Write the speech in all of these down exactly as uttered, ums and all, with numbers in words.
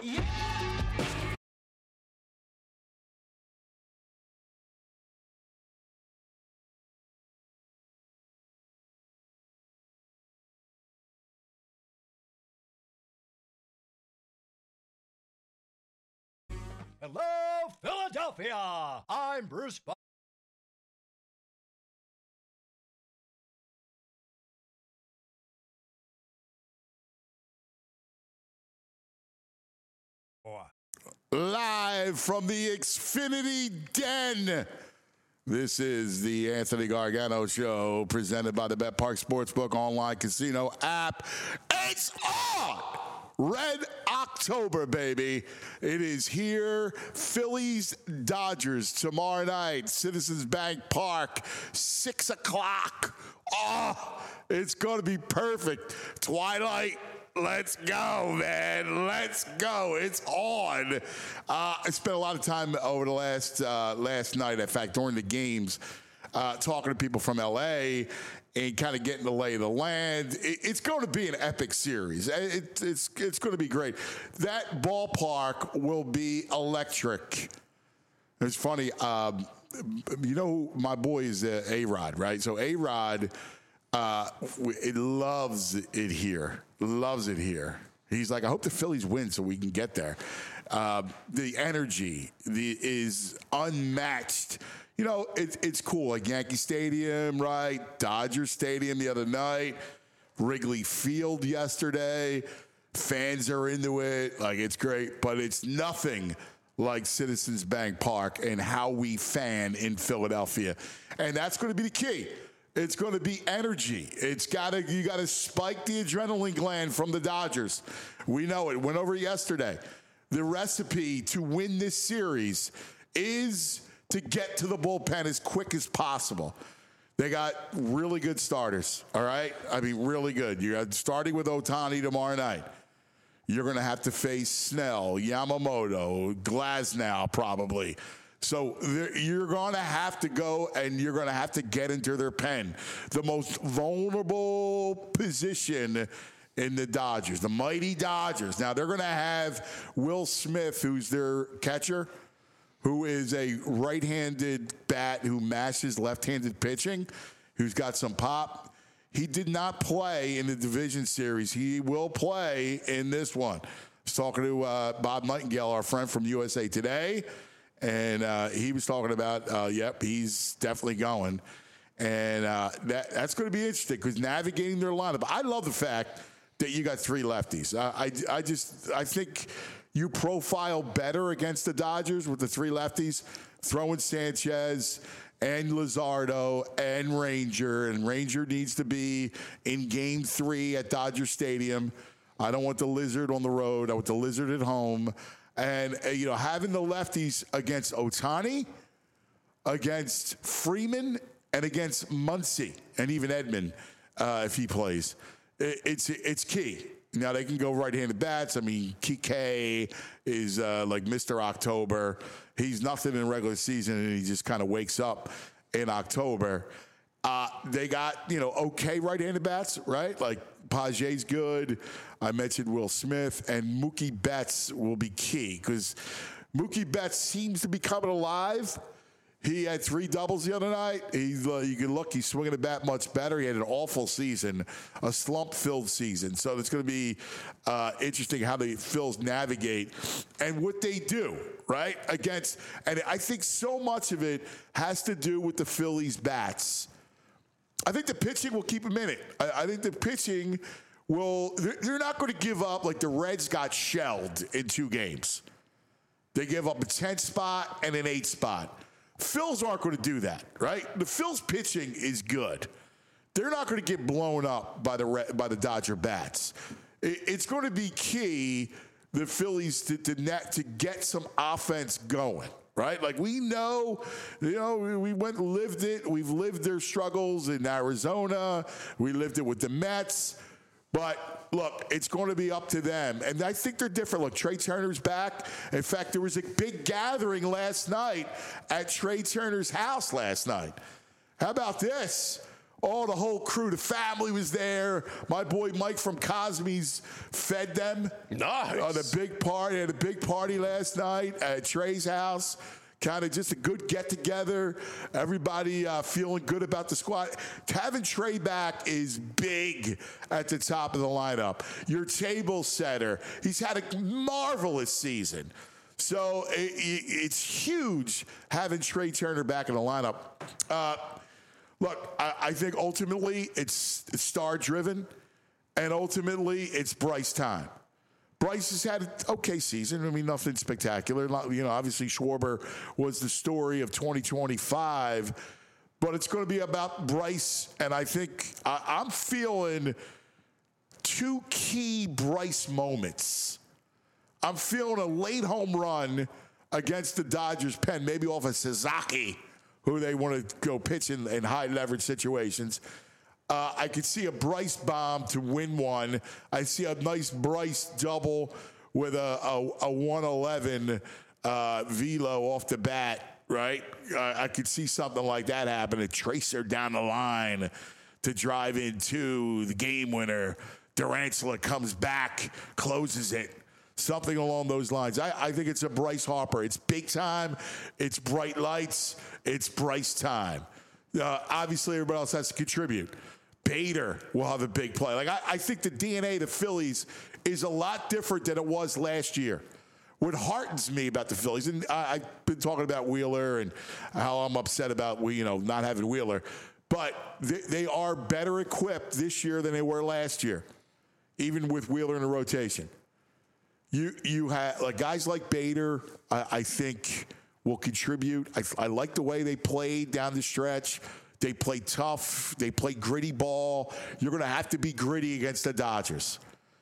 Hello, Philadelphia! I'm Bruce Bo- Live from the Xfinity Den. This is the Anthony Gargano Show, presented by the BetPark Sportsbook online casino app. It's on! Red October, baby. It is here. Phillies, Dodgers tomorrow night. Citizens Bank Park, six o'clock. Oh, it's going to be perfect. Twilight. Let's go, man. Let's go. It's on. Uh, I spent a lot of time over the last uh, last night, in fact, during the games, uh, talking to people from L A and kind of getting the lay of the land. It, it's going to be an epic series. It, it's it's going to be great. That ballpark will be electric. It's funny. Um, you know, my boy is uh, A-Rod, right? So A-Rod, uh, it loves it here. Loves it here. He's like, I hope the Phillies win so we can get there. Uh, the energy the, is unmatched. You know, it, it's cool. Like Yankee Stadium, right? Dodger Stadium the other night. Wrigley Field yesterday. Fans are into it. Like, it's great. But it's nothing like Citizens Bank Park and how we fan in Philadelphia. And that's going to be the key. It's going to be energy. It's got to you got to spike the adrenaline gland from the Dodgers. We know it. Went over yesterday. The recipe to win this series is to get to the bullpen as quick as possible. They got really good starters. All right, I mean really good. You got starting with Ohtani tomorrow night. You're going to have to face Snell, Yamamoto, Glasnow probably. So you're going to have to go and you're going to have to get into their pen. The most vulnerable position in the Dodgers, the mighty Dodgers. Now, they're going to have Will Smith, who's their catcher, who is a right-handed bat who matches left-handed pitching, who's got some pop. He did not play in the division series. He will play in this one. I was talking to uh, Bob Nightingale, our friend from U S A Today. And uh, he was talking about, uh, yep, he's definitely going. And uh, that that's going to be interesting because navigating their lineup. I love the fact that you got three lefties. I, I, I just I think you profile better against the Dodgers with the three lefties, throwing Sanchez and Luzardo and Ranger. And Ranger needs to be in game three at Dodger Stadium. I don't want the Lizard on the road. I want the Lizard at home. And, uh, you know, having the lefties against Ohtani, against Freeman, and against Muncy, and even Edman, uh, if he plays, it, it's it's key. Now, they can go right-handed bats. I mean, Kike is uh, like Mister October. He's nothing in regular season, and he just kind of wakes up in October. Uh, they got, you know, okay right-handed bats, right? Like, Paget's good. I mentioned Will Smith, and Mookie Betts will be key because Mookie Betts seems to be coming alive. He had three doubles the other night. He's, uh, you can look, he's swinging the bat much better. He had an awful season, a slump-filled season. So it's going to be uh, interesting how the Phils navigate and what they do, right, against. And I think so much of it has to do with the Phillies' bats. I think the pitching will keep them in it. I, I think the pitching will, they're not going to give up like the Reds got shelled in two games. They give up a tenth spot and an eighth spot. Phils aren't going to do that, right? The Phils pitching is good. They're not going to get blown up by the by the Dodger bats. It, it's going to be key, the Phillies, to, to, net, to get some offense going. Right? Like we know, you know, we went lived it. We've lived their struggles in Arizona. We lived it with the Mets. But look, it's going to be up to them. And I think they're different. Look, Trey Turner's back. In fact, there was a big gathering last night at Trey Turner's house last night. How about this? All the whole crew, the family was there. My boy Mike from Cosby's fed them. Nice. On a big party, had a big party last night at Trey's house. Kind of just a good get-together. Everybody uh, feeling good about the squad. Having Trey back is big at the top of the lineup. Your table setter. He's had a marvelous season. So it, it, it's huge having Trey Turner back in the lineup. Uh, look, I, I think ultimately it's, it's star-driven, and ultimately it's Bryce time. Bryce has had an okay season. I mean, nothing spectacular. You know, obviously Schwarber was the story of twenty twenty-five, but it's going to be about Bryce, and I think I, I'm feeling two key Bryce moments. I'm feeling a late home run against the Dodgers pen, maybe off of Sasaki, who they want to go pitch in, in high leverage situations. Uh, I could see a Bryce bomb to win one. I see a nice Bryce double with a, a, a one eleven uh, velo off the bat, right? Uh, I could see something like that happen. A tracer down the line to drive in two, the game winner. Durantula comes back, closes it. Something along those lines. I, I think it's a Bryce Harper. It's big time. It's bright lights. It's Bryce time. Uh, obviously, everybody else has to contribute. Bader will have a big play. Like I, I think the D N A of the Phillies is a lot different than it was last year. What heartens me about the Phillies, and I, I've been talking about Wheeler and how I'm upset about you know not having Wheeler, but they, they are better equipped this year than they were last year, even with Wheeler in the rotation. You you have like guys like Bader, I, I think will contribute. I, I like the way they played down the stretch. They play tough. They play gritty ball. You're going to have to be gritty against the Dodgers.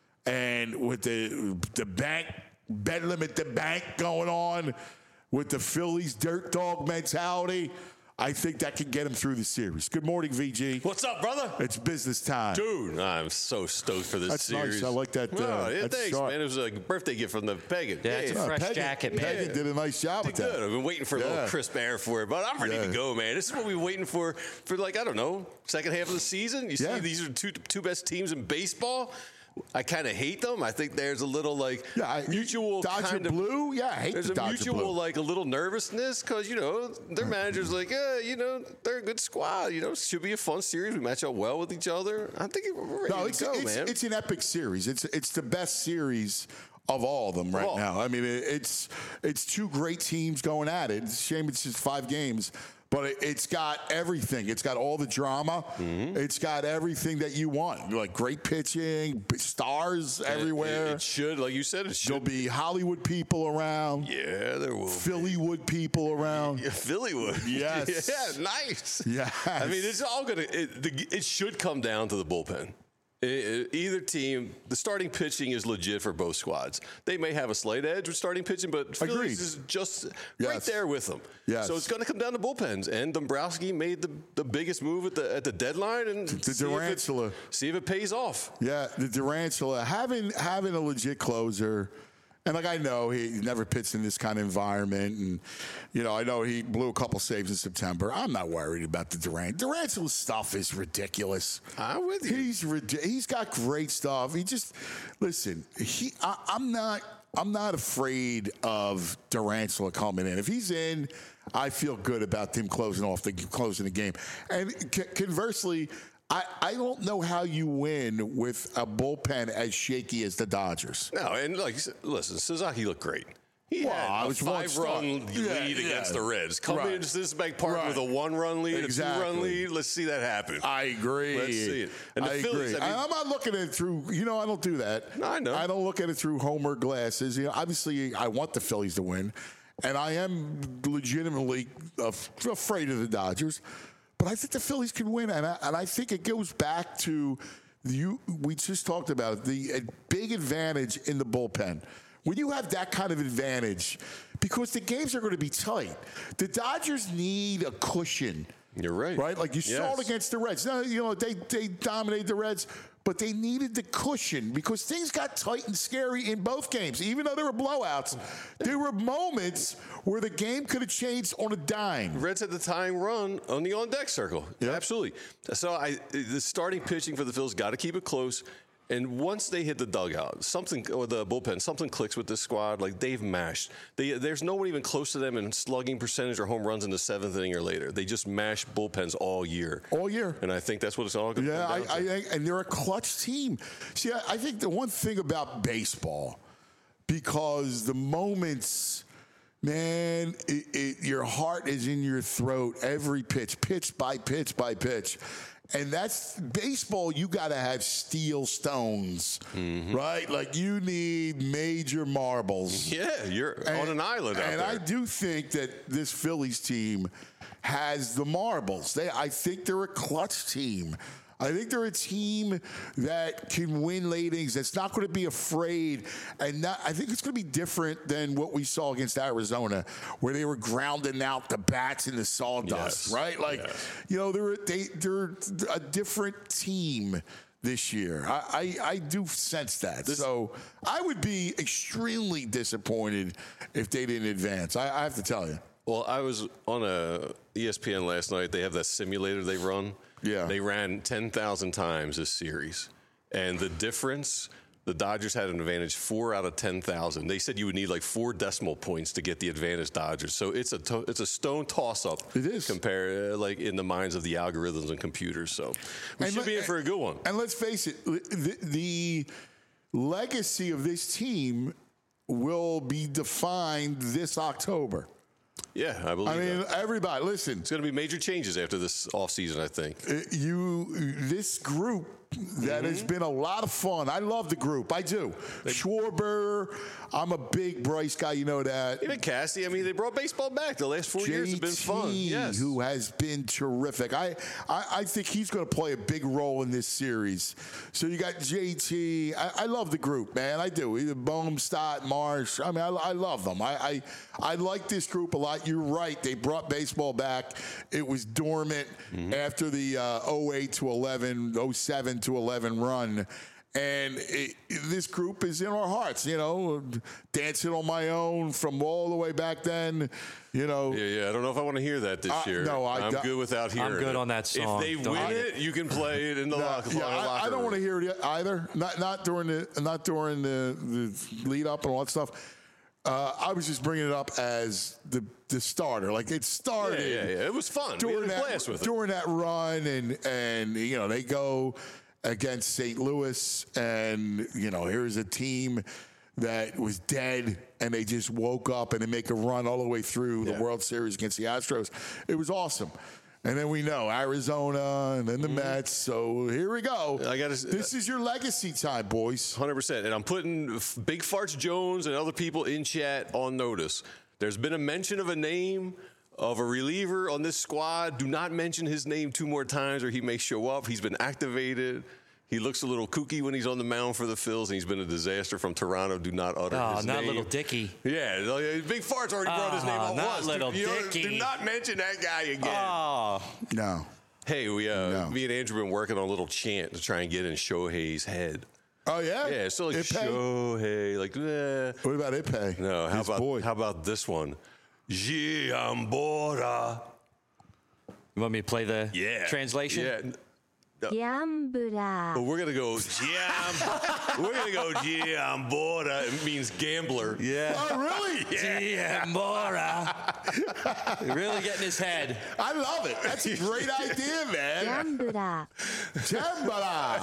And with the the bank, bedlam at the bank going on, with the Phillies dirt dog mentality, I think that can get him through the series. Good morning, V G. What's up, brother? It's business time. Dude, I'm so stoked for this that's series. Nice. I like that. Uh, oh, yeah, that's thanks, sharp. man. It was a birthday gift from the Pagan. Yeah, it's yeah. a fresh Pagan, jacket, man. Pagan did a nice job Did with that. good. I've been waiting for a Yeah. little crisp air for it, but I'm ready Yeah. to go, man. This is what we've been waiting for for like, I don't know, second half of the season. You Yeah. see, these are the two, two best teams in baseball. I kind of hate them. I think there's a little like Yeah, I, mutual Dodger kind of blue. Yeah, I hate There's the a Dodger mutual blue. like a little nervousness because you know their manager's like, yeah, you know they're a good squad. You know, should be a fun series. We match up well with each other. I think we're ready No, to it's, go, it's, man. it's an epic series. It's it's the best series of all of them right all. now. I mean, it, it's it's two great teams going at it. It's a shame it's just five games, but it, it's got everything. It's got all the drama. Mm-hmm. It's got everything that you want. Like great pitching, b- stars everywhere. It, it should, like you said, it should. There'll be Hollywood people around. Yeah, there will. Phillywood people around. Yeah, Phillywood. Yes. yeah, nice. Yes. I mean, it's all gonna. It, the, it should come down to the bullpen. It, it, either team, the starting pitching is legit for both squads. They may have a slight edge with starting pitching, but Agreed. Phillies is just Yes. right there with them. Yes. So it's going to come down to bullpens. And Dombrowski made the, the biggest move at the at the deadline, and The see, if Durantula. it, see if it pays off. Yeah, the Durantula having having a legit closer, and like I know he never pitched in this kind of environment, and you know I know he blew a couple saves in September. I'm not worried about the Durant. Durantula's stuff is ridiculous. I'm with you. He's rid- he's got great stuff. He just listen. He I, I'm not I'm not afraid of Durantula coming in. If he's in, I feel good about him closing off the closing the game. And c- conversely. I, I don't know how you win with a bullpen as shaky as the Dodgers. No, and like you said, listen, Sasaki looked great. He Well, had I a was one five-run start. lead Yeah, against yeah. the Reds. Come Right. into Cincinnati Park Right. with a one-run lead, Exactly. a two-run lead. Let's see that happen. I agree. Let's see it. And the I Phillies, agree. I mean- I'm not looking at it through, you know, I don't do that. No, I know. I don't look at it through Homer glasses. You know, obviously, I want the Phillies to win, and I am legitimately af- afraid of the Dodgers. But I think the Phillies can win, and I, and I think it goes back to you. We just talked about it, the uh, big advantage in the bullpen. When you have that kind of advantage, because the games are going to be tight, the Dodgers need a cushion You're right. Right? Like you Yes. saw it against the Reds. Now, you know, they, they dominated the Reds, but they needed the cushion because things got tight and scary in both games. Even though there were blowouts, there were moments where the game could have changed on a dime. Reds had the tying run on the on-deck circle. Yep. Absolutely. So I, the starting pitching for the Phils got to keep it close. And once they hit the dugout, something or the bullpen, something clicks with this squad. Like they've mashed. They, there's no one even close to them in slugging percentage or home runs in the seventh inning or later. They just mash bullpens all year. All year. And I think that's what it's all going to Yeah, come I, down to. I think, and they're a clutch team. See, I, I think the one thing about baseball, because the moments, man, it, it, your heart is in your throat every pitch, pitch by pitch by pitch. And that's baseball. You got to have steel stones, mm-hmm. right? Like you need major marbles. Yeah, you're and, on an island out and there. I do think that this Phillies team has the marbles. They, I think they're a clutch team. I think they're a team that can win late innings, that's not going to be afraid. And not, I think it's going to be different than what we saw against Arizona, where they were grounding out the bats in the sawdust, Yes. right? Like, Yes. you know, they're, they, they're a different team this year. I, I, I do sense that. This, so I would be extremely disappointed if they didn't advance. I, I have to tell you. Well, I was on a E S P N last night. They have that simulator they run. Yeah. They ran ten thousand times this series. And the difference, the Dodgers had an advantage four out of ten thousand. They said you would need like four decimal points to get the advantage Dodgers. So it's a to- it's a stone toss-up. It is. Compare, uh, like in the minds of the algorithms and computers. So we And should le- be in for a good one. And let's face it, the, the legacy of this team will be defined this October. Yeah, I believe I mean, that. everybody, listen. It's going to be major changes after this offseason, I think. Uh, You, this group that Mm-hmm. has been a lot of fun. I love the group. I do. Schwarber, I'm a big Bryce guy. You know that. Even Cassie, I mean, they brought baseball back. The last four years have been fun. J T, Yes. who has been terrific. I, I, I think he's going to play a big role in this series. So you got J T. I, I love the group, man. I do. Either Bohm, Stott, Marsh. I mean, I, I love them. I, I, I like this group a lot. You're right. They brought baseball back. It was dormant mm-hmm. after the uh, oh eight to eleven, oh seven to eleven run. And it, this group is in our hearts, you know, dancing on my own from all the way back then, you know. Yeah, yeah. I don't know if I want to hear that this Uh, year. no, I I'm don't- good without hearing it. I'm good on that song. If they Don't win hate it, you can play it in the No, locker, yeah, I, locker I don't room. want to hear it either. Not not during the not during the, the lead up and all that stuff. Uh, I was just bringing it up as the the starter. Like it started. Yeah, yeah, yeah. It was fun. We During had a that, blast with it. during that run, and and you know they go against Saint Louis, and you know here's a team that was dead, and they just woke up and they make a run all the way through Yeah. the World Series against the Astros. It was awesome. And then we know Arizona, and then the Mets. So here we go. I gotta- this is your legacy time, boys. one hundred percent. And I'm putting F- Big Farts Jones and other people in chat on notice. There's been a mention of a name of a reliever on this squad. Do not mention his name two more times or he may show up. He's been activated. He looks a little kooky when he's on the mound for the Phils, and he's been a disaster from Toronto. Do not utter Oh, his not name. Little Dicky. Yeah, like, Big Farts already brought his name Oh, up not once. Little do, you know, Dicky. do not mention that guy again. Oh, No. Hey, we uh, No. me and Andrew been working on a little chant to try and get in Shohei's head. Oh yeah. Yeah, so like Ippei? Shohei, like eh. What about Ippei? No, how His about boy. how about this one? Giambora. you want me to play the Yeah. translation? Yeah. ギャンブラ But ー we're gonna go Giam. We're gonna go Giambora. It means gambler. Yeah. Oh really? Giambora. Really getting his head. I love it. That's a great idea, ギャ man. ンブラ Jambara.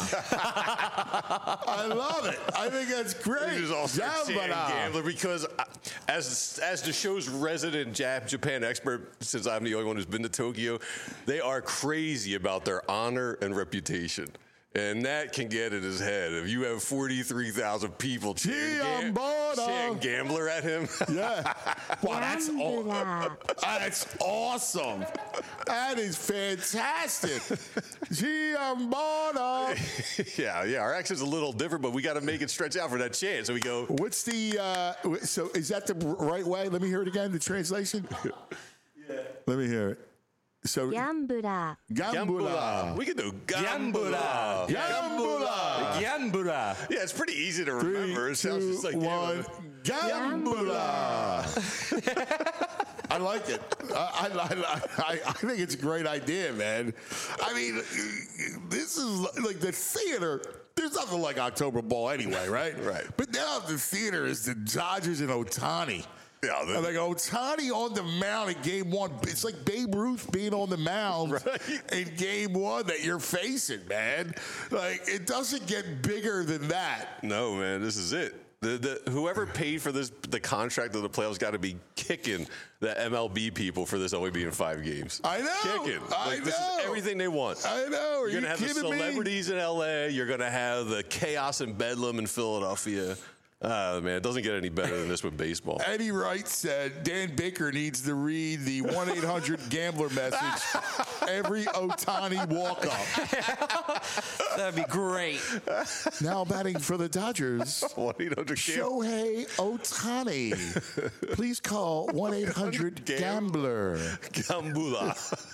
I love it. I think that's great. He was also saying Jambara. gambler because uh, as as the show's resident Jap- Japan expert, since I'm the only one who's been to Tokyo, they are crazy about their honor and reputation. And that can get in his head. If you have forty-three thousand people cheering, gam- Giambora. cheering gambler at him. Yeah. Wow, that's, ギャン aw- ブラー that's awesome. That is fantastic. Giambara. yeah, yeah. Our accent's a little different, but we got to make it stretch out for that chance. So we go, What's the, uh, so is that the right way? Let me hear it again, the translation. Yeah. Let me hear it. So ギャンブラ Gambula. We can do Gambula. Gambula. Gambula. Gambura. Yeah, it's pretty easy to Three, remember. It sounds two, just like one. Gambula. I like it. I, I, I, I think it's a great idea, man. I mean, this is like the theater. There's nothing like October Ball anyway, right? Right. But now the theater is the Dodgers and Ohtani. Yeah, And like Ohtani on the mound in game one. It's like Babe Ruth being on the mound Right. in game one that you're facing, man. Like, it doesn't get bigger than that. No, man, this is it. The, the whoever paid for this, the contract of the playoffs, got to be kicking the M L B people for this only being five games. I know. Kicking. I Like, this know. is everything they want. I know. Are You're gonna you have the kidding me? celebrities in L A. You're gonna have the chaos and bedlam in Philadelphia. Uh, man, it doesn't get any better than this with baseball. Eddie Wright said Dan Baker needs to read the one eight hundred gambler message every Ohtani walk-up. That'd be great. Now batting for the Dodgers, one eight hundred Shohei Ohtani. Please call one eight hundred gambler. Gambula.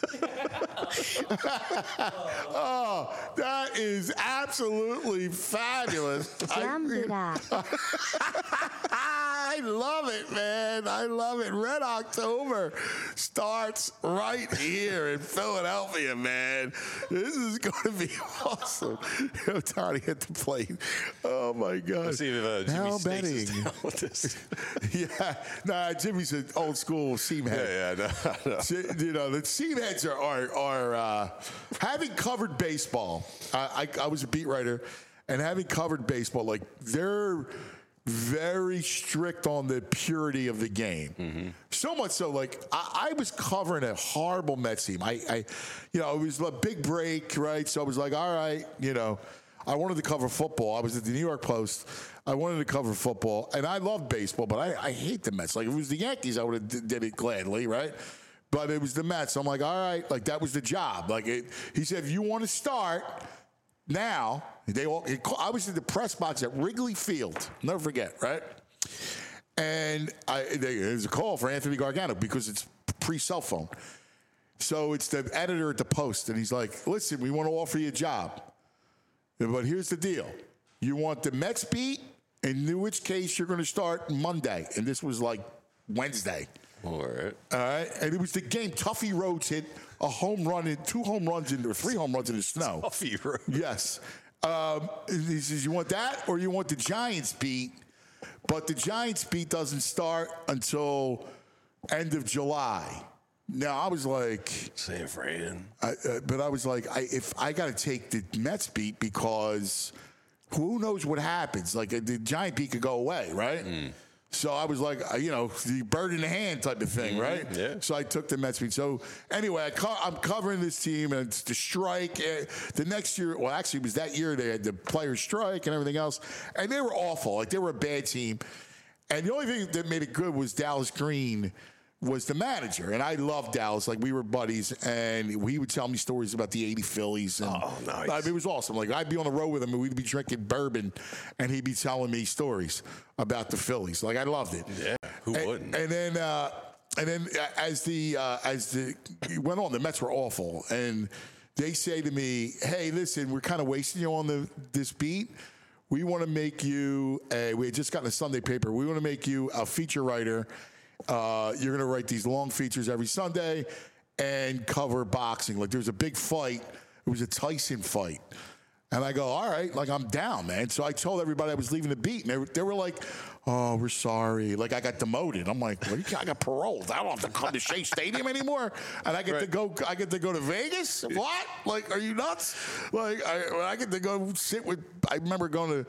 Oh, that is absolutely fabulous. ギャンブラ I love it, man. I love it. Red October starts right here in Philadelphia, man. This is going to be awesome. Ohtani at the plate. Oh, my God. Let's see if uh, Jimmy Now Snakes is betting. down with this. Yeah. Nah, Jimmy's an old school seam head. Yeah, yeah, no, no. See, you know, the seam heads are, are, are uh, having covered baseball. I, I, I was a beat writer, and having covered baseball, like, they're very strict on the purity of the game. Mm-hmm. So much so, like, I, I was covering a horrible Mets team. I, I, you know, it was a big break, right? So I was like, all right, you know, I wanted to cover football. I was at the New York Post. I wanted to cover football, and I love baseball, but I, I hate the Mets. Like, if it was the Yankees, I would have d- did it gladly, right? But it was the Mets. I'm like, all right, like, that was the job. Like, it, he said, if you want to start now, they all, it, I was in the press box at Wrigley Field. Never forget, right? And I, they, there's a call for Anthony Gargano because it's pre-cell phone. So it's the editor at the Post, and he's like, listen, we want to offer you a job. But here's the deal. You want the Mets beat, in which case you're going to start Monday. And this was like Wednesday. All right. All right. And it was the game. Tuffy Rhodes hit a home run, in, two home runs, in, or three home runs in the snow. Tuffy Rhodes. Yes. Um, he says, you want that or you want the Giants beat? But the Giants beat doesn't start until end of July. Now, I was like, San Fran. I, uh, but I was like, I, if I got to take the Mets beat because who knows what happens? Like, uh, the Giant beat could go away, right? Mm. So I was like, uh, you know, the bird in the hand type of thing, mm-hmm. right? Yeah. So I took the Mets beat. So anyway, I co- I'm covering this team, and it's the strike. Uh, the next year, well, actually, it was that year they had the players' strike and everything else, and they were awful. Like, they were a bad team. And the only thing that made it good was Dallas Green was the manager, and I loved Dallas. Like, we were buddies, and he would tell me stories about the eighty Phillies. And oh, nice. I mean, it was awesome. Like, I'd be on the road with him, and we'd be drinking bourbon, and he'd be telling me stories about the Phillies. Like, I loved it. Yeah, who and, wouldn't? And then, uh, and then as the uh, as the it went on, the Mets were awful, and they say to me, "Hey, listen, we're kind of wasting you on the this beat. We want to make you. A, we had just gotten a Sunday paper. We want to make you a feature writer." Uh, you're going to write these long features every Sunday and cover boxing. Like, there was a big fight. It was a Tyson fight. And I go, all right, like, I'm down, man. So I told everybody I was leaving the beat. And they were, they were like, oh, we're sorry. Like, I got demoted. I'm like, what do you, I got paroled. I don't have to come to Shea Stadium anymore. And I get right. to go I get to go to Vegas? What? Like, are you nuts? Like, I, I get to go sit with, I remember going to,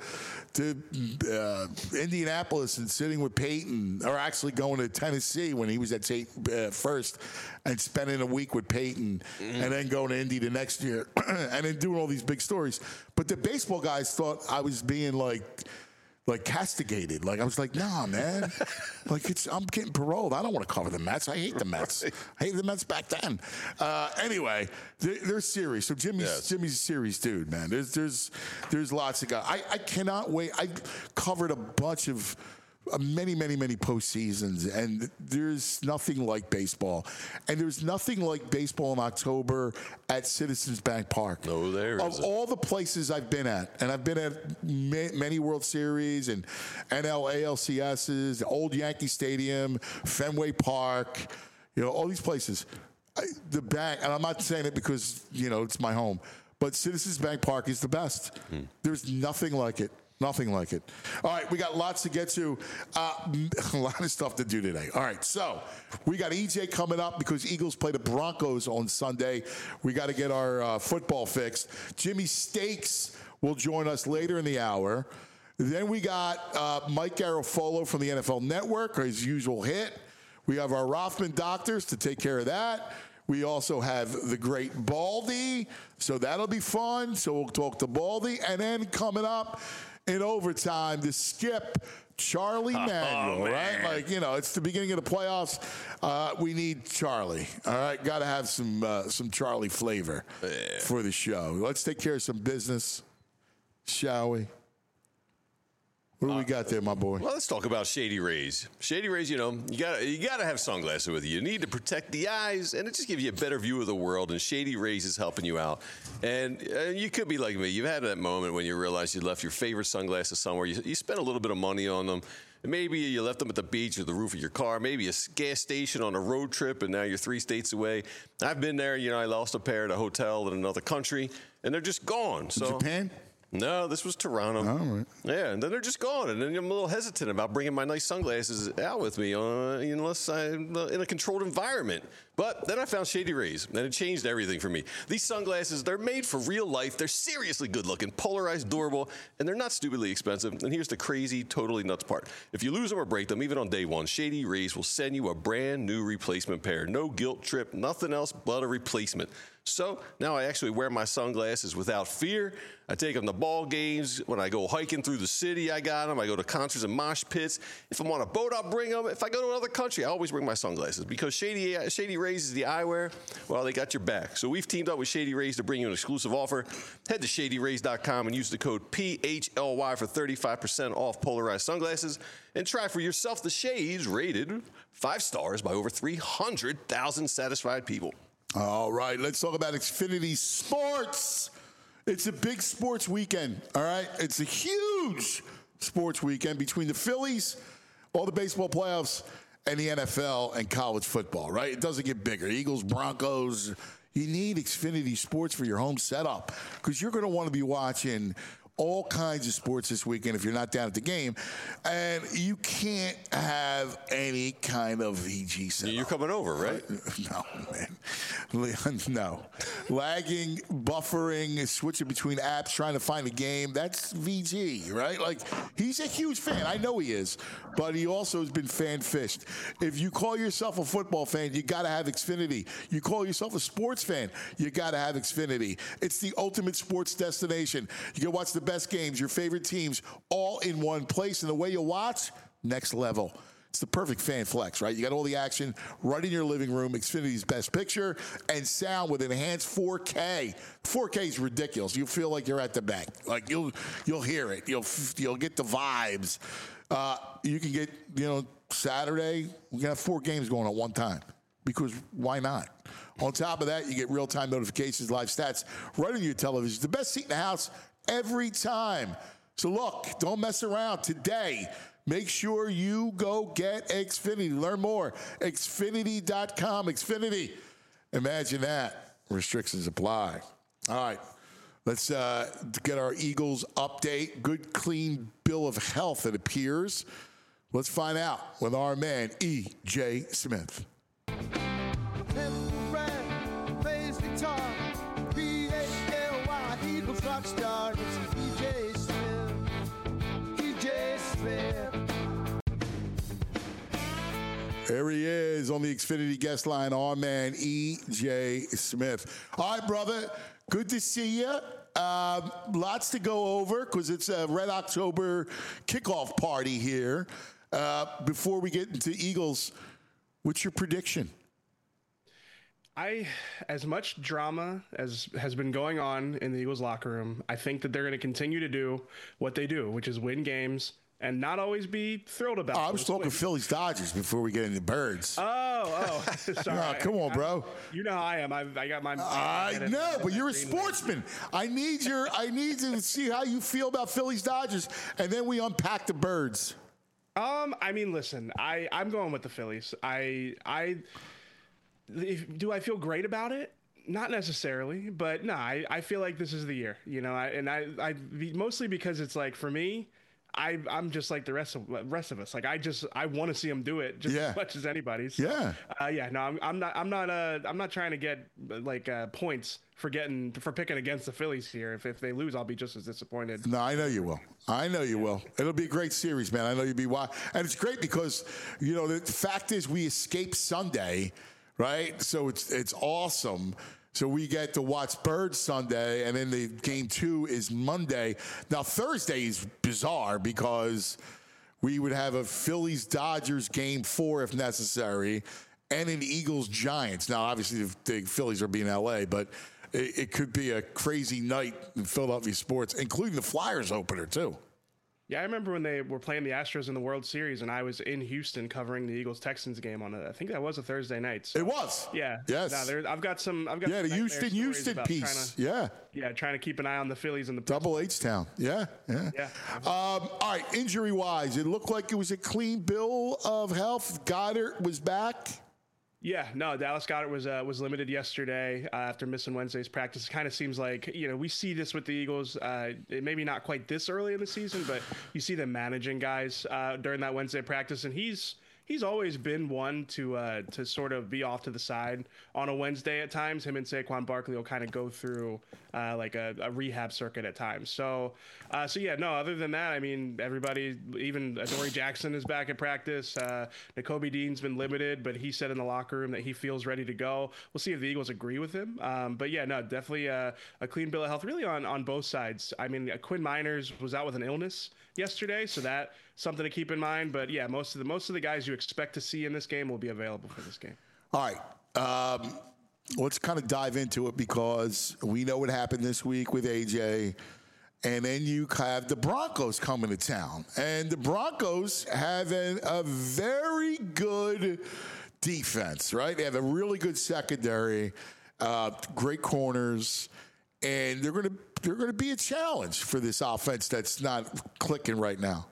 to uh, Indianapolis and sitting with Peyton, or actually going to Tennessee when he was at Tate uh, first, and spending a week with Peyton, mm. and then going to Indy the next year, and then doing all these big stories. But the baseball guys thought I was being like, like castigated. Like, I was like, nah, man. Like, it's I'm getting paroled. I don't want to cover the Mets. I hate the Mets. Right. I hated the Mets back then. Uh, anyway, they're, they're serious. So Jimmy's yes. Jimmy's a serious dude, man. There's there's there's lots of guys. I, I cannot wait. I covered a bunch of uh, many, many, many postseasons, and there's nothing like baseball. And there's nothing like baseball in October at Citizens Bank Park. No, there Of isn't. all the places I've been at, and I've been at ma- many World Series and N L A L C S's, Old Yankee Stadium, Fenway Park, you know, all these places. I, the bank, and I'm not saying it because, you know, it's my home, but Citizens Bank Park is the best. Hmm. There's nothing like it. Nothing like it. All right, we got lots to get to. Uh, a lot of stuff to do today. All right, so we got E J coming up because Eagles play the Broncos on Sunday. We got to get our uh, football fixed. Jimmy Stakes will join us later in the hour. Then we got uh, Mike Garofolo from the N F L Network, his usual hit. We have our Rothman doctors to take care of that. We also have the great Baldy, so that'll be fun. So we'll talk to Baldy. And then coming up in overtime, the skip, Charlie Oh, Manuel, man. right? Like, you know, it's the beginning of the playoffs. Uh, we need Charlie, all right? Got to have some uh, some Charlie flavor Yeah. for the show. Let's take care of some business, shall we? What do we got there, my boy? Well, let's talk about Shady Rays. Shady Rays, you know, you got you got to have sunglasses with you. You need to protect the eyes, and it just gives you a better view of the world. And Shady Rays is helping you out. And uh, you could be like me. You've had that moment when you realize you left your favorite sunglasses somewhere. You, you spent a little bit of money on them. And maybe you left them at the beach or the roof of your car. Maybe a gas station on a road trip, and now you're three states away. I've been there. You know, I lost a pair at a hotel in another country, and they're just gone. So Japan? No, this was Toronto. All right. Yeah, and then they're just gone. And then I'm a little hesitant about bringing my nice sunglasses out with me uh, unless I'm in a controlled environment. But then I found Shady Rays, and it changed everything for me. These sunglasses, they're made for real life. They're seriously good looking, polarized, durable, and they're not stupidly expensive. And here's the crazy, totally nuts part. If you lose them or break them, even on day one, Shady Rays will send you a brand new replacement pair. No guilt trip, nothing else but a replacement. So now I actually wear my sunglasses without fear. I take them to ball games. When I go hiking through the city, I got them. I go to concerts and mosh pits. If I'm on a boat, I'll bring them. If I go to another country, I always bring my sunglasses because Shady Shady Rays is the eyewear. Well, they got your back. So we've teamed up with Shady Rays to bring you an exclusive offer. Head to shady rays dot com and use the code P H L Y for thirty-five percent off polarized sunglasses. And try for yourself the shades rated five stars by over three hundred thousand satisfied people. All right, let's talk about Xfinity Sports. It's a big sports weekend, all right? It's a huge sports weekend between the Phillies, all the baseball playoffs, and the N F L and college football, right? It doesn't get bigger. Eagles, Broncos. You need Xfinity Sports for your home setup because you're going to want to be watching all kinds of sports this weekend if you're not down at the game. And you can't have any kind of V G setup. You're coming over, right? No, man. No. Lagging, buffering, switching between apps, trying to find a game. That's V G, right? Like, he's a huge fan. I know he is. But he also has been fan-fished. If you call yourself a football fan, you got to have Xfinity. You call yourself a sports fan, you got to have Xfinity. It's the ultimate sports destination. You can watch the best games, your favorite teams, all in one place. And the way you watch, next level. It's the perfect fan flex, right? You got all the action right in your living room, Xfinity's best picture, and sound with enhanced four K. four K is ridiculous. You feel like you're at the bank. Like, you'll you'll hear it. You'll you'll get the vibes. Uh, you can get, you know, Saturday, we can have four games going at one time because why not? On top of that, you get real-time notifications, live stats right on your television. The best seat in the house every time. So look, don't mess around today. Make sure you go get Xfinity. Learn more. Xfinity dot com. Xfinity. Imagine that. Restrictions apply. All right. Let's uh, get our Eagles update. Good, clean bill of health, it appears. Let's find out with our man, E J. Smith. Plays guitar, P H L Y, Eagles rock star. It's E J Smith, E J Smith. There he is on the Xfinity guest line, our man, E J. Smith. All right, brother, good to see you. Um, lots to go over because it's a Red October kickoff party here. Uh, before we get into Eagles, what's your prediction? I, as much drama as has been going on in the Eagles locker room, I think that they're going to continue to do what they do, which is win games, and not always be thrilled about. Oh, I was those talking wins. Phillies Dodgers before we get into Birds. Oh, oh, sorry. No, come on, bro. I, you know how I am. I, I got my. I know, but you're a sportsman. I need your. I need to see how you feel about Phillies Dodgers, and then we unpack the Birds. Um, I mean, listen, I I'm going with the Phillies. I I if, do I feel great about it? Not necessarily, but no, I, I feel like this is the year, you know, I, and I, I mostly because it's like for me, I, I'm just like the rest of rest of us. Like I just I want to see them do it just Yeah. as much as anybody. So, Yeah. Uh, yeah. No, I'm, I'm not. I'm not. Uh, I'm not trying to get like uh, points for getting for picking against the Phillies here. If if they lose, I'll be just as disappointed. No, I know you will. I know you will. It'll be a great series, man. I know you'll be wild. And it's great because, you know, the fact is we escape Sunday, right? So it's it's awesome. So we get to watch Birds Sunday, and then the game two is Monday. Now, Thursday is bizarre because we would have a Phillies-Dodgers game four if necessary, and an Eagles-Giants. Now, obviously, the, the Phillies are being L A, but it, it could be a crazy night in Philadelphia sports, including the Flyers opener, too. Yeah, I remember when they were playing the Astros in the World Series, and I was in Houston covering the Eagles-Texans game on a, I think that was a Thursday night. So, It was. yeah. Yes. No, there, I've got some. I've got Yeah, some the nightmare Houston stories Houston about trying piece. to- Yeah. Yeah, trying to keep an eye on the Phillies and the Double H Town. Yeah, yeah. Yeah. Um, all right, injury wise, it looked like it was a clean bill of health. Goddard was back. Yeah, no, Dallas Goedert was uh, was limited yesterday uh, after missing Wednesday's practice. It kind of seems like, you know, we see this with the Eagles, uh, it maybe not quite this early in the season, but you see them managing guys uh, during that Wednesday practice, and he's he's always been one to uh, to sort of be off to the side on a Wednesday at times. Him and Saquon Barkley will kind of go through uh, like a, a rehab circuit at times. So, uh, so yeah, no. Other than that, I mean, everybody, even Adoree Jackson is back at practice. Uh, Nakobe Dean's been limited, but he said in the locker room that he feels ready to go. We'll see if the Eagles agree with him. Um, but yeah, no, definitely a, a clean bill of health, really on on both sides. I mean, uh, Quinn Miners was out with an illness yesterday, so that something to keep in mind. But yeah, most of the most of the guys you expect to see in this game will be available for this game. All right. Um, let's kind of dive into it because we know what happened this week with A J. And then you have the Broncos coming to town. And the Broncos have an, a very good defense, right? They have a really good secondary, uh, great corners, and they're going to they're going to be a challenge for this offense that's not clicking right now.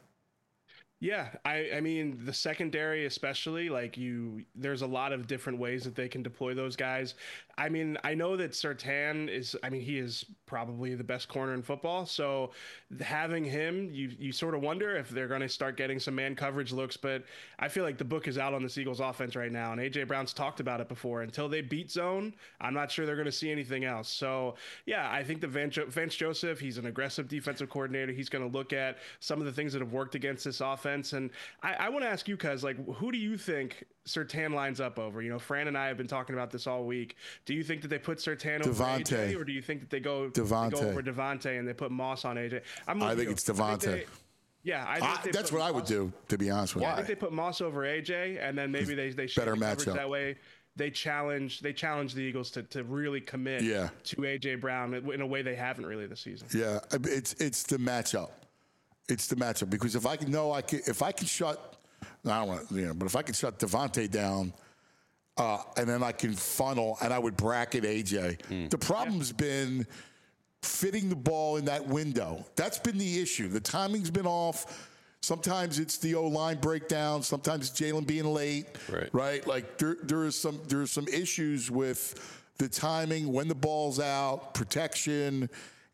Yeah, I, I mean, the secondary especially, like you, there's a lot of different ways that they can deploy those guys. I mean, I know that Surtain is, I mean, he is probably the best corner in football. So having him, you you sort of wonder if they're going to start getting some man coverage looks. But I feel like the book is out on this Eagles offense right now. And A J Brown's talked about it before. Until they beat zone, I'm not sure they're going to see anything else. So, yeah, I think the Vance, Vance Joseph, he's an aggressive defensive coordinator. He's going to look at some of the things that have worked against this offense. And I, I want to ask you, Cuz, like, who do you think Surtain lines up over? You know, Fran and I have been talking about this all week. Do you think that they put Surtain over Devontae. A J, or do you think that they go, they Devontae. go over Devontae and they put Moss on A J? I'm with I think you. it's I think Devontae. they- yeah, I think I, they that's put what I would Moss- do, to be honest with Yeah, I you. think they put Moss over A J, and then maybe they they share Better the coverage matchup. that way. They challenge they challenge the Eagles to, to really commit Yeah. to A J Brown in a way they haven't really this season. Yeah, it's it's the matchup. It's the matchup because if I can know I can if I can shut, I don't want you know, but if I can shut Devontae down, uh, and then I can funnel and I would bracket A J. The problem's been fitting the ball in that window. That's been the issue. The timing's been off. Sometimes it's the O-line breakdown. Sometimes it's Jalen being late. Right. Right. Like there there is some there's some issues with the timing, when the ball's out, protection.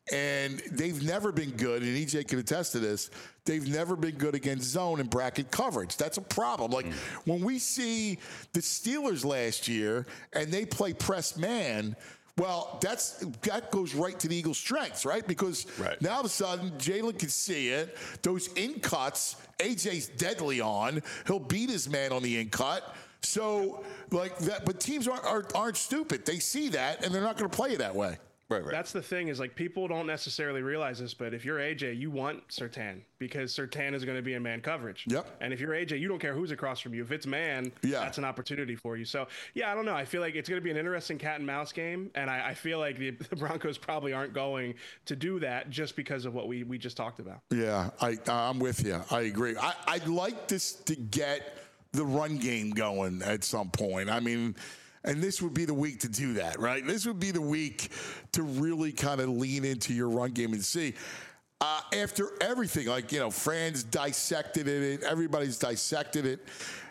And they've never been good, and E J can attest to this, they've never been good against zone and bracket coverage. That's a problem. Like, mm. when we see the Steelers last year and they play press man, well, that's that goes right to the Eagles' strengths, right? Because right. now all of a sudden, Jalen can see it. Those in cuts, A J's deadly on. He'll beat his man on the in cut. So, like that, but teams aren't, aren't, aren't stupid. They see that, and they're not going to play it that way. Right, right. That's the thing is like people don't necessarily realize this, but if you're A J, you want Surtain because Surtain is going to be in man coverage. Yep. And if you're A J, you don't care who's across from you. If it's man, Yeah. that's an opportunity for you. So yeah, I don't know. I feel like it's going to be an interesting cat and mouse game, and I, I feel like the, the Broncos probably aren't going to do that just because of what we we just talked about. Yeah, I I'm with you. I agree. I, I'd like this to get the run game going at some point. I mean, and this would be the week to do that, right? This would be the week to really kind of lean into your run game and see. Uh, after everything, like, you know, Fran's dissected it, everybody's dissected it.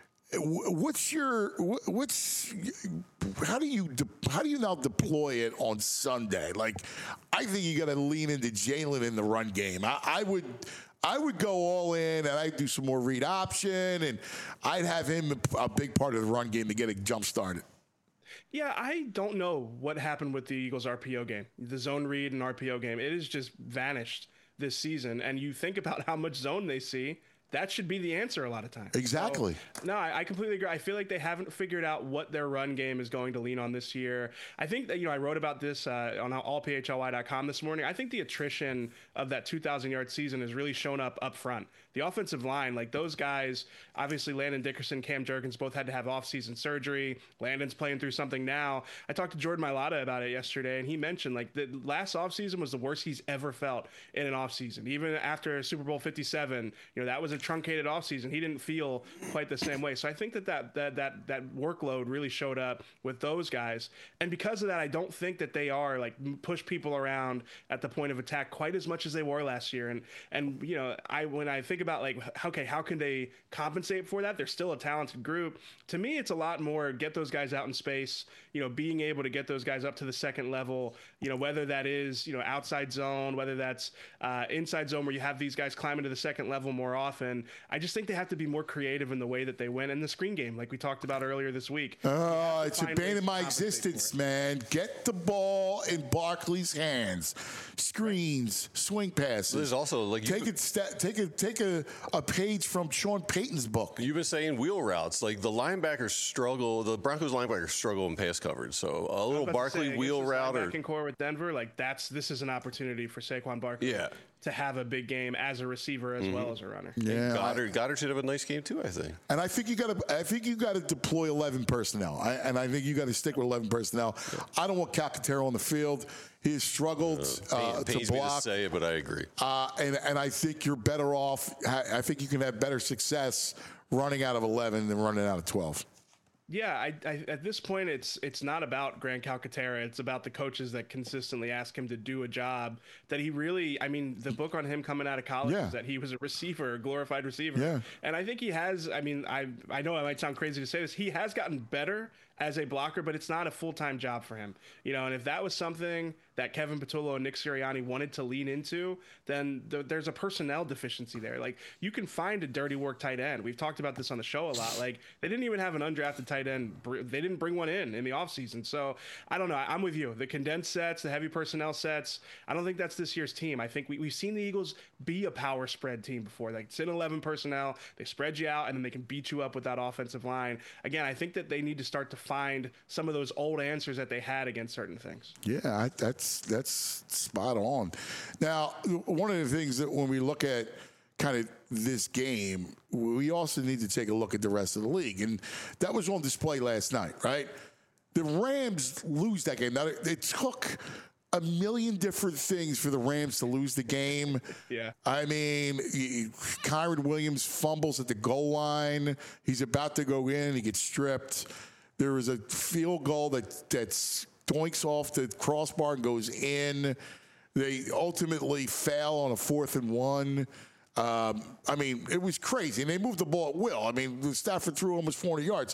What's your what's how do you how do you now deploy it on Sunday? Like, I think you got to lean into Jalen in the run game. I, I would I would go all in, and I'd do some more read option, and I'd have him a, a big part of the run game to get it jump started. Yeah, I don't know what happened with the Eagles R P O game, the zone read and R P O game. It has just vanished this season, and you think about how much zone they see. That should be the answer a lot of times. Exactly. So, no, I, I completely agree. I feel like they haven't figured out what their run game is going to lean on this year. I think that, you know, I wrote about this uh, on all P H L Y dot com this morning. I think the attrition of that two thousand yard season has really shown up up front. The offensive line, like those guys, obviously Landon Dickerson, Cam Jurgens both had to have off-season surgery. Landon's playing through something now. I talked to Jordan Mailata about it yesterday, and he mentioned like the last offseason was the worst he's ever felt in an offseason. Even after Super Bowl fifty-seven, you know, that was a truncated offseason. He didn't feel quite the same way. So I think that that, that that that workload really showed up with those guys. And because of that, I don't think that they are like push people around at the point of attack quite as much as they were last year. And and you know, I when I think about like, okay, how can they compensate for that? They're still a talented group. To me, it's a lot more get those guys out in space, you know, being able to get those guys up to the second level, you know, whether that is, you know, outside zone, whether that's uh, inside zone where you have these guys climb into the second level more often. I just think they have to be more creative in the way that they win. And the screen game, like we talked about earlier this week. Oh, it's a find bane ways of to my compensate existence, for it. man. Get the ball in Barkley's hands. Screens, swing passes. There's also like you take could- it, sta- take a take a, a page from Sean Payton's book. You've been saying wheel routes. Like the linebackers struggle, the Broncos linebackers struggle in pass coverage. So a little About to Barkley say, against wheel this route or linebacking core with Denver, like that's this is an opportunity for Saquon Barkley Yeah. to have a big game as a receiver as well as a runner. Yeah, Goddard. Goddard should have a nice game too, I think. and I think you got to. I think you got to deploy eleven personnel, I, and I think you got to stick with eleven personnel. I don't want Calcaterra on the field. He has struggled uh, Pain- to pains me to block, say it, but I agree. uh, and and I think you're better off. I think you can have better success running out of eleven than running out of twelve. Yeah, I, I, at this point, it's it's not about Grant Calcaterra. It's about the coaches that consistently ask him to do a job that he really. I mean, the book on him coming out of college Yeah. is that he was a receiver, a glorified receiver. Yeah. And I think he has. I mean, I I know I might sound crazy to say this. He has gotten better as a blocker, but it's not a full time job for him. You know, and if that was something that Kevin Patullo and Nick Sirianni wanted to lean into, then th- there's a personnel deficiency there. Like you can find a dirty work tight end. We've talked about this on the show a lot. Like they didn't even have an undrafted tight end. Br- They didn't bring one in in the offseason. So I don't know. I- I'm with you. The condensed sets, the heavy personnel sets, I don't think that's this year's team. I think we, we've seen the Eagles be a power spread team before. Like it's in eleven personnel. They spread you out and then they can beat you up with that offensive line. Again, I think that they need to start to find some of those old answers that they had against certain things. Yeah, I, that's that's spot on. Now, one of the things that when we look at kind of this game, we also need to take a look at the rest of the league, and that was on display last night, right? The Rams lose that game. Now, it, it took a million different things for the Rams to lose the game. Yeah. I mean, he- Kyron Williams fumbles at the goal line. He's about to go in. He gets stripped. There was a field goal that that's doinks off the crossbar and goes in. They ultimately fail on a fourth and one. Um, I mean, it was crazy. And they moved the ball at will. I mean, Stafford threw almost four hundred yards.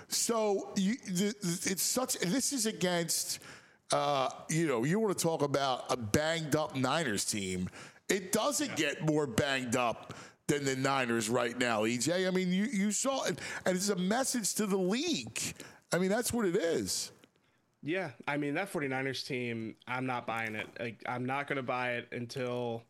So you, the, it's such, this is against, uh, you know, you want to talk about a banged up Niners team. It doesn't get more banged up than the Niners right now, E J. I mean, you, you saw it, and it's a message to the league. I mean, that's what it is. Yeah, I mean, that 49ers team, I'm not buying it. Like, I'm not going to buy it until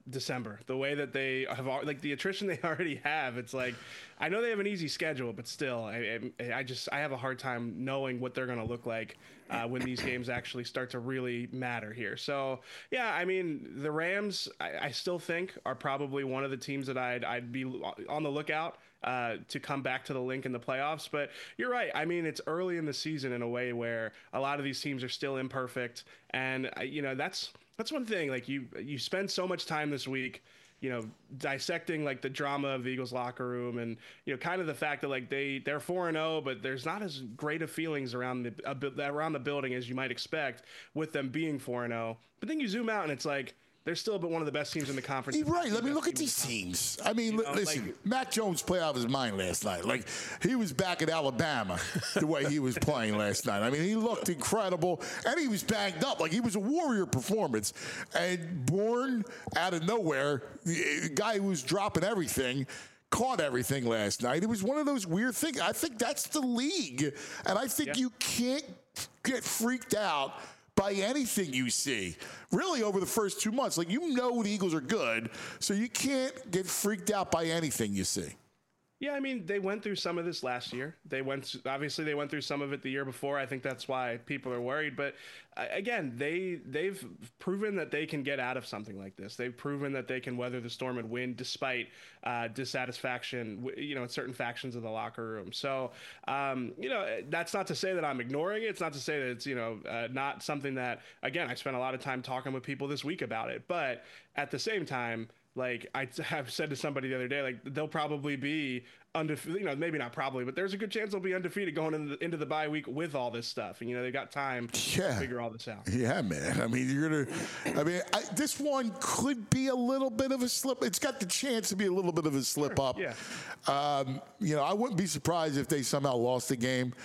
December. The way that they have, al- like the attrition they already have, it's like, I know they have an easy schedule, but still, I, I, I just I have a hard time knowing what they're going to look like uh, when these games actually start to really matter here. So yeah, I mean, the Rams, I, I still think are probably one of the teams that I'd I'd be on the lookout uh, to come back to the link in the playoffs. But you're right. I mean, it's early in the season in a way where a lot of these teams are still imperfect, and uh, you know that's. That's one thing. Like you, you spend so much time this week, you know, dissecting like the drama of the Eagles locker room, and you know, kind of the fact that like they they're four and zero, but there's not as great of feelings around the uh, around the building as you might expect with them being four and zero. But then you zoom out, and it's like they're still but one of the best teams in the conference. You're right. Let me look at these teams. I mean, you know, listen, like, Matt Jones played out of his mind last night. Like, he was back at Alabama the way he was playing last night. I mean, he looked incredible, and he was banged up. Like, he was a warrior performance. And born out of nowhere, the guy who was dropping everything, caught everything last night. It was one of those weird things. I think that's the league. And I think yeah. you can't get freaked out by anything you see, really, over the first two months. Like, you know the Eagles are good, so you can't get freaked out by anything you see. Yeah, I mean, they went through some of this last year. They went, obviously, they went through some of it the year before. I think that's why people are worried. But uh, again, they they've proven that they can get out of something like this. They've proven that they can weather the storm and win despite uh, dissatisfaction, you know, in certain factions of the locker room. So, um, you know, that's not to say that I'm ignoring it. It's not to say that it's, you know, uh, not something that, again, I spent a lot of time talking with people this week about it. But at the same time, like I have said to somebody the other day, like they'll probably be undefeated, you know, maybe not probably, but there's a good chance they'll be undefeated going into the, into the bye week with all this stuff. And, you know, they've got time yeah. to figure all this out. Yeah, man. I mean, you're going to, I mean, I, this one could be a little bit of a slip. It's got the chance to be a little bit of a slip Sure. up. Yeah. Um, you know, I wouldn't be surprised if they somehow lost the game.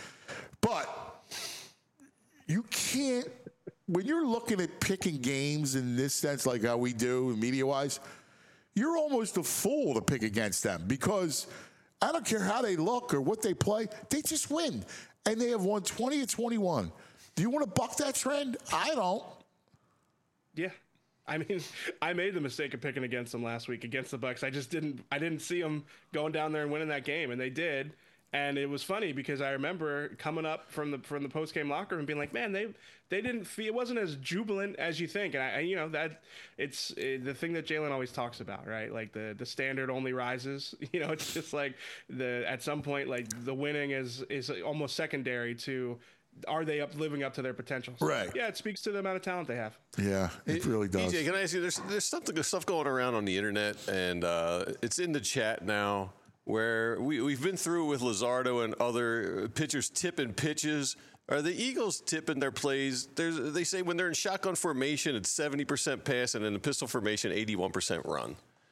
But you can't, when you're looking at picking games in this sense, like how we do media-wise, you're almost a fool to pick against them because I don't care how they look or what they play, they just win. And they have won twenty or twenty-one. Do you want to buck that trend? I don't. Yeah. I mean, I made the mistake of picking against them last week against the Bucks. I just didn't I didn't see them going down there and winning that game, and they did. And it was funny because I remember coming up from the from the post game locker room and being like, "Man, they they didn't feel it wasn't as jubilant as you think." And I, and, you know, that it's it, the thing that Jalen always talks about, right? Like the the standard only rises. You know, it's just like the at some point, like the winning is is almost secondary to are they up living up to their potential? So, right. Yeah, it speaks to the amount of talent they have. Yeah, it hey, really does. D J, can I ask you? There's there's something there's stuff going around on the internet, and uh, it's in the chat now. Where we, we've been through with Luzardo and other pitchers tipping pitches. Are the Eagles tipping their plays? There's, they say when they're in shotgun formation, it's seventy percent pass, and in the pistol formation, eighty-one percent run.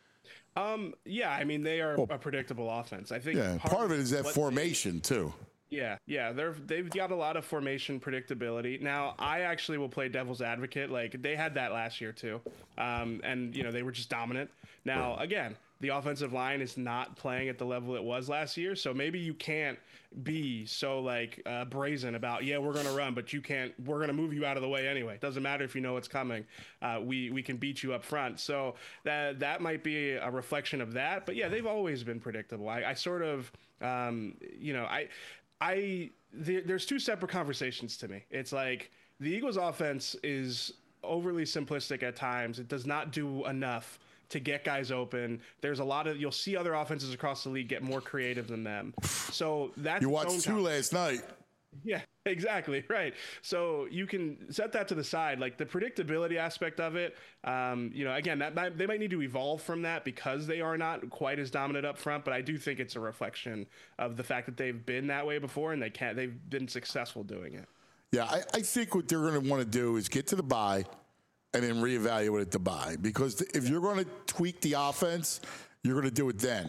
Um, yeah, I mean, they are well, a predictable offense. I think yeah, part, part of it is that formation, they, too. Yeah, yeah, they're they've got a lot of formation predictability. Now, I actually will play devil's advocate. Like they had that last year too, um, and you know they were just dominant. Now, again, the offensive line is not playing at the level it was last year, so maybe you can't be so like uh, brazen about yeah we're gonna run, but you can't. We're gonna move you out of the way anyway. It doesn't matter if you know what's coming. Uh, we we can beat you up front. So that that might be a reflection of that. But yeah, they've always been predictable. I, I sort of um, you know I. I there, there's two separate conversations to me. It's like the Eagles offense is overly simplistic at times. It does not do enough to get guys open. There's a lot of you'll see other offenses across the league get more creative than them. So that's you watched two last night. Yeah, exactly. Right. So you can set that to the side, like the predictability aspect of it. Um, you know, again, that might, they might need to evolve from that because they are not quite as dominant up front. But I do think it's a reflection of the fact that they've been that way before and they can't. They've been successful doing it. Yeah, I, I think what they're going to want to do is get to the bye and then reevaluate at the bye because if you're going to tweak the offense, you're going to do it then.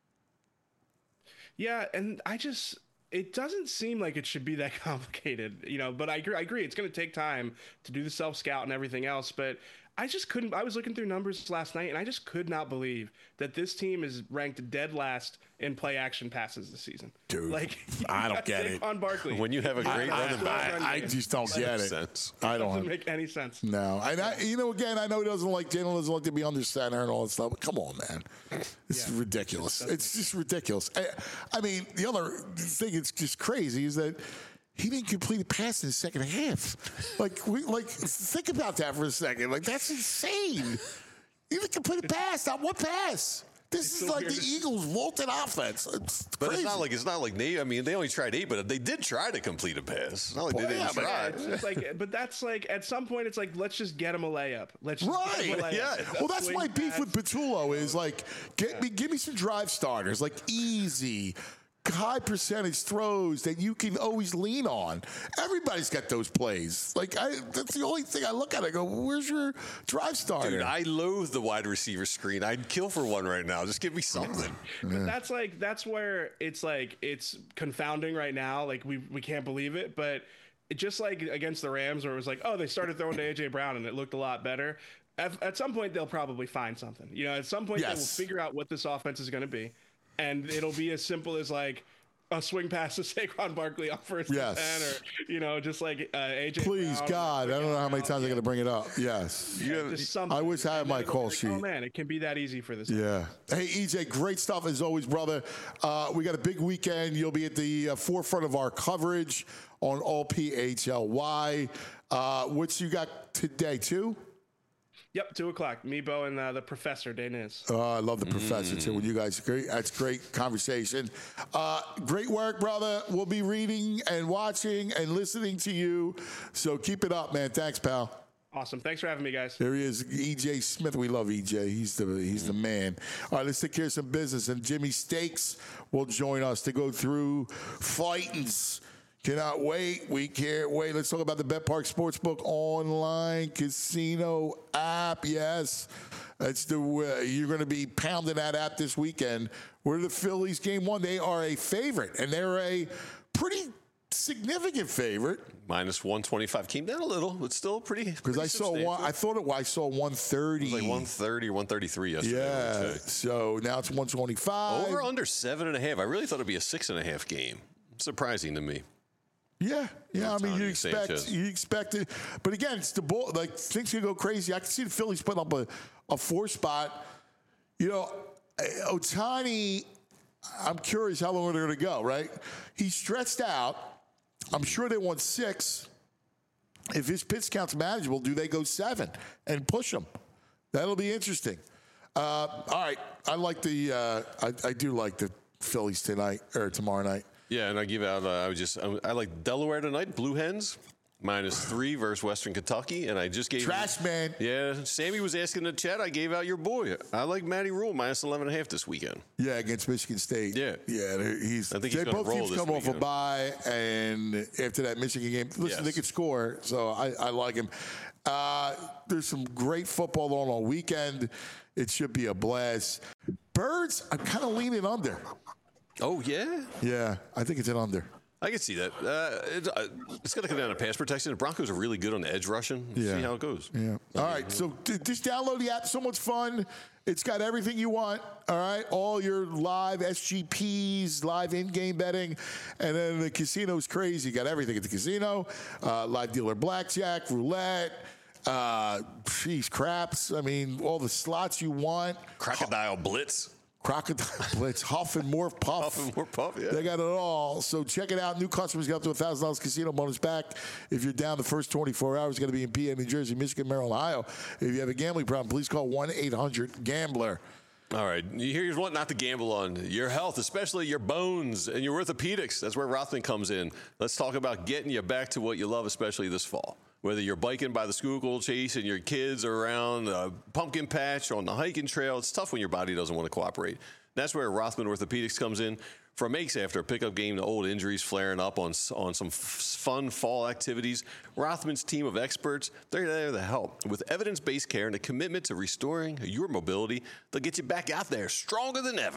Yeah, and I just. It doesn't seem like it should be that complicated, you know, but I agree. I agree. It's going to take time to do the self-scout and everything else. But I just couldn't. I was looking through numbers last night, and I just could not believe that this team is ranked dead last in play action passes this season. Dude, like I don't get it. On Barkley, When you have a great I, running back, I, I just don't get it. sense. I doesn't don't. make any sense. No, and I, you know, again, I know he doesn't like Jalen doesn't like to be under center and all that stuff. But come on, man, it's Yeah. ridiculous. It's just ridiculous. I, I mean, the other thing that's just crazy is that he didn't complete a pass in the second half. Like, we, like, think about that for a second. Like, that's insane. He didn't complete a pass, not one pass. This is so like weird. the Eagles' vaulted offense. It's But crazy. it's not like it's not like they. I mean, they only tried eight, but they did try to complete a pass. It's not like Well, they didn't yeah, but- try. It's just like, but that's like at some point it's like let's just get him a layup. Let's just get him a Right. layup. Yeah. If Well, that's swing my beef pass- with Patullo is like, get me, give me some drive starters, like easy, high percentage throws that you can always lean on. Everybody's got those plays. Like, I, that's the only thing I look at. I go, where's your drive starter? Dude, I loathe the wide receiver screen. I'd kill for one right now. Just give me something. But that's like that's where it's like it's confounding right now. Like we we can't believe it, but it just like against the Rams, where it was like, oh, they started throwing to A J Brown and it looked a lot better. At, at some point, they'll probably find something. You know, at some point, they will Yes. figure out what this offense is going to be, and it'll be as simple as like a swing pass to Saquon Barkley off first Yes. and ten, or you know, just like uh, A J. Please, Brown, God, I don't know how many Brown, times I'm yeah. going to bring it up. Yes. Yeah, just something. I wish I had And my then it'll call be like, sheet. Oh man, it can be that easy for this. Yeah. Hey, E J, great stuff as always, brother. Uh, we got a big weekend. You'll be at the uh, forefront of our coverage on all P H L Y. Uh, what you got today, too? Yep, two o'clock. Me, Bo, and uh, the professor, Daniz. Oh, I love the professor, too. When you guys, great, that's great conversation. Uh, great work, brother. We'll be reading and watching and listening to you. So keep it up, man. Thanks, pal. Awesome. Thanks for having me, guys. There he is, E J Smith. We love E J. He's the he's the man. All right, let's take care of some business. And Jimmy Stakes will join us to go through fightings. Cannot wait. We can't wait. Let's talk about the Bet Park Sportsbook online casino app. Yes, that's the uh, you're going to be pounding that app this weekend. We're the Phillies game one. They are a favorite, and they're a pretty significant favorite. Minus one twenty-five. Came down a little, but still pretty. Because I saw one, I thought it. I saw one thirty. It was like one thirty or one thirty-three yesterday. I would Yeah. say. So now it's one twenty-five. Over under seven and a half. I really thought it'd be a six and a half game. Surprising to me. Yeah, yeah. I mean, you Tony expect Sanchez. you expect it, but again, it's the ball. Like things can go crazy. I can see the Phillies putting up a, a four spot. You know, Ohtani. I'm curious how long they're going to go. Right? He's stretched out. I'm sure they want six. If his pitch count's manageable, do they go seven and push him? That'll be interesting. Uh, all right, I like the. Uh, I, I do like the Phillies tonight or tomorrow night. Yeah, and I give out. Uh, I would just. I, I like Delaware tonight. Blue Hens minus three versus Western Kentucky, and I just gave Trash man. Yeah, Sammy was asking in the chat. I gave out your boy. I like Matty Rule minus eleven and a half this weekend. Yeah, against Michigan State. Yeah. yeah. He's. I think they he's gonna both roll teams this come off a weekend. bye, and after that Michigan game, listen, Yes. they could score, so I, I like him. Uh, there's some great football on all weekend. It should be a blast. Birds, I'm kind of leaning under. Oh yeah, Yeah, I think it's an under. I can see that. Uh, it, uh, it's got to come down to pass protection. The Broncos are really good on the edge rushing. Yeah. See how it goes. Yeah. All right. So d- just download the app. So much fun. It's got everything you want. All right. All your live S G Ps, live in-game betting, and then the casino's crazy. You got everything at the casino. Uh, live dealer blackjack, roulette. Uh, geez, craps. I mean, all the slots you want. Crocodile Blitz. Crocodile Blitz, Huff and Morph Puff. Huff and Morph Puff, yeah. They got it all. So check it out. New customers get up to one thousand dollars casino bonus back. If you're down the first twenty-four hours, it's going to be in P A, New Jersey, Michigan, Maryland, Ohio. If you have a gambling problem, please call one eight hundred gambler. All right, here's what not to gamble on. Your health, especially your bones and your orthopedics. That's where Rothman comes in. Let's talk about getting you back to what you love, especially this fall. Whether you're biking by the Schuylkill Chase and your kids are around a pumpkin patch or on the hiking trail, it's tough when your body doesn't want to cooperate. That's where Rothman Orthopedics comes in. From aches after a pickup game to old injuries flaring up on, on some f- fun fall activities, Rothman's team of experts, they're there to help. With evidence-based care and a commitment to restoring your mobility, they'll get you back out there stronger than ever.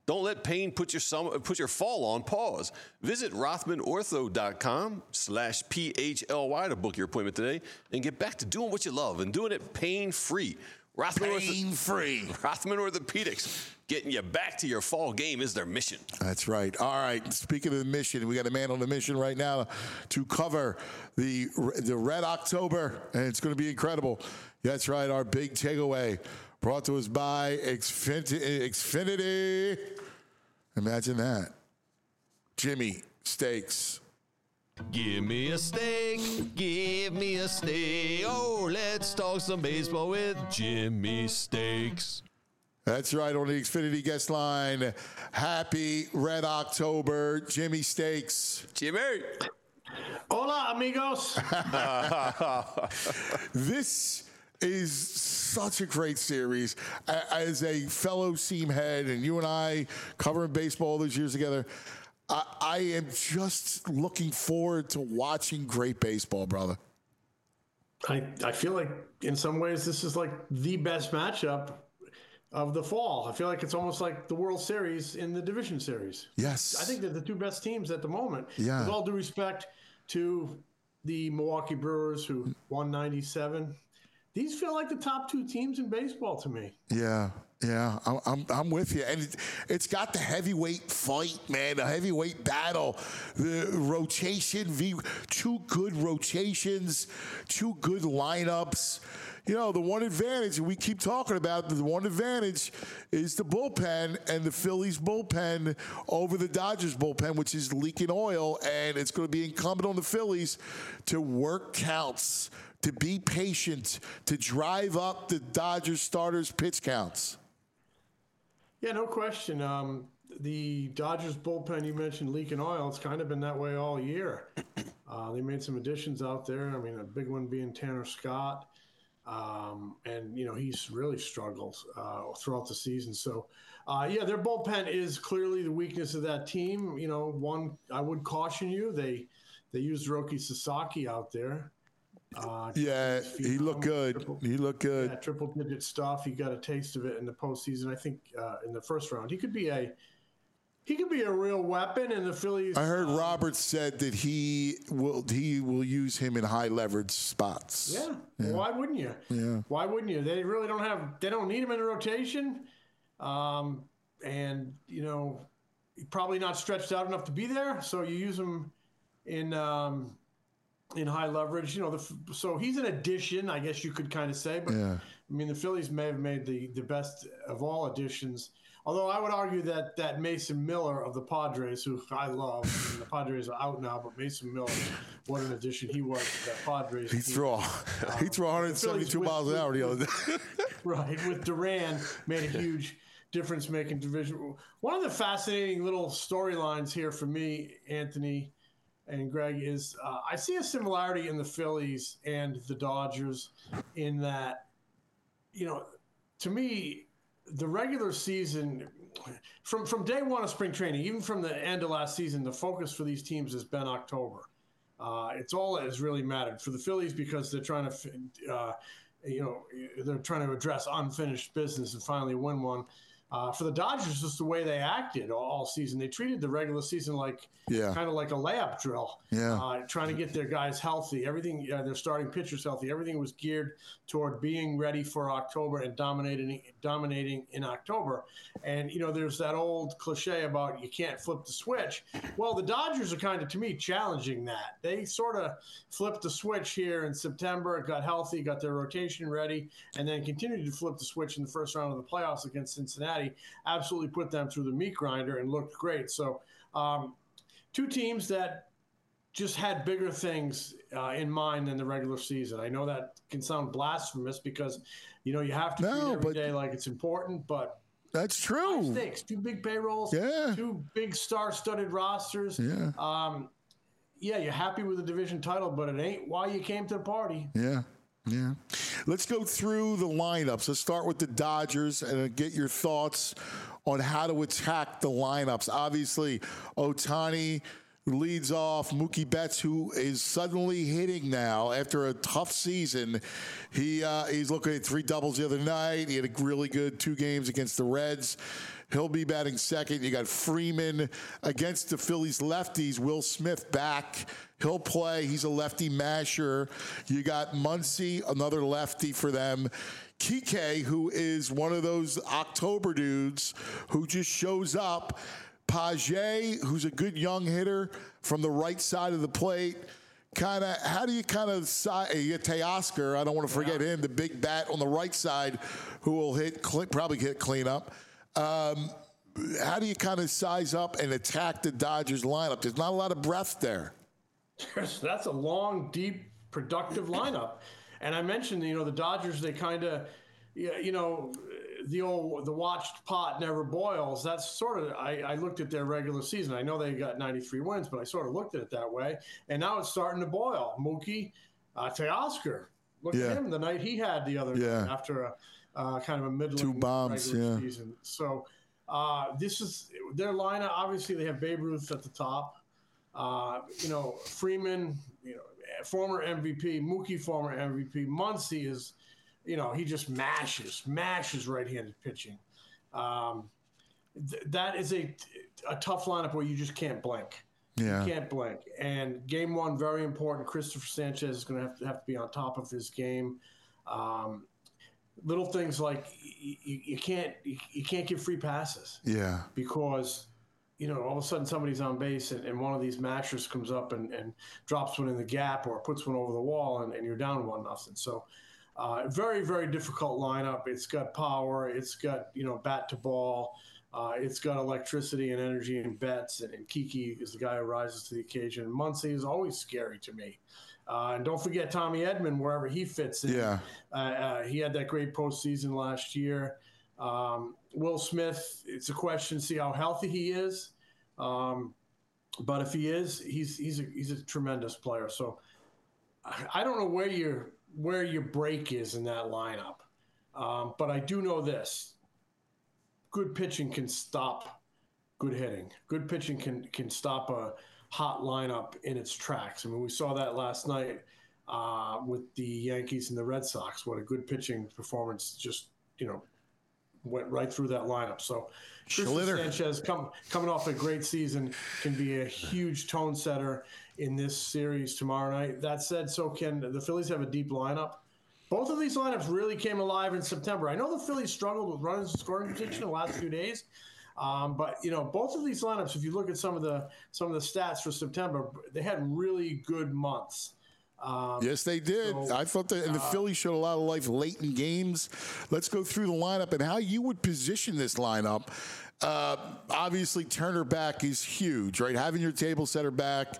Don't let pain put your summer, put your fall on pause. Visit rothmanortho.com slash P H L Y to book your appointment today and get back to doing what you love and doing it pain-free. Rothman Pain-free. Ortho- Rothman Orthopedics, getting you back to your fall game is their mission. That's right. All right. Speaking of the mission, we got a man on the mission right now to cover the the Red October, and it's going to be incredible. That's right. Our big takeaway brought to us by Xfinity. Xfinity. Imagine that. Jimmy Steaks. Give me a steak, give me a steak. Oh, let's talk some baseball with Jimmy Steaks. That's right, on the Xfinity guest line. Happy Red October, Jimmy Steaks. Jimmy. Hola, amigos. This is such a great series. A- As a fellow seam head, and you and I covering baseball all those years together, I, I am just looking forward to watching great baseball, brother. I, I feel like in some ways this is like the best matchup of the fall. I feel like it's almost like the World Series in the division series. Yes. I think they're the two best teams at the moment. Yeah. With all due respect to the Milwaukee Brewers, who won ninety-seven. These feel like the top two teams in baseball to me. Yeah, yeah, I'm, I'm, I'm with you. And it, it's got the heavyweight fight, man, the heavyweight battle, the rotation, v, two good rotations, two good lineups. You know, the one advantage, and we keep talking about the one advantage, is the bullpen, and the Phillies bullpen over the Dodgers bullpen, which is leaking oil, and it's going to be incumbent on the Phillies to work counts, to be patient, to drive up the Dodgers starters' pitch counts. Yeah, no question. Um, the Dodgers bullpen, you mentioned leaking oil. It's kind of been that way all year. Uh, they made some additions out there. I mean, a big one being Tanner Scott. Um, and, you know, he's really struggled uh, throughout the season. So, uh, yeah, their bullpen is clearly the weakness of that team. You know, one, I would caution you, they they used Roki Sasaki out there. Uh, Yeah, he looked good. Triple, He looked good. yeah, triple-digit stuff. He got a taste of it in the postseason. I think uh, in the first round, he could be a he could be a real weapon. And the Phillies. I heard um, Roberts said that he will he will use him in high leverage spots. Yeah. Well, why wouldn't you? Yeah. Why wouldn't you? They really don't have. They don't need him in the rotation, um, and you know, probably not stretched out enough to be there. So you use him in um, in high leverage. You know, the, so he's an addition, I guess you could kind of say. But Yeah. I mean, the Phillies may have made the the best of all additions. Although I would argue that that Mason Miller of the Padres, who I love, I mean, the Padres are out now, but Mason Miller, what an addition he was to that Padres He team. threw a, he threw one hundred seventy-two Phillies miles an with- hour the other day. Right, with Duran made a huge difference making division. One of the fascinating little storylines here for me, Anthony and Greg, is uh, I see a similarity in the Phillies and the Dodgers in that, you know, to me, the regular season, from from day one of spring training, even from the end of last season, the focus for these teams has been October. Uh, it's all that has really mattered for the Phillies because they're trying to, uh, you know, they're trying to address unfinished business and finally win one. Uh, for the Dodgers, just the way they acted all, all season, they treated the regular season like Yeah. kind of like a layup drill. Yeah. Uh, trying to get their guys healthy. Everything, uh, their starting pitchers healthy. Everything was geared toward being ready for October and dominating, dominating in October. And you know, there's that old cliche about you can't flip the switch. Well, the Dodgers are kind of, to me, challenging that. They sort of flipped the switch here in September, got healthy, got their rotation ready, and then continued to flip the switch in the first round of the playoffs against Cincinnati. Absolutely put them through the meat grinder and looked great. So, um, two teams that just had bigger things uh, in mind than the regular season. I know that can sound blasphemous because, you know, you have to No, treat every but- day like it's important, but That's high true. stakes, two big payrolls, Yeah. two big star-studded rosters. Yeah. Um, yeah, you're happy with the division title, but it ain't why you came to the party. Yeah. Yeah. Let's go through the lineups. Let's start with the Dodgers and uh, get your thoughts on how to attack the lineups. Obviously, Ohtani leads off. Mookie Betts, who is suddenly hitting now after a tough season. He uh, he's looking at three doubles the other night. He had a really good two games against the Reds. He'll be batting second. You got Freeman against the Phillies lefties. Will Smith back. He'll play. He's a lefty masher. You got Muncy, another lefty for them. Kike, who is one of those October dudes who just shows up. Page, who's a good young hitter from the right side of the plate. Kind of, how do you kind of side? You get Teoscar. I don't want to forget him, the big bat on the right side, who will hit probably hit cleanup. Um, how do you kind of size up and attack the Dodgers lineup? There's not a lot of breath there. That's a long, deep, productive lineup. And I mentioned, you know, the Dodgers, they kind of, you know, the old, the watched pot never boils. That's sort of, I, I looked at their regular season. I know they got ninety-three wins, but I sort of looked at it that way. And now it's starting to boil. Mookie, uh, Teoscar, look Yeah. at him the night he had the other Yeah. night after a uh, kind of a middling Two bombs, regular yeah. season. So uh, this is their lineup. Obviously, they have Babe Ruth at the top. Uh, you know, Freeman, you know, former M V P, Mookie, former M V P. Muncy is, you know, he just mashes, mashes right-handed pitching. Um, th- that is a, a tough lineup where you just can't blink. Yeah. You can't blink. And game one, very important. Christopher Sanchez is going to have to have to be on top of his game. Um, little things like you, you, you can't you, you can't give free passes. Yeah. Because, you know, all of a sudden somebody's on base and, and one of these mashers comes up and, and drops one in the gap or puts one over the wall and, and you're down one nothing. So uh, very, very difficult lineup. It's got power. It's got, you know, bat to ball. Uh, it's got electricity and energy and bets. And, and Kiki is the guy who rises to the occasion. And Muncy is always scary to me. Uh, and don't forget Tommy Edman, wherever he fits in. Yeah. Uh, uh, he had that great postseason last year. Um, Will Smith, it's a question, see how healthy he is. Um, but if he is, he's he's a, he's a tremendous player. So I, I don't know where your where your break is in that lineup. Um, but I do know this. Good pitching can stop good hitting. Good pitching can can stop a hot lineup in its tracks. I mean, we saw that last night uh, with the Yankees and the Red Sox. What a good pitching performance just, you know, went right through that lineup. So Christopher Sanchez come, coming off a great season can be a huge tone setter in this series tomorrow night. That said, so can the Phillies have a deep lineup. Both of these lineups really came alive in September. I know the Phillies struggled with runners in scoring position the last few days, um, but you know both of these lineups. If you look at some of the some of the stats for September, they had really good months. Um, yes, they did. so, I thought that and the uh, Phillies showed a lot of life late in games. Let's go through the lineup and how you would position this lineup. Uh, obviously, Turner back is huge, right? Having your table setter back,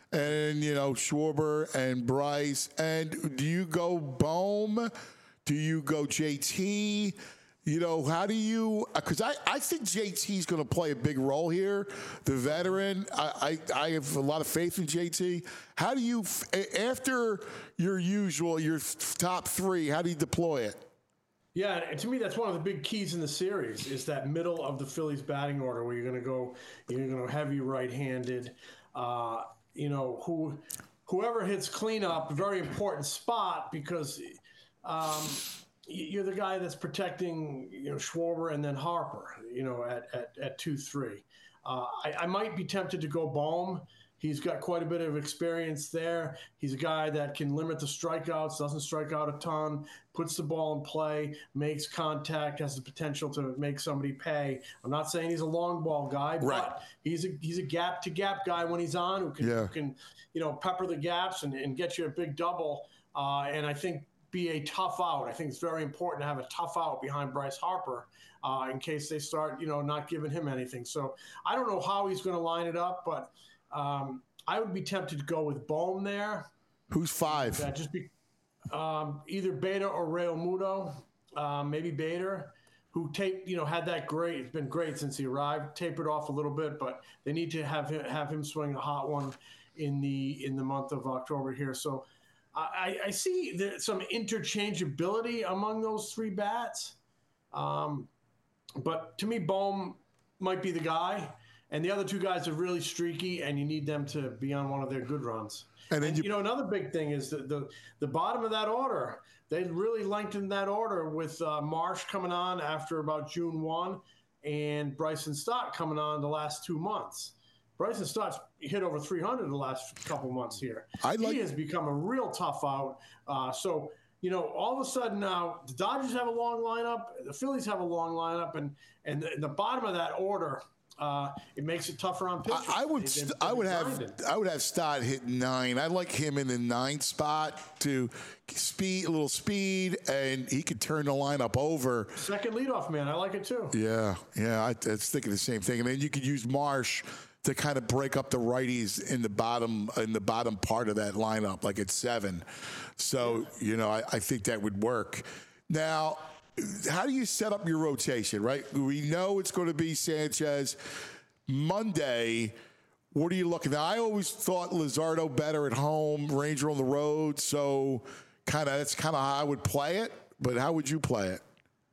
and you know Schwarber and Bryce. And do you go Bohm? Do you go J T? You know, how do you – because I, I think J T's going to play a big role here, the veteran. I, I, I have a lot of faith in J T. How do you – after your usual, your top three, how do you deploy it? Yeah, and to me, that's one of the big keys in the series is that middle of the Phillies batting order where you're going to go – you're going to heavy right-handed. Uh, you know, who whoever hits cleanup, very important spot because um, – you're the guy that's protecting, you know, Schwarber and then Harper, you know, at at, at two three. Uh, I, I might be tempted to go Bohm. He's got quite a bit of experience there. He's a guy that can limit the strikeouts, doesn't strike out a ton, puts the ball in play, makes contact, has the potential to make somebody pay. I'm not saying he's a long ball guy, Right. but he's a he's a gap to gap guy when he's on who can, Yeah. who can you know, pepper the gaps and, and get you a big double. Uh, and I think be a tough out. I think it's very important to have a tough out behind Bryce Harper uh, in case they start, you know, not giving him anything. So I don't know how he's going to line it up, but um, I would be tempted to go with Bohm there. Who's five? Yeah, just be um, either Beta or Real Muto, um, maybe Bader, who taped, you know, had that great. It's been great since he arrived. Tapered off a little bit, but they need to have him have him swing a hot one in the in the month of October here. So. I, I see there, some interchangeability among those three bats. Um, but to me, Bohm might be the guy. And the other two guys are really streaky, and you need them to be on one of their good runs. And then and, you, you know, another big thing is the, the, the bottom of that order. They really lengthened that order with uh, Marsh coming on after about June first. and Bryson Stott coming on the last two months. Bryson Stott's hit over three hundred the last couple months here. I like- he has become a real tough out. Uh, so, you know, all of a sudden now the Dodgers have a long lineup, the Phillies have a long lineup, and and the, the bottom of that order, uh, it makes it tougher on pitchers. I, I would, They- they- I would they're have, grinding. I would have Stott hit nine. I like him in the nine spot to speed, a little speed, and he could turn the lineup over. Second leadoff man, I like it too. Yeah, yeah, I, I was thinking the same thing. And then you could use Marsh to kind of break up the righties in the bottom in the bottom part of that lineup, like at seven. So you know, I, I think that would work. Now, how do you set up your rotation? Right, we know it's going to be Sanchez Monday. What are you looking at? I always thought Luzardo better at home, Ranger on the road. So kind of that's kind of how I would play it. But how would you play it?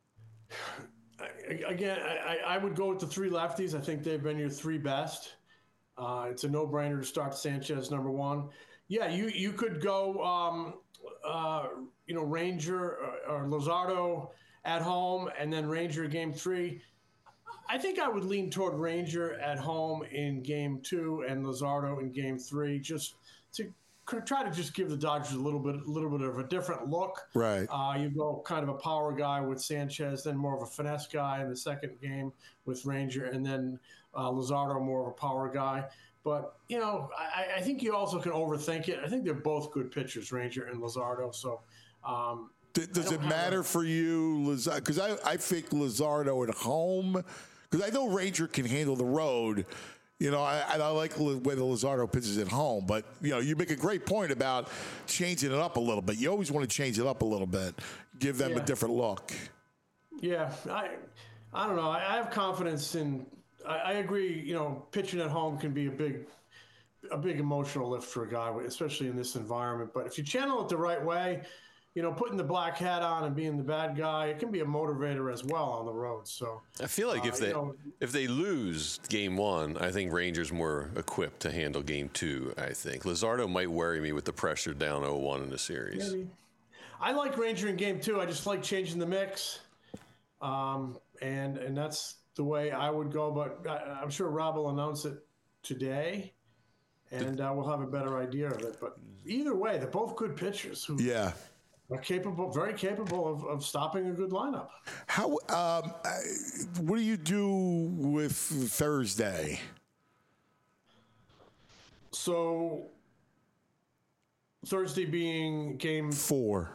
Again, I, I would go with the three lefties. I think they've been your three best. Uh, it's a no-brainer to start Sanchez number one. Yeah, you you could go, um, uh, you know, Ranger or, or Luzardo at home, and then Ranger game three. I think I would lean toward Ranger at home in game two and Luzardo in game three, just to try to just give the Dodgers a little bit, a little bit of a different look. Right. Uh, you go kind of a power guy with Sanchez, then more of a finesse guy in the second game with Ranger, and then uh, Luzardo more of a power guy. But, you know, I, I think you also can overthink it. I think they're both good pitchers, Ranger and Luzardo. So, um, D- Does I it don't have matter a- for you, because I, I think Luzardo at home, because I know Ranger can handle the road. You know, I, I like the way the Luzardo pitches at home, but, you know, you make a great point about changing it up a little bit. You always want to change it up a little bit, give them a Yeah. different look. Yeah, I, I don't know. I, I have confidence in. I, I agree. You know, pitching at home can be a big, a big emotional lift for a guy, especially in this environment. But if you channel it the right way, you know, putting the black hat on and being the bad guy, it can be a motivator as well on the road. So I feel like uh, if they you know, if they lose game one, I think Rangers more equipped to handle game two. I think Luzardo might worry me with the pressure down oh one in the series. maybe. I like Ranger in game two. I just like changing the mix, um, and and that's the way I would go. But I, I'm sure Rob will announce it today, and uh, we'll have a better idea of it. But either way, they're both good pitchers who Yeah. are capable, very capable of, of stopping a good lineup. How? Um, I- what do you do with Thursday? So Thursday being game, Four.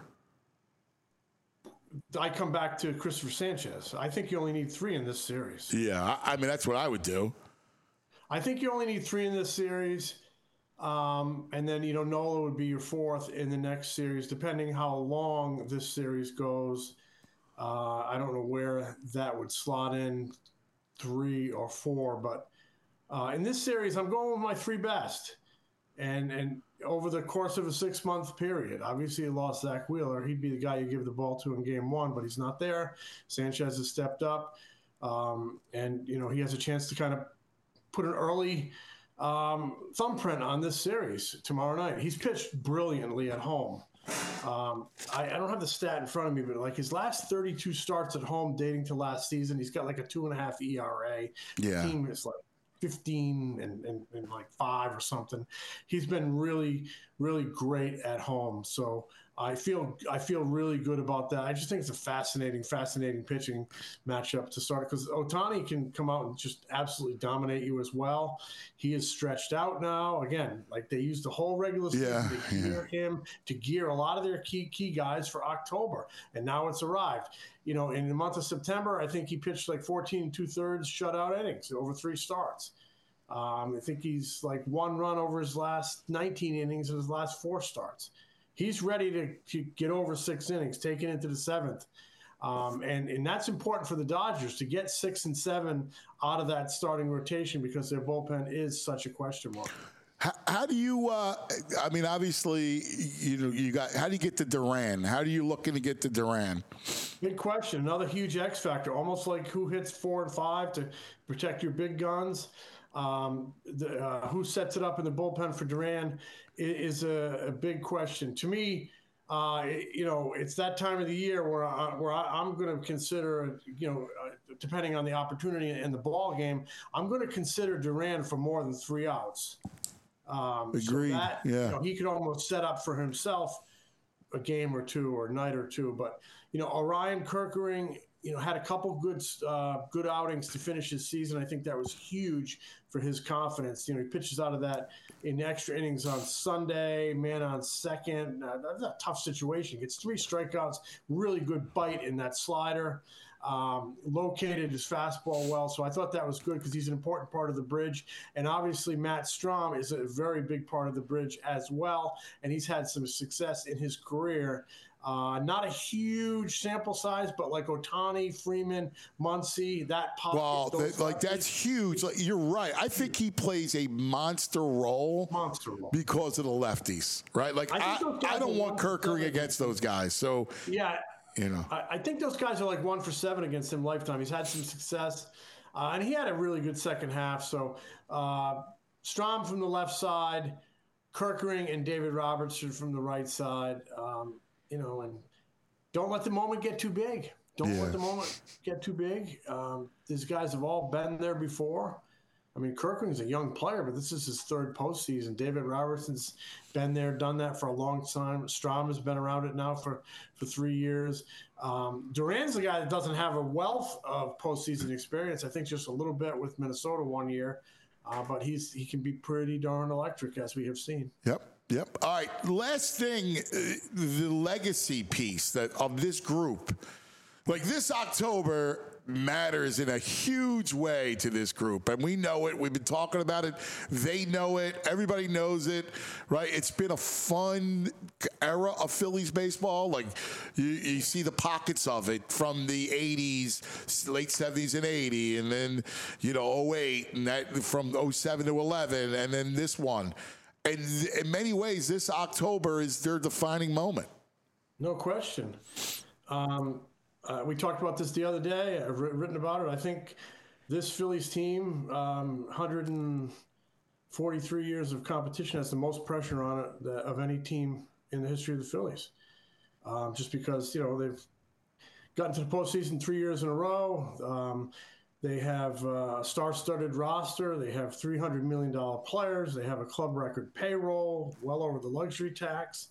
I come back to Christopher Sanchez. I think you only need three in this series. Yeah, I, I mean that's what I would do. I think you only need three in this series. Um, and then, you know, Nola would be your fourth in the next series, depending how long this series goes. Uh, I don't know where that would slot in, three or four, but uh, in this series, I'm going with my three best. And and over the course of a six-month period, obviously you lost Zach Wheeler. He'd be the guy you give the ball to in game one, but he's not there. Sanchez has stepped up. Um, and, you know, he has a chance to kind of put an early um, thumbprint on this series tomorrow night. He's pitched brilliantly at home. Um, I, I don't have the stat in front of me, but like his last thirty-two starts at home dating to last season, he's got like a two and a half E R A. Yeah. The team is like fifteen and, and, and like five or something. He's been really, really great at home. So I feel I feel really good about that. I just think it's a fascinating, fascinating pitching matchup to start because Ohtani can come out and just absolutely dominate you as well. He is stretched out now. Again, like they used the whole regular season Yeah, to gear him, to gear a lot of their key key guys for October. And now it's arrived. You know, in the month of September, I think he pitched like fourteen and two thirds shutout innings over three starts. Um, I think he's like one run over his last nineteen innings in his last four starts. He's ready to, to get over six innings, take it into the seventh. Um, and, and that's important for the Dodgers to get six and seven out of that starting rotation because their bullpen is such a question mark. How, how do you? Uh, I mean, obviously, you know, you got. How do you get to Duran? How do you looking to get to Duran? Big question. Another huge X factor, almost like who hits four and five to protect your big guns. Um, the, uh, who sets it up in the bullpen for Duran is, is a, a big question. To me, uh, you know, it's that time of the year where I, where I, I'm going to consider, you know, uh, depending on the opportunity in the ball game, I'm going to consider Duran for more than three outs. Um, Agreed. So that, yeah. You know, he could almost set up for himself a game or two or a night or two. But, you know, Orion Kerkering, you know, had a couple good uh, good outings to finish his season. I think that was huge for his confidence. You know, he pitches out of that in extra innings on Sunday, man on second. Uh, that's a tough situation. Gets three strikeouts, really good bite in that slider. Um, located his fastball well. So I thought that was good because he's an important part of the bridge. And obviously Matt Strom is a very big part of the bridge as well. And he's had some success in his career. Uh, not a huge sample size, but like Ohtani, Freeman, Muncy, that pocket. Well, that, like that's huge. Like, you're right. I think he plays a monster role, monster role because of the lefties, right? Like I, I, I, I don't want Kerkering against those guys. So yeah, you know, I, I think those guys are like one for seven against him lifetime. He's had some success, uh, and he had a really good second half. So uh, Strom from the left side, Kerkering and David Robertson from the right side. Um, You know, and don't let the moment get too big. Don't yeah. let the moment get too big. Um, these guys have all been there before. I mean, Kerkering's a young player, but this is his third postseason. David Robertson's been there, done that for a long time. Strom has been around it now for, for three years. Um, Duran's the guy that doesn't have a wealth of postseason experience. I think just a little bit with Minnesota one year, uh, but he's he can be pretty darn electric, as we have seen. Yep. Yep. All right. Last thing, uh, the legacy piece that of this group, like this October matters in a huge way to this group, and we know it. We've been talking about it. They know it. Everybody knows it, right? It's been a fun era of Phillies baseball. Like you, you see the pockets of it from the eighties, late seventies and eighty, and then you know oh eight, and that from oh seven to eleven, and then this one. And in many ways, this October is their defining moment. No question. Um, uh, we talked about this the other day. I've written about it. I think this Phillies team, um, one hundred forty-three years of competition, has the most pressure on it of any team in the history of the Phillies. Um, just because, you know, they've gotten to the postseason three years in a row. Um, They have a star-studded roster. They have three hundred million dollars players. They have a club record payroll, well over the luxury tax.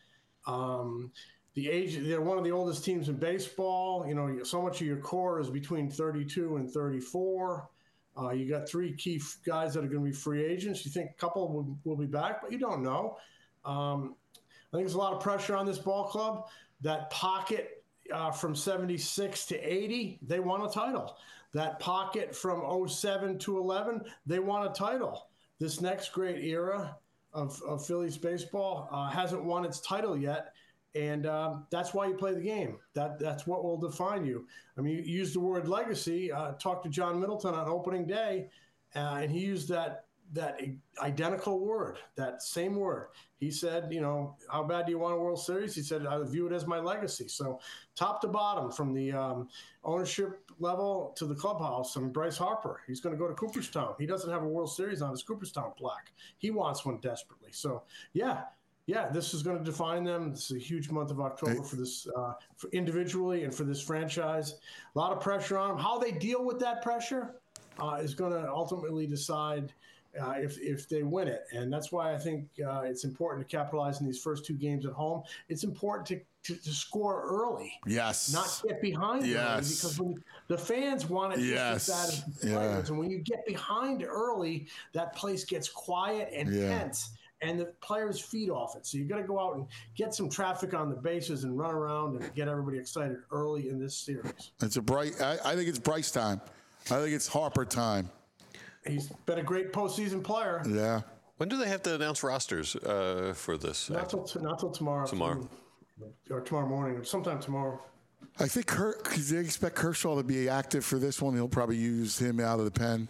Um, the age, they're one of the oldest teams in baseball. You know, so much of your core is between thirty-two and thirty-four. Uh, you got three key f- guys that are going to be free agents. You think a couple will, will be back, but you don't know. Um, I think there's a lot of pressure on this ball club. That pocket uh, from seventy-six to eighty, they won a title. That pocket from oh seven to eleven, they won a title. This next great era of, of Phillies baseball uh, hasn't won its title yet, and um, that's why you play the game. That That's what will define you. I mean, you use the word legacy. Uh, talked to John Middleton on opening day, uh, and he used that that identical word, that same word. He said, you know, how bad do you want a World Series? He said, I view it as my legacy. So top to bottom, from the um, ownership level to the clubhouse, I mean, Bryce Harper, he's going to go to Cooperstown. He doesn't have a World Series on his Cooperstown plaque. He wants one desperately. So, yeah, yeah, this is going to define them. This is a huge month of October for this, uh, for individually and for this franchise. A lot of pressure on them. How they deal with that pressure uh, is going to ultimately decide Uh, if if they win it. And that's why I think uh, it's important to capitalize in these first two games at home. It's important to, to, to score early. Yes. Not get behind yes. early, because when the fans want it yes. just as bad as the yeah. players. And when you get behind early, that place gets quiet and yeah. tense, and the players feed off it. So you got to go out and get some traffic on the bases and run around and get everybody excited early in this series. It's a bright. I, I think it's Bryce time. I think it's Harper time. He's been a great postseason player. Yeah. When do they have to announce rosters uh, for this? Not till, t- not till tomorrow. Tomorrow. Or tomorrow morning, sometime tomorrow. I think Ker- they expect Kershaw to be active for this one. He'll probably use him out of the pen.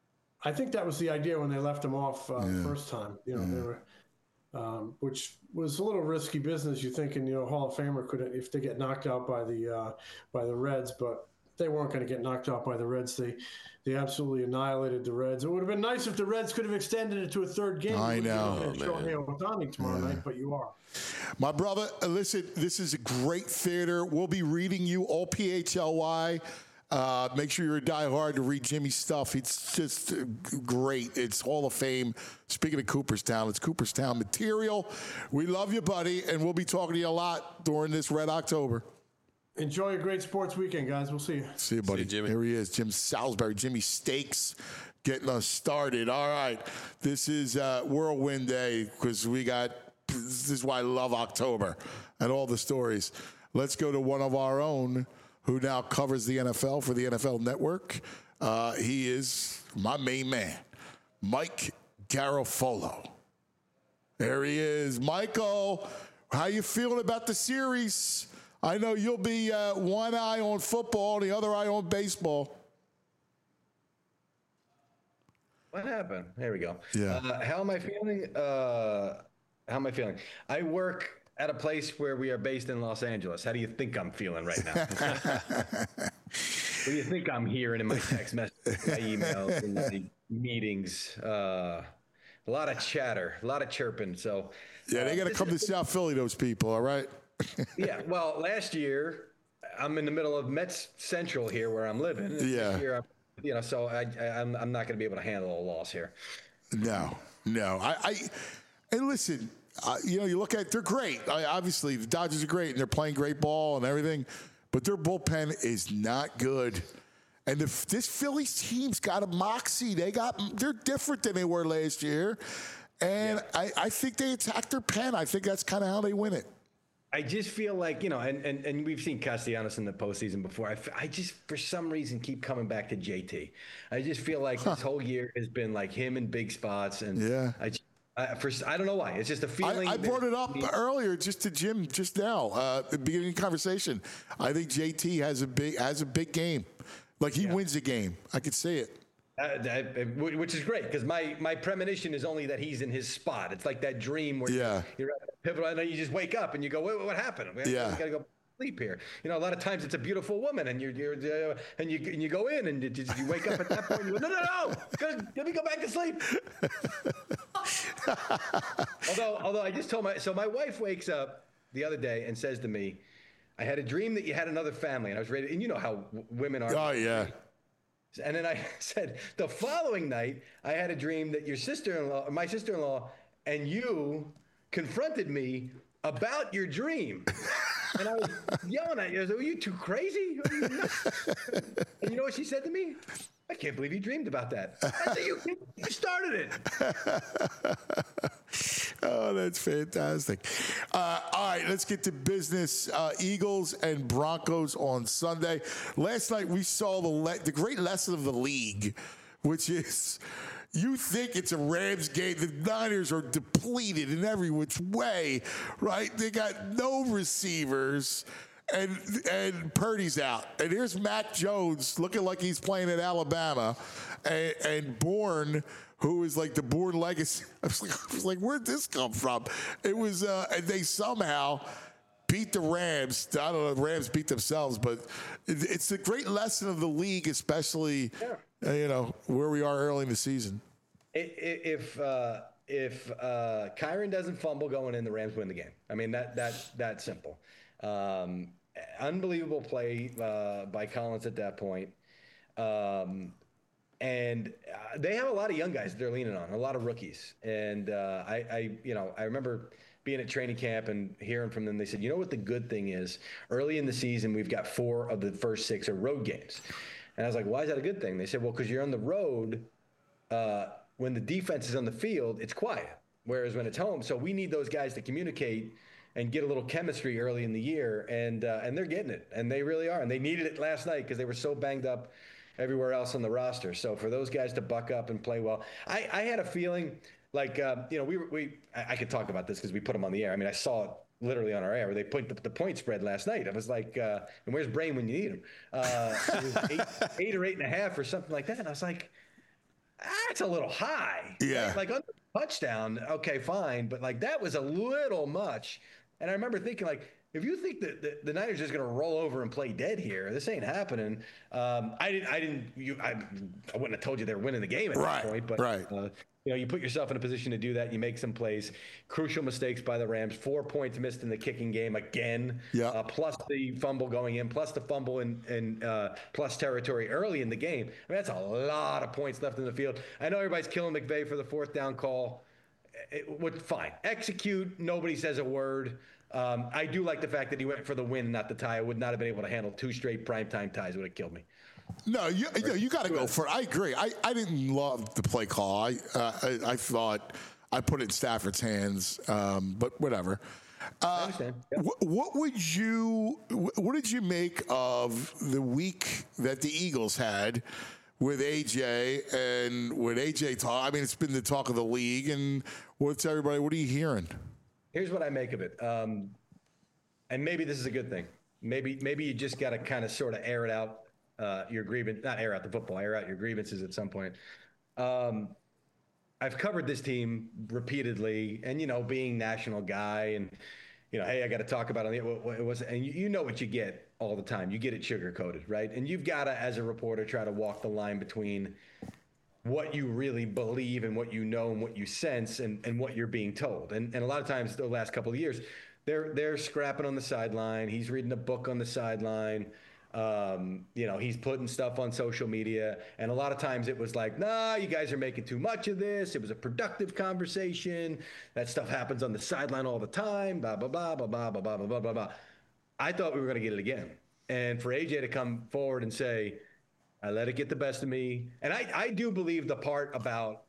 I think that was the idea when they left him off uh, Yeah. the first time. You know, Yeah. they were, um, which was a little risky business. You're thinking, you know, Hall of Famer could, if they get knocked out by the uh, by the Reds, but they weren't going to get knocked out by the Reds. They they absolutely annihilated the Reds. It would have been nice if the Reds could have extended it to a third game. I know, Shohei Ohtani tomorrow Yeah. night, but you are. My brother, uh, listen, this is a great theater. We'll be reading you all P H L Y. Uh, make sure you're a diehard to read Jimmy's stuff. It's just uh, great. It's Hall of Fame. Speaking of Cooperstown, it's Cooperstown material. We love you, buddy, and we'll be talking to you a lot during this Red October. Enjoy a great sports weekend, guys. We'll see you. See you, buddy. See you, Jimmy. Here he is, Jim Salisbury, Jimmy Steaks, getting us started. All right, this is uh, Whirlwind Day because we got. This is why I love October and all the stories. Let's go to one of our own who now covers the N F L for the N F L Network. Uh, he is my main man, Mike Garafolo. There he is. Michael, how you feeling about the series? I know you'll be uh, one eye on football, the other eye on baseball. What happened? There we go. Yeah. Uh, how am I feeling? Uh, how am I feeling? I work at a place where we are based in Los Angeles. How do you think I'm feeling right now? What do you think I'm hearing in my text messages, my emails, and my meetings? Uh, a lot of chatter, a lot of chirping. So Yeah, they got to uh, come to South Philly, those people, all right? yeah, well, last year I'm in the middle of Mets Central here where I'm living. Yeah. This year, I'm, you know, so I, I, I'm I'm not going to be able to handle a loss here. No, no. I, I and listen, uh, you know, you look at they're great. I, obviously, the Dodgers are great and they're playing great ball and everything, but their bullpen is not good. And the, this Phillies team's got a moxie. They got they're different than they were last year, and yeah. I, I think they attack their pen. I think that's kind of how they win it. I just feel like, you know, and, and, and we've seen Castellanos in the postseason before. I, f- I just, for some reason, keep coming back to J T. I just feel like huh. this whole year has been like him in big spots. And yeah. I, I, for, I don't know why. It's just a feeling. I, I brought it up earlier just to Jim just now, uh, at the beginning of the conversation. I think J T has a big has a big game. Like he yeah. wins the game. I could see it. Uh, which is great because my, my premonition is only that he's in his spot. It's like that dream where yeah. you're at the pivotal and then you just wake up and you go, wait, what happened? We yeah. got to go sleep here. You know, a lot of times it's a beautiful woman and you're, you're uh, and you and you go in and you, you wake up at that point and you go, no, no, no, go, let me go back to sleep. although, although I just told my, so my wife wakes up the other day and says to me, I had a dream that you had another family and I was ready. And you know how w- women are. Oh, yeah. And then I said, the following night, I had a dream that your sister-in-law, my sister-in-law, and you confronted me about your dream. And I was yelling at you. I was like, are you too crazy? Are you nuts? And you know what she said to me? I can't believe you dreamed about that. I said, you, you started it. Oh, that's fantastic. Uh, all right, let's get to business. Uh, Eagles and Broncos on Sunday. Last night we saw the le- the great lesson of the league, which is you think it's a Rams game. The Niners are depleted in every which way, right? They got no receivers. And and Purdy's out. And here's Mac Jones looking like he's playing at Alabama. And, and Bourne, who is like the Bourne legacy. I was like, I was like where'd this come from? It was, uh, and they somehow beat the Rams. I don't know if the Rams beat themselves, but it, it's a great lesson of the league, especially, yeah. uh, you know, where we are early in the season. If uh, if uh, Kyron doesn't fumble going in, the Rams win the game. I mean, that that that's simple. Um, unbelievable play uh, by Collins at that point. Um, and uh, they have a lot of young guys they're leaning on, a lot of rookies. And uh, I, I, you know, I remember being at training camp and hearing from them. They said, you know what the good thing is? Early in the season, we've got four of the first six are road games. And I was like, why is that a good thing? They said, well, because you're on the road. Uh, when the defense is on the field, it's quiet. Whereas when it's home, so we need those guys to communicate and get a little chemistry early in the year, and uh, and they're getting it, and they really are, and they needed it last night because they were so banged up everywhere else on the roster. So for those guys to buck up and play well, I, I had a feeling like uh, you know we we I, I could talk about this because we put them on the air. I mean, I saw it literally on our air where they put the, the point spread last night. I was like, uh, and where's Brain when you need him? Uh, it was eight, eight or eight and a half or something like that, and I was like, that's a little high. Yeah, right? Like under touchdown, okay, fine, but like that was a little much. And I remember thinking, like, if you think that the, the Niners are just going to roll over and play dead here, this ain't happening. Um, I didn't, I didn't, you, I, I wouldn't have told you they're winning the game at Right, that point. But, right. uh, you know, you put yourself in a position to do that. You make some plays. Crucial mistakes by the Rams. Four points missed in the kicking game again. Yeah. Uh, plus the fumble going in, plus the fumble in, in uh, plus territory early in the game. I mean, that's a lot of points left in the field. I know everybody's killing McVay for the fourth down call. It would fine. Execute. Nobody says a word. Um, I do like the fact that he went for the win, not the tie. I would not have been able to handle two straight primetime ties. Would have killed me. No, you, you, you got to go for it. I agree. I, I didn't love the play call. I, uh, I I thought I put it in Stafford's hands, um, but whatever. Uh, I understand. Yep. What, what would you? What did you make of the week that the Eagles had with A J and with A J talk? I mean, it's been the talk of the league. And what's everybody? What are you hearing? Here's what I make of it, um, and maybe this is a good thing. Maybe maybe you just got to kind of sort of air it out. Uh, your grievance, not air out the football, air out your grievances at some point. Um, I've covered this team repeatedly, and you know, being national guy, and you know, hey, I got to talk about it. It was, and you, you know what you get all the time. You get it sugar coated, right? And you've got to, as a reporter, try to walk the line between what you really believe and what you know and what you sense and, and what you're being told. And and a lot of times, the last couple of years, they're they're scrapping on the sideline. He's reading a book on the sideline. Um, you know, he's putting stuff on social media, and a lot of times it was like, nah, you guys are making too much of this. It was a productive conversation. That stuff happens on the sideline all the time, blah, blah, blah, blah, blah, blah, blah, blah, blah, blah. I thought we were going to get it again. And for A J to come forward and say, I let it get the best of me. And I, I do believe the part about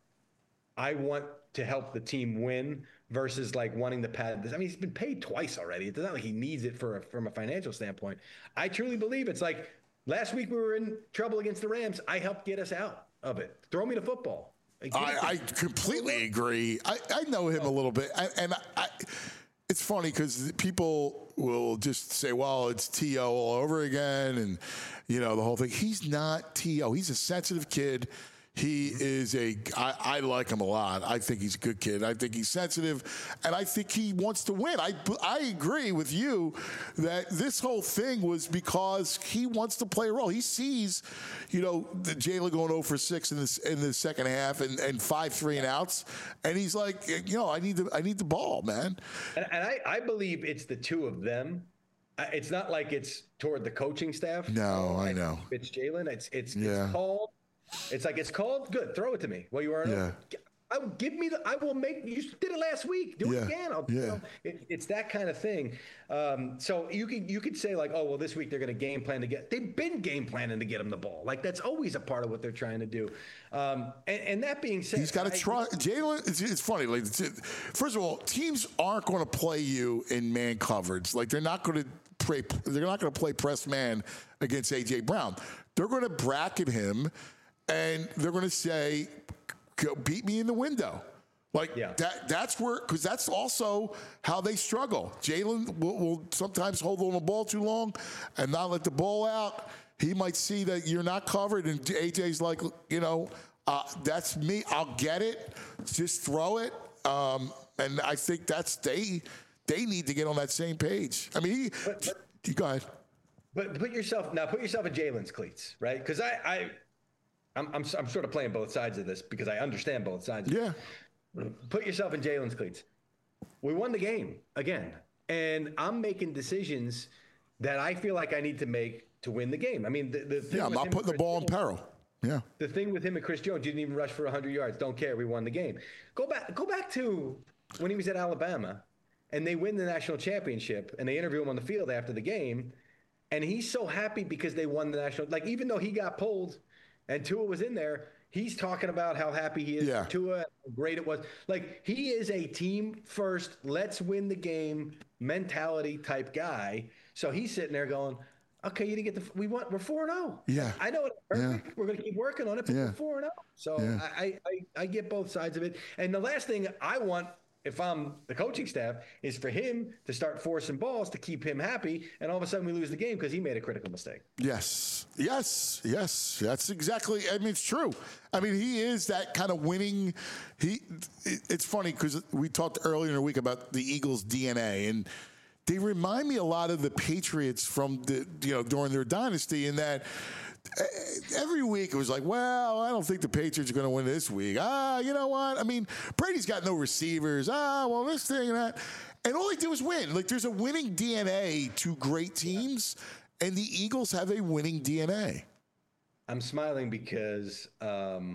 I want to help the team win versus like wanting to pad this. I mean, he's been paid twice already. It's not like he needs it for a, from a financial standpoint. I truly believe it's like last week we were in trouble against the Rams. I helped get us out of it. Throw me the football. I, I completely agree. I, I know him a little bit. I, and I, it's funny because people will just say, well, it's T O all over again. And, you know, the whole thing. He's not T O. He's a sensitive kid. He is a, I, I like him a lot. I think he's a good kid. I think he's sensitive, and I think he wants to win. I, I agree with you that this whole thing was because he wants to play a role. He sees, you know, the Jalen going oh for six in the, in the second half and, and five three and outs, and he's like, you know, I need the, I need the ball, man. And, and I, I believe it's the two of them. It's not like it's toward the coaching staff. No, I know. It's Jalen. It's, it's, Yeah. it's called. It's like, it's called. Good. Throw it to me. Well, you are. Yeah. I will give me the. I will make. You did it last week. Do Yeah. it again. I'll, Yeah. you know, it, it's that kind of thing. Um, so you could you could say like, oh well, this week they're going to game plan to get. They've been game planning to get him the ball. Like that's always a part of what they're trying to do. Um, and, and that being said, he's got to I- try. Jalen, it's, it's funny. Like, it's, it, first of all, teams aren't going to play you in man coverage. Like they're not going to play. They're not going to play press man against A J Brown. They're going to bracket him. And they're going to say, "Go beat me in the window." Like Yeah. that. That's where, because that's also how they struggle. Jalen will, will sometimes hold on the ball too long and not let the ball out. He might see that you're not covered, and A J's like, you know, uh, that's me. I'll get it. Just throw it. Um, and I think that's they. They need to get on that same page. I mean, he, But- but- you go ahead. But put yourself now. Put yourself in Jalen's cleats, right? Because I, I, I'm, I'm, I'm sort of playing both sides of this because I understand both sides. of it. Yeah. Put yourself in Jalen's cleats. We won the game again, and I'm making decisions that I feel like I need to make to win the game. I mean, the, the thing Yeah. I'm with not him putting the and Chris ball in Jones- peril. Yeah. The thing with him and Chris Jones, didn't even rush for one hundred yards. Don't care. We won the game. Go back. Go back to when he was at Alabama, and they win the national championship, and they interview him on the field after the game, and he's so happy because they won the national. Like even though he got pulled, and Tua was in there, he's talking about how happy he is Yeah. for Tua, how great it was. Like he is a team first, let's win the game mentality type guy. So he's sitting there going, okay, you didn't get the. We want. We're four and zero. Yeah. I know it's perfect. We're going to keep working on it, but Yeah. we're four and zero. So Yeah. I, I I get both sides of it. And the last thing I want, if I'm the coaching staff, is for him to start forcing balls to keep him happy, and all of a sudden we lose the game because he made a critical mistake. Yes, yes, yes. That's exactly. I mean, it's true. I mean, he is that kind of winning. He. it- It's funny because we talked earlier in the week about the Eagles' D N A, and they remind me a lot of the Patriots from the, you know, during their dynasty, in that every week it was like, well, I don't think the Patriots are going to win this week. Ah, you know what? I mean, Brady's got no receivers. Ah, well, this thing and that. And all they do is win. Like, there's a winning D N A to great teams, and the Eagles have a winning D N A. I'm smiling because um,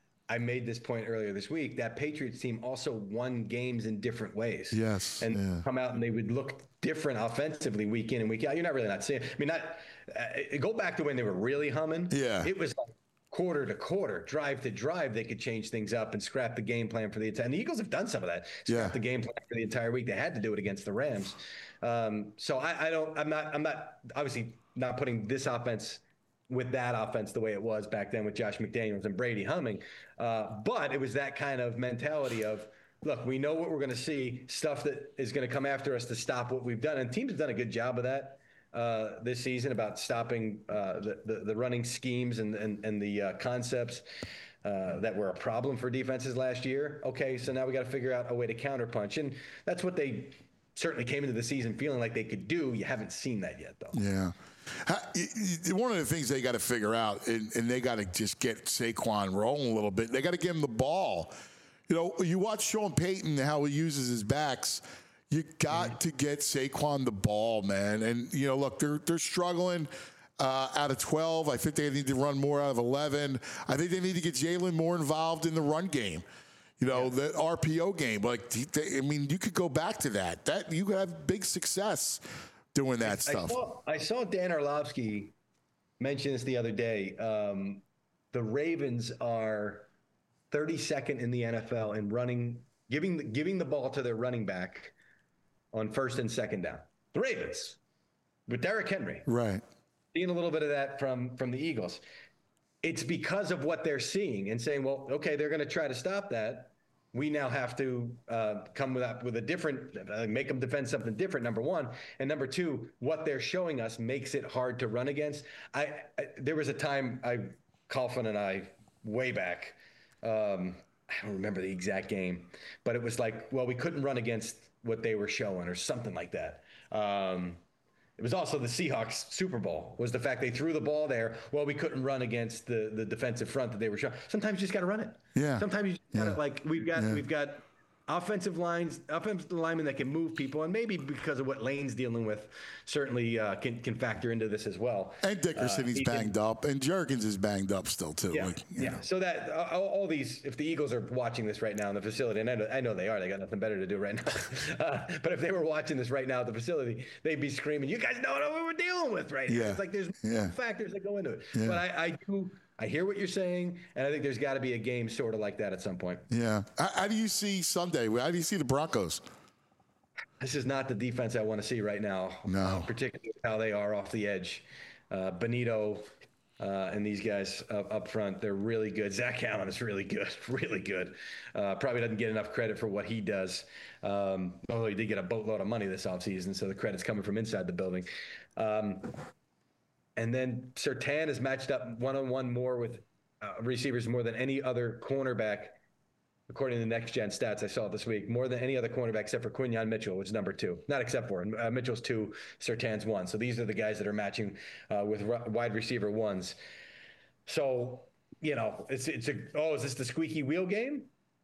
I made this point earlier this week. That Patriots team also won games in different ways. Yes. And yeah. come out and they would look different offensively week in and week out. You're not really not seeing. I mean, not uh, go back to when they were really humming. Yeah. It was like quarter to quarter, drive to drive. They could change things up and scrap the game plan for the entire. And the Eagles have done some of that. Scrap Yeah. the game plan for the entire week. They had to do it against the Rams. Um, so I, I don't. I'm not. I'm not obviously not putting this offense with that offense the way it was back then with Josh McDaniels and Brady humming. Uh, but it was that kind of mentality of, look, we know what we're going to see, stuff that is going to come after us to stop what we've done. And teams have done a good job of that uh, this season, about stopping uh, the, the, the running schemes and, and, and the uh, concepts uh, that were a problem for defenses last year. Okay, so now we got to figure out a way to counterpunch. And that's what they certainly came into the season feeling like they could do. You haven't seen that yet, though. Yeah. One of the things they got to figure out, and, and they got to just get Saquon rolling a little bit. They got to give him the ball. You know, you watch Sean Payton, how he uses his backs. You got mm. to get Saquon the ball, man. And, you know, look, they're they're struggling uh, out of twelve. I think they need to run more out of eleven. I think they need to get Jalen more involved in the run game. You know, yeah. the R P O game. Like, they, I mean, you could go back to that. That you could have big success doing that I, stuff. I saw, I saw Dan Orlovsky mention this the other day. Um, the Ravens are thirty-second in the N F L in running, giving the, giving the ball to their running back on first and second down. The Ravens with Derrick Henry. Right. Seeing a little bit of that from, from the Eagles. It's because of what they're seeing and saying, well, okay, they're going to try to stop that. We now have to uh, come with a, with a different, uh, make them defend something different, number one. And number two, what they're showing us makes it hard to run against. I, I There was a time, I, Coughlin and I, way back, um, I don't remember the exact game, but it was like, well, we couldn't run against what they were showing or something like that. Um, It was also the Seahawks Super Bowl, was the fact they threw the ball there. Well, we couldn't run against the, the defensive front that they were showing. Sometimes you just got to run it. Yeah. Sometimes you just got to, yeah. like, we've got yeah. we've got offensive lines, offensive linemen that can move people, and maybe because of what Lane's dealing with, certainly uh, can can factor into this as well. And Dickerson, uh, he's banged can, up, and Jergens is banged up still too. Yeah, like, yeah. know. So that uh, all, all these, if the Eagles are watching this right now in the facility, and I know, I know they are, they got nothing better to do right now. uh, but if they were watching this right now at the facility, they'd be screaming, "You guys know what we're dealing with right yeah. now!" It's like there's yeah. factors that go into it. Yeah. But I, I do. I hear what you're saying, and I think there's got to be a game sort of like that at some point. Yeah. How, how do you see Sunday? How do you see the Broncos? This is not the defense I want to see right now. No. Uh, particularly how they are off the edge. Uh, Benito uh, and these guys up, up front, they're really good. Zach Allen is really good, really good. Uh, probably doesn't get enough credit for what he does. Um, although he did get a boatload of money this offseason, so the credit's coming from inside the building. Um, And then Surtain is matched up one-on-one more with uh, receivers more than any other cornerback, according to the Next Gen stats I saw this week, more than any other cornerback except for Quinyon Mitchell, which is number two. Not except for uh, Mitchell's two, Surtain's one. So these are the guys that are matching uh, with r- wide receiver ones. So, you know, it's it's a, oh, is this the squeaky wheel game?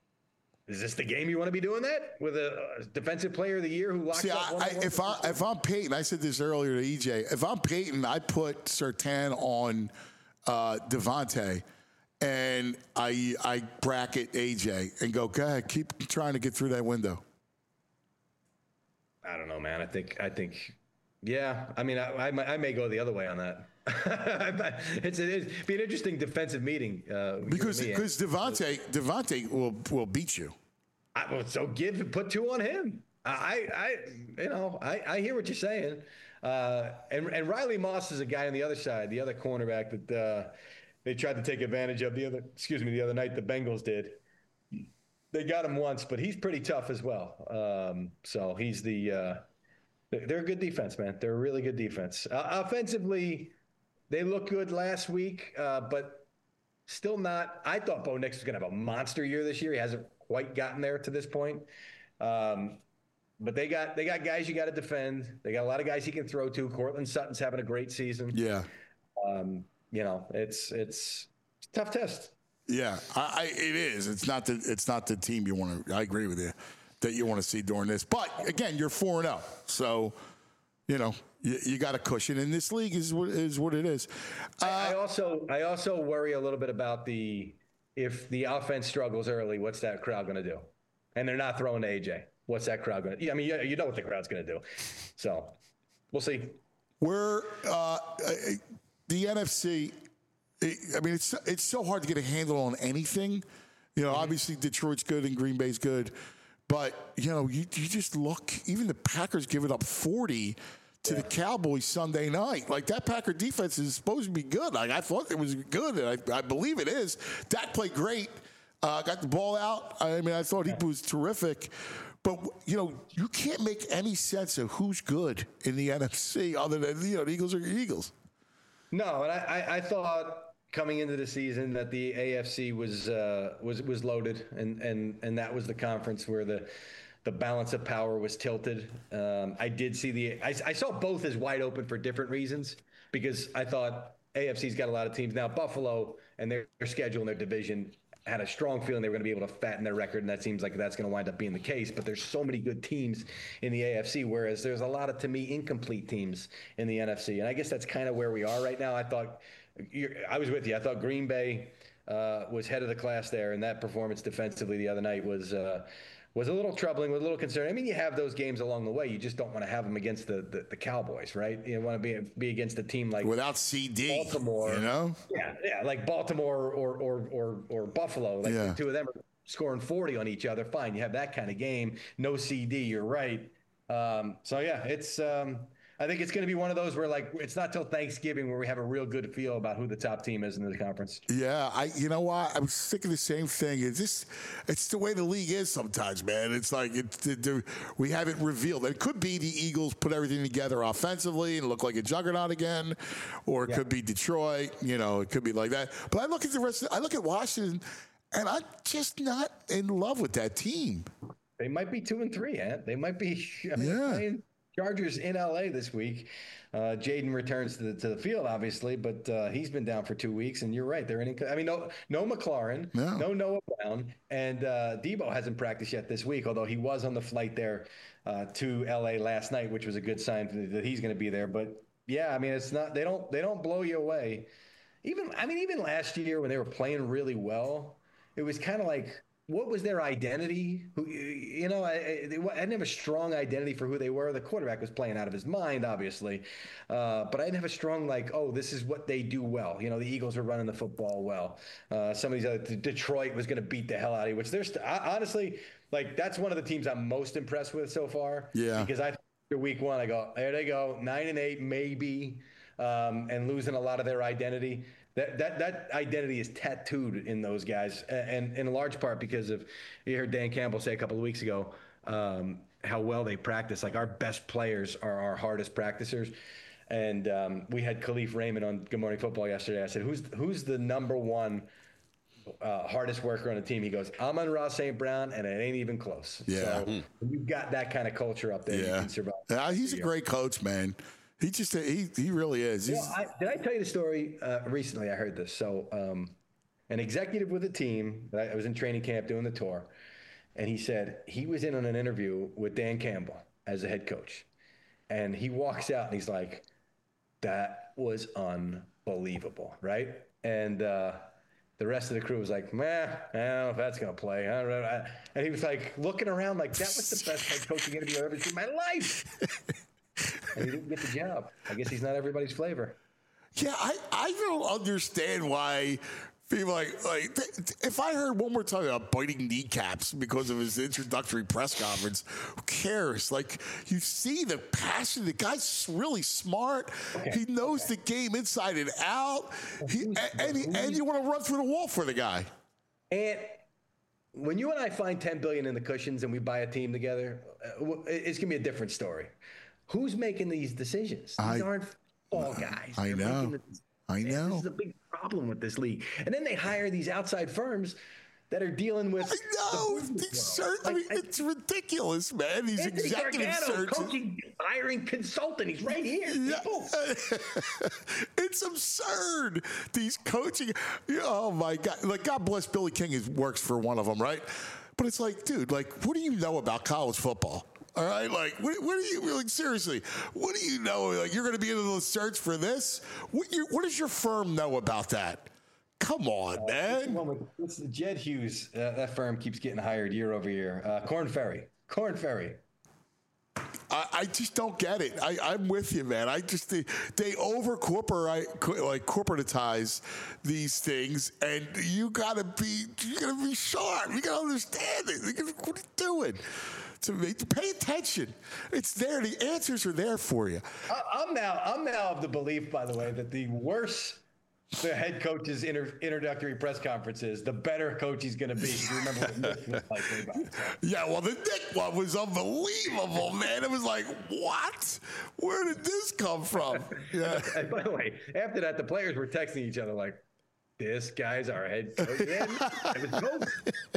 Is this the game you want to be doing that with a defensive player of the year who locks See, up? I, I, if I if I'm Peyton, I said this earlier to E J. If I'm Peyton, I put Surtain on uh, Devontae, and I I bracket A J and go, go ahead, keep trying to get through that window. I don't know, man. I think I think, yeah. I mean, I I, I may go the other way on that. it's it'd be an interesting defensive meeting uh, because because Devontae Devontae will will beat you. I, well, so give put two on him. I I you know I, I hear what you're saying. Uh, and and Riley Moss is a guy on the other side, the other cornerback that uh, they tried to take advantage of the other. Excuse me, the other night the Bengals did. They got him once, but he's pretty tough as well. Um, so he's the uh, they're a good defense, man. They're a really good defense. Uh, offensively. They looked good last week, uh, but still not. I thought Bo Nix was going to have a monster year this year. He hasn't quite gotten there to this point. Um, but they got they got guys you got to defend. They got a lot of guys he can throw to. Cortland Sutton's having a great season. Yeah. Um, you know, it's it's, it's a tough test. Yeah, I, I, it is. It's not the it's not the team you want to. I agree with you that you want to see during this. But again, you're four and zero, so you know you, you got a cushion. And this league is what is what it is. Uh, I, I also I also worry a little bit about the if the offense struggles early, what's that crowd going to do? And they're not throwing to A J. What's that crowd going to? I mean, you, you know what the crowd's going to do. So we'll see. We're uh, the N F C. I mean, it's it's so hard to get a handle on anything. You know, obviously Detroit's good and Green Bay's good, but you know, you you just look. Even the Packers giving up forty to yeah. the Cowboys Sunday night. Like that Packer defense is supposed to be good. Like I thought it was good, and I, I believe it is. Dak played great. Uh, got the ball out. I mean, I thought he was terrific. But, you know, you can't make any sense of who's good in the N F C other than, you know, the Eagles are your Eagles. No, and I, I, I thought coming into the season that the A F C was uh, was was loaded, and, and, and that was the conference where the the balance of power was tilted. Um, I did see the I, I saw both as wide open for different reasons, because I thought A F C's got a lot of teams. Now, Buffalo and their, their schedule and their division had a strong feeling they were going to be able to fatten their record, and that seems like that's going to wind up being the case. But there's so many good teams in the A F C, whereas there's a lot of, to me, incomplete teams in the N F C. And I guess that's kind of where we are right now. I thought I was with you. I thought Green Bay uh, was head of the class there, and that performance defensively the other night was uh, was a little troubling, was a little concerning. I mean, you have those games along the way. You just don't want to have them against the, the, the Cowboys, right? You want to be be against a team like without C D, Baltimore, you know? Yeah, yeah, like Baltimore or or or, or Buffalo. Like yeah. the two of them are scoring forty on each other. Fine, you have that kind of game. No C D, you're right. Um, so yeah, it's. Um, I think it's going to be one of those where, like, it's not till Thanksgiving where we have a real good feel about who the top team is in the conference. Yeah, I. You know what? I was thinking the same thing. It's just, it's the way the league is sometimes, man. It's like it, it, it, we haven't revealed. It could be the Eagles put everything together offensively and look like a juggernaut again, or it yeah. could be Detroit. You know, it could be like that. But I look at the rest. Of, I look at Washington, and I'm just not in love with that team. They might be two and three, Ant. They might be. I mean, yeah. Playing Chargers in L A this week. Uh, Jaden returns to the to the field, obviously, but uh, he's been down for two weeks. And you're right, they're in. I mean, no, no McLaurin, no, no Noah Brown, and uh, Debo hasn't practiced yet this week. Although he was on the flight there uh, to L A last night, which was a good sign that he's going to be there. But yeah, I mean, it's not. They don't. They don't blow you away. Even I mean, even last year when they were playing really well, it was kind of like, what was their identity? Who, you know, I, I, they, I didn't have a strong identity for who they were. The quarterback was playing out of his mind, obviously. Uh, but I didn't have a strong, like, oh, this is what they do well. You know, the Eagles were running the football well. Uh, some of these other, Detroit was going to beat the hell out of you, which there's st- I, honestly, like, that's one of the teams I'm most impressed with so far. Yeah. Because I, after week one, I go, there they go, nine and eight, maybe, um, and losing a lot of their identity. That that that identity is tattooed in those guys, and, and in large part because of, you heard Dan Campbell say a couple of weeks ago um, how well they practice. Like, our best players are our hardest practicers. And um, we had Khalif Raymond on Good Morning Football yesterday. I said, who's who's the number one uh, hardest worker on the team? He goes, Amon-Ra Saint Brown, and it ain't even close. Yeah. So you've got that kind of culture up there. Yeah. You can survive. Yeah, he's a great coach, man. He just he he really is. You know, I, did I tell you the story uh, recently? I heard this. So um, an executive with a team, I, I was in training camp doing the tour, and he said he was in on an interview with Dan Campbell as a head coach. And he walks out and he's like, that was unbelievable, right? And uh, the rest of the crew was like, meh, I don't know if that's going to play. I don't know. And he was like looking around like, that was the best head coaching interview I've ever seen in my life. And he didn't get the job. I guess he's not everybody's flavor. Yeah, I, I don't understand why people like, like, if I heard one more time about biting kneecaps because of his introductory press conference, who cares? Like, you see the passion. The guy's really smart. Okay. He knows okay. the game inside and out. He, and, and, he, and you want to run through the wall for the guy. And when you and I find ten billion dollars in the cushions and we buy a team together, it's going to be a different story. Who's making these decisions? These I, aren't football guys. I They're know. The, I know. This is a big problem with this league. And then they hire these outside firms that are dealing with. I know. the These business sur- world. I Like, mean, it's ridiculous, man. These Anthony executive Gargano, searches. coaching, hiring consultant. He's right here. Yeah. People. It's absurd. These coaching. Oh my God! Like, God bless Billy King. Is works for one of them, right? But it's like, dude, like, what do you know about college football? All right, like, what, what do you like? Seriously, what do you know? Like, you're going to be in the search for this? What, you, what does your firm know about that? Come on, Uh, man. Well, it's Jed Hughes. Uh, that firm keeps getting hired year over year. Uh, Corn Ferry. Corn Ferry. I, I just don't get it. I, I'm with you, man. I just they, they over corporate like corporatize these things, and you gotta be you gotta be sharp. You gotta understand it. You gotta, what are you doing? To make, pay attention. It's there. The answers are there for you. I, I'm now. I'm now of the belief, by the way, that the worse the head coach's inter, introductory press conference is, the better coach he's going to be. You remember what Nick was like way back. Yeah, well, the Nick one was unbelievable, man. It was like, what? Where did this come from? Yeah. And by the way, after that, the players were texting each other like, "This guy's our head coach." Yeah, it was cool.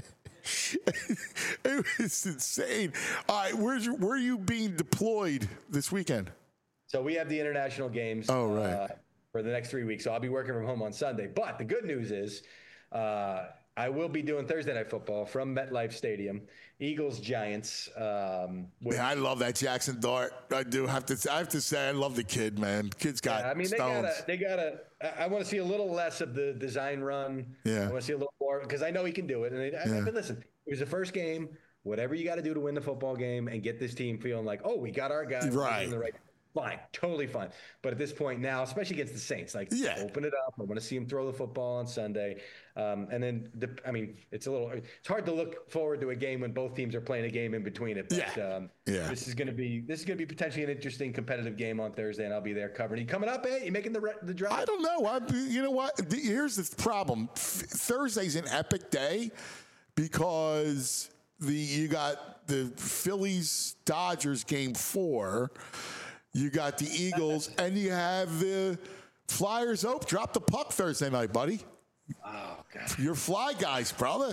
It was insane. All right, where's your, where are you being deployed this weekend? So we have the international games. Oh, right. Uh, for the next three weeks. So I'll be working from home on Sunday. But the good news is uh, I will be doing Thursday Night Football from MetLife Stadium, Eagles, Giants. Um, with, Man, I love that Jackson Dart. I do have to. I have to say, I love the kid, man. Kid's got yeah, I mean, stones. they got to. They got to. I want to see a little less of the design run. Yeah. I want to see a little more because I know he can do it. And they, Yeah. I, but listen, it was the first game. Whatever you got to do to win the football game and get this team feeling like, oh, we got our guy. We're Right. doing the right. Fine, totally fine. But at this point now, especially against the Saints, like Yeah. open it up. I want to see him throw the football on Sunday. Um, and then, the, I mean, it's a little, it's hard to look forward to a game when both teams are playing a game in between it. But Yeah. Um, Yeah. this is going to be, this is going to be potentially an interesting competitive game on Thursday, and I'll be there covering. You coming up, eh? You making the re- the drive? I don't know. I, you know what? The- Here's the problem. F- Thursday's an epic day because the you got the Phillies Dodgers game four. You got the Eagles, and you have the Flyers. Oh, drop the puck Thursday night, buddy. Oh God. Your Fly guys, brother.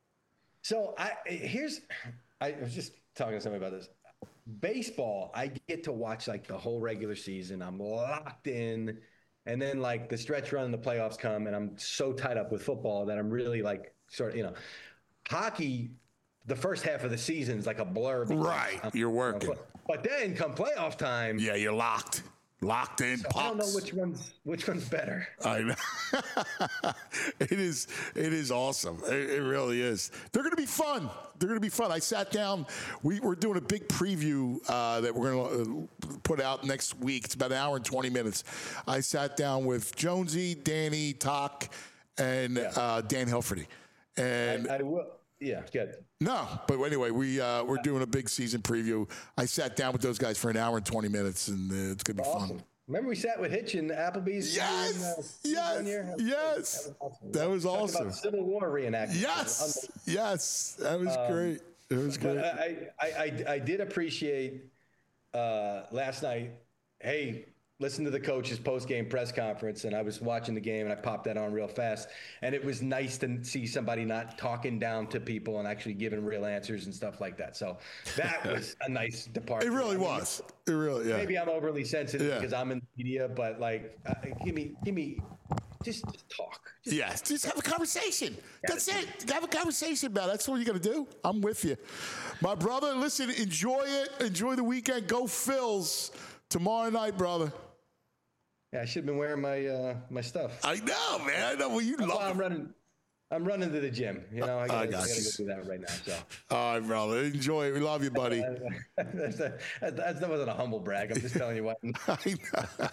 So I here's, I was just talking to somebody about this. Baseball, I get to watch like the whole regular season. I'm locked in, and then like the stretch run and the playoffs come, and I'm so tied up with football that I'm really like sort of, you know, hockey. The first half of the season is like a blur. because Right, I'm- you're working. you know, but then come playoff time, Yeah, you're locked. Locked in so pucks. I don't know which one's which one's better. I know. it is. It is awesome. It, it really is. They're going to be fun. They're going to be fun. I sat down. We, we're doing a big preview uh, that we're going to uh, put out next week. It's about an hour and twenty minutes. I sat down with Jonesy, Danny, Talk, and uh, Dan Hilferty. And I, I will. Yeah, good. no, but anyway, we uh, we're doing a big season preview. I sat down with those guys for an hour and twenty minutes, and uh, it's going to be Awesome. fun. Remember we sat with Hitch and Applebee's? Yes, in, uh, yes, one year? yes. That was awesome. That was Talked awesome. About Civil War reenactment. Yes, yes, that was great. It was But great. I, I, I, I did appreciate uh, last night. Hey, listen to the coach's post-game press conference, and I was watching the game, and I popped that on real fast. And it was nice to see somebody not talking down to people and actually giving real answers and stuff like that. So that was a nice departure. It really I mean, was. It really, yeah. Maybe I'm overly sensitive Yeah. because I'm in the media, but like, uh, give me, give me, just, just talk. Just Yes, just have a conversation. That's it. Have a conversation about it. That's what you got to do. I'm with you. My brother, listen, enjoy it. Enjoy the weekend. Go Phils tomorrow night, brother. Yeah, I should have been wearing my uh, my stuff. I know, man. I know. Well, you That's why love I'm running. I'm running to the gym. You know, I gotta, I I got gotta you. go do that right now. So All right, brother. Enjoy it. We love you, buddy. that's, a, that's, that wasn't a humble brag. I'm just telling you what. I know.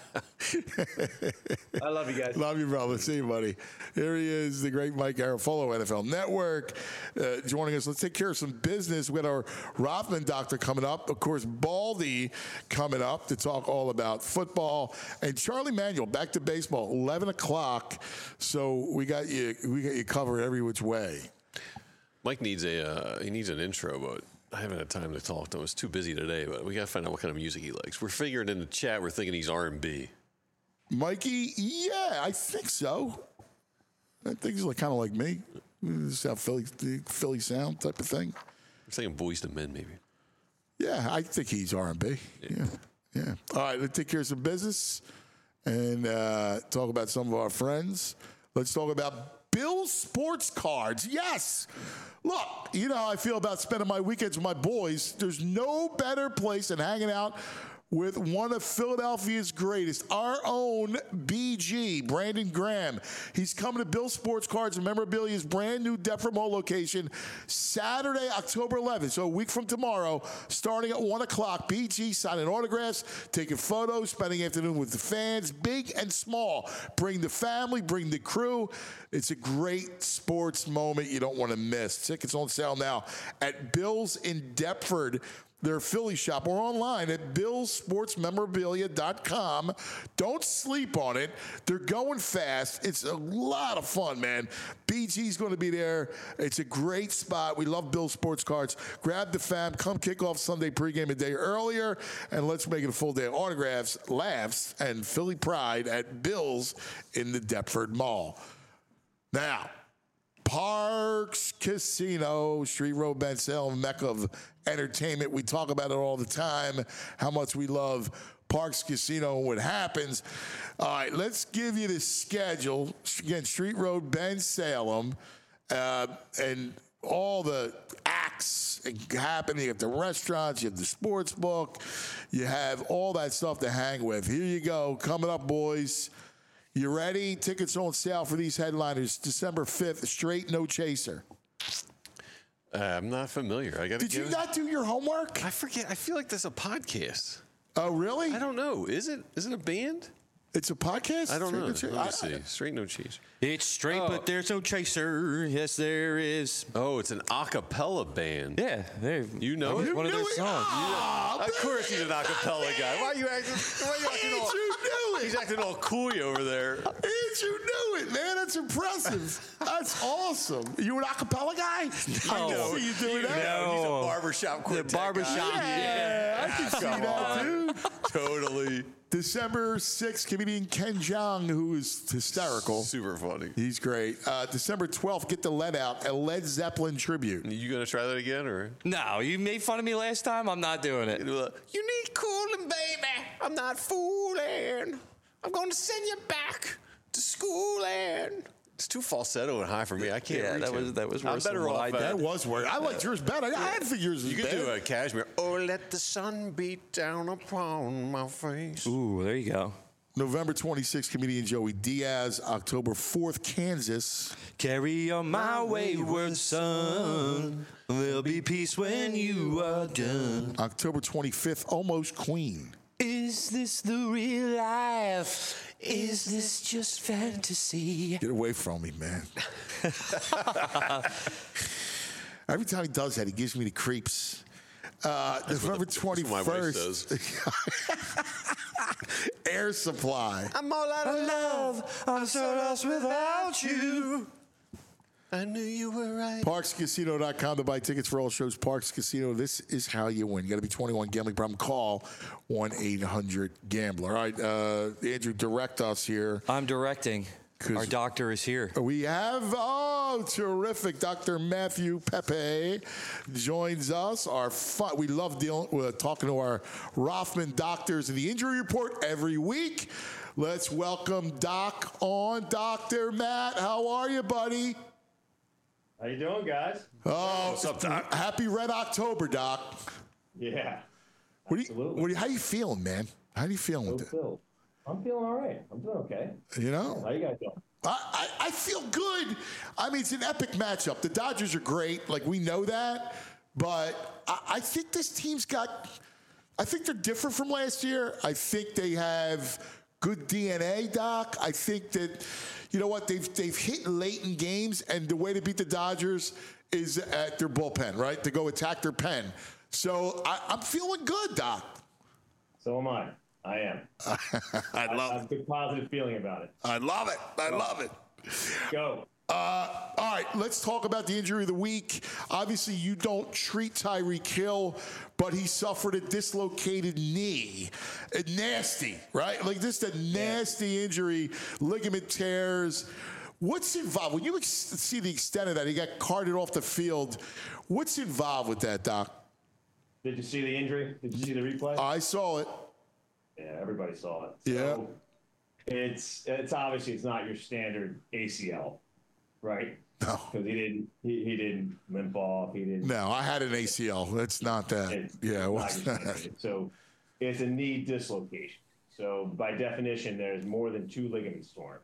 I love you guys. Love you, brother. See you, buddy. Here he is, the great Mike Garafolo, N F L Network, uh, joining us. Let's take care of some business. We got our Rothman doctor coming up. Of course, Baldy coming up to talk all about football. And Charlie Manuel, back to baseball, eleven o'clock. So we got you we got you covered every which way. Mike needs a uh, he needs an intro, but I haven't had time to talk to him. I was too busy today, but we got to find out what kind of music he likes. We're figuring in the chat, we're thinking he's R and B. Mikey, yeah, I think so. I think he's like, kind of like me. South Philly, Philly sound type of thing. I'm saying Boys to Men, maybe. Yeah, I think he's R and B. Yeah. yeah, yeah. All right, let's take care of some business and uh, talk about some of our friends. Let's talk about Bill's Sports Cards. Yes. Look, you know how I feel about spending my weekends with my boys. There's no better place than hanging out with one of Philadelphia's greatest, our own B G, Brandon Graham. He's coming to Bill's Sports Cards and Memorabilia's brand new Deptford Mall location Saturday, October eleventh, so a week from tomorrow, starting at one o'clock. B G signing autographs, taking photos, spending the afternoon with the fans, big and small. Bring the family, bring the crew. It's a great sports moment you don't want to miss. Tickets on sale now at Bill's in Deptford, their Philly shop, or online at bills sports memorabilia dot com. Don't sleep on it. They're going fast. It's a lot of fun, man. B G's going to be there. It's a great spot. We love Bill's Sports Cards. Grab the fam. Come kick off Sunday pregame a day earlier, and let's make it a full day of autographs, laughs, and Philly pride at Bill's in the Deptford Mall. Now, Parks Casino, Street Road, Ben Salem, mecca of entertainment. We talk about it all the time, how much we love Parks Casino and what happens. All right, let's give you the schedule. Again, Street Road, Ben Salem, uh, and all the acts happening. You have the restaurants, you have the sports book, you have all that stuff to hang with. Here you go. Coming up, boys. You ready? Tickets on sale for these headliners December fifth, Straight No Chaser. Uh, I'm not familiar. I got. Did you it? not do your homework? I forget. I feel like that's a podcast. Oh, really? I don't know. Is it? Is it a band? It's a podcast? I don't Straight know. No Chaser? Let me I, see. I, Straight No Chaser. It's straight, oh. but there's no chaser. Yes, there is. Oh, it's an a cappella band. Yeah, they. You know it? One of their it? songs. Oh, of course he's an a cappella guy. Why are you acting? Why are you acting all? You knew it. He's acting all cool over there. Ain't you knew it, man? That's impressive. That's awesome. You an a cappella guy? I No. see you doing that. No. He's a barbershop quartet The barbershop. guy. Yeah, I can see Come that, on. dude. Totally. December sixth, comedian Ken Jeong, who is hysterical. Super funny. He's great. Uh, December twelfth, get the lead out, a Led Zeppelin tribute. You gonna try that again, or? No, you made fun of me last time. I'm not doing it. You need cooling, baby. I'm not fooling. I'm going to send you back to schooling. It's too falsetto and high for me. I can't Yeah, reach that it. was- that was I'm worse better than what off. I uh, did. That was weird. I liked yours better. I didn't think yours was You could bad. do a cashmere. Oh, let the sun beat down upon my face. Ooh, there you go. November twenty-sixth, comedian Joey Diaz. October fourth, Kansas. Carry on my wayward son. There'll be peace when you are done. October twenty-fifth, Almost Queen. Is this the real life? Is this just fantasy? Get away from me, man. Every time he does that, he gives me the creeps. Uh, November twenty-first. Air Supply. I'm all out of love. I'm so lost without you. I knew you were right. Parks Casino dot com to buy tickets for all shows. Parks Casino, this is how you win. You got to be twenty-one. Gambling problem, call one eight hundred gambler. All right, uh, Andrew, direct us here. I'm directing. Our doctor is here. We have, oh, terrific. Doctor Matthew Pepe joins us. Our fun, we love dealing, uh, talking to our Rothman doctors in the injury report every week. Let's welcome Doc on. Doctor Matt, how are you, buddy? How you doing, guys? Oh, what's up, Doc? Happy Red October, Doc. Yeah. What do you, what do you, how you feeling, man? How are you feeling with it? Phil. I'm feeling all right. I'm doing okay. You know? How you guys doing? I, I, I feel good. I mean, it's an epic matchup. The Dodgers are great. Like, we know that. But I, I think this team's got, I think they're different from last year. I think they have good D N A, Doc. I think that, you know what, they've they've hit late in games, and the way to beat the Dodgers is at their bullpen, right? To go attack their pen. So I, I'm feeling good, Doc. So am I. I am. I love I have a good positive feeling about it. I love it. I love it. Go. Uh, all right, let's talk about the injury of the week. Obviously, you don't treat Tyreek Hill, but he suffered a dislocated knee. Uh, nasty, right? Like this, a nasty injury, ligament tears. What's involved? When you ex- see the extent of that, he got carted off the field. What's involved with that, Doc? Did you see the injury? Did you see the replay? I saw it. Yeah, everybody saw it. Yeah. So it's it's obviously it's not your standard A C L, right? No. Because he didn't he, he didn't limp off. He didn't. No, I had an A C L. That's not that. It's yeah, it not was your not. standard. So it's a knee dislocation. So by definition, there's more than two ligaments torn.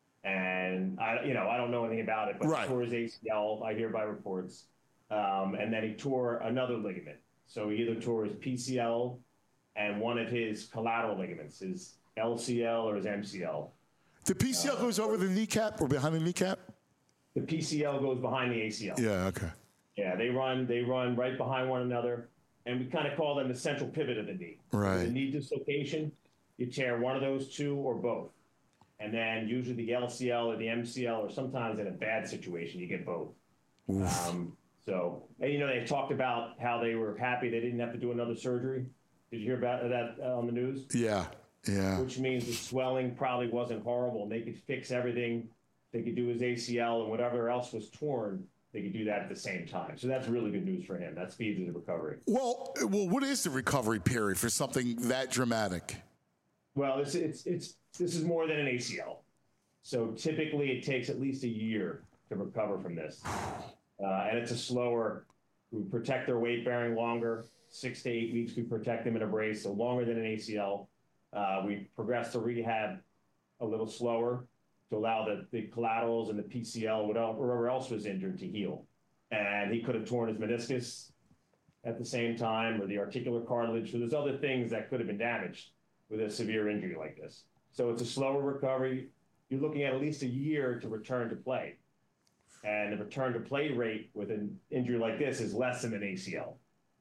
And I, you know, I don't know anything about it, but Right. he tore his A C L. I hear by reports, um, and then he tore another ligament. So he either tore his P C L and one of his collateral ligaments, his L C L or his M C L. The P C L Uh, goes over the kneecap or behind the kneecap? The P C L goes behind the A C L. Yeah, okay. Yeah, they run they run right behind one another, and we kind of call them the central pivot of the knee. Right. The knee dislocation, you tear one of those two or both, and then usually the L C L or the M C L, or sometimes in a bad situation you get both. Um, so, and you know, they talked about how they were happy they didn't have to do another surgery. Did you hear about that uh, on the news? Yeah, yeah. Which means the swelling probably wasn't horrible, and they could fix everything. They could do his A C L and whatever else was torn. They could do that at the same time. So that's really good news for him. That speeds his recovery. Well, well, what is the recovery period for something that dramatic? Well, it's it's it's this is more than an A C L. So typically, it takes at least a year to recover from this, uh, and it's a slower. We protect their weight bearing longer. Six to eight weeks, we protect them in a brace, so longer than an A C L. Uh, we progress to rehab a little slower to allow the, the collaterals and the P C L, whatever else was injured, to heal. And he could have torn his meniscus at the same time, or the articular cartilage. So there's other things that could have been damaged with a severe injury like this. So it's a slower recovery. You're looking at at least a year to return to play. And the return to play rate with an injury like this is less than an A C L.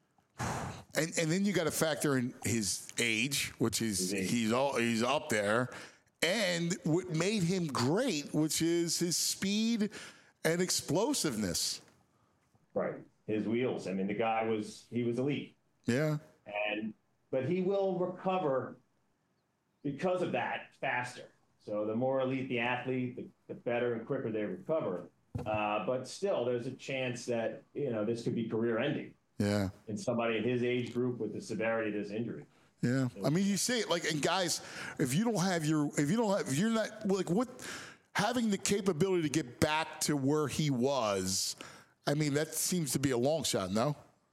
And and then you got to factor in his age, which is he's all he's up there, and what made him great, which is his speed and explosiveness. Right, his wheels. I mean, the guy was he was elite. Yeah. And but he will recover because of that faster. So the more elite the athlete, the, the better and quicker they recover. Uh, but still, there's a chance that you know this could be career-ending. Yeah. In somebody in his age group with the severity of this injury. Yeah. I mean, you say it like, and guys, if you don't have your, if you don't have, if you're not, like, what, having the capability to get back to where he was, I mean, that seems to be a long shot, no?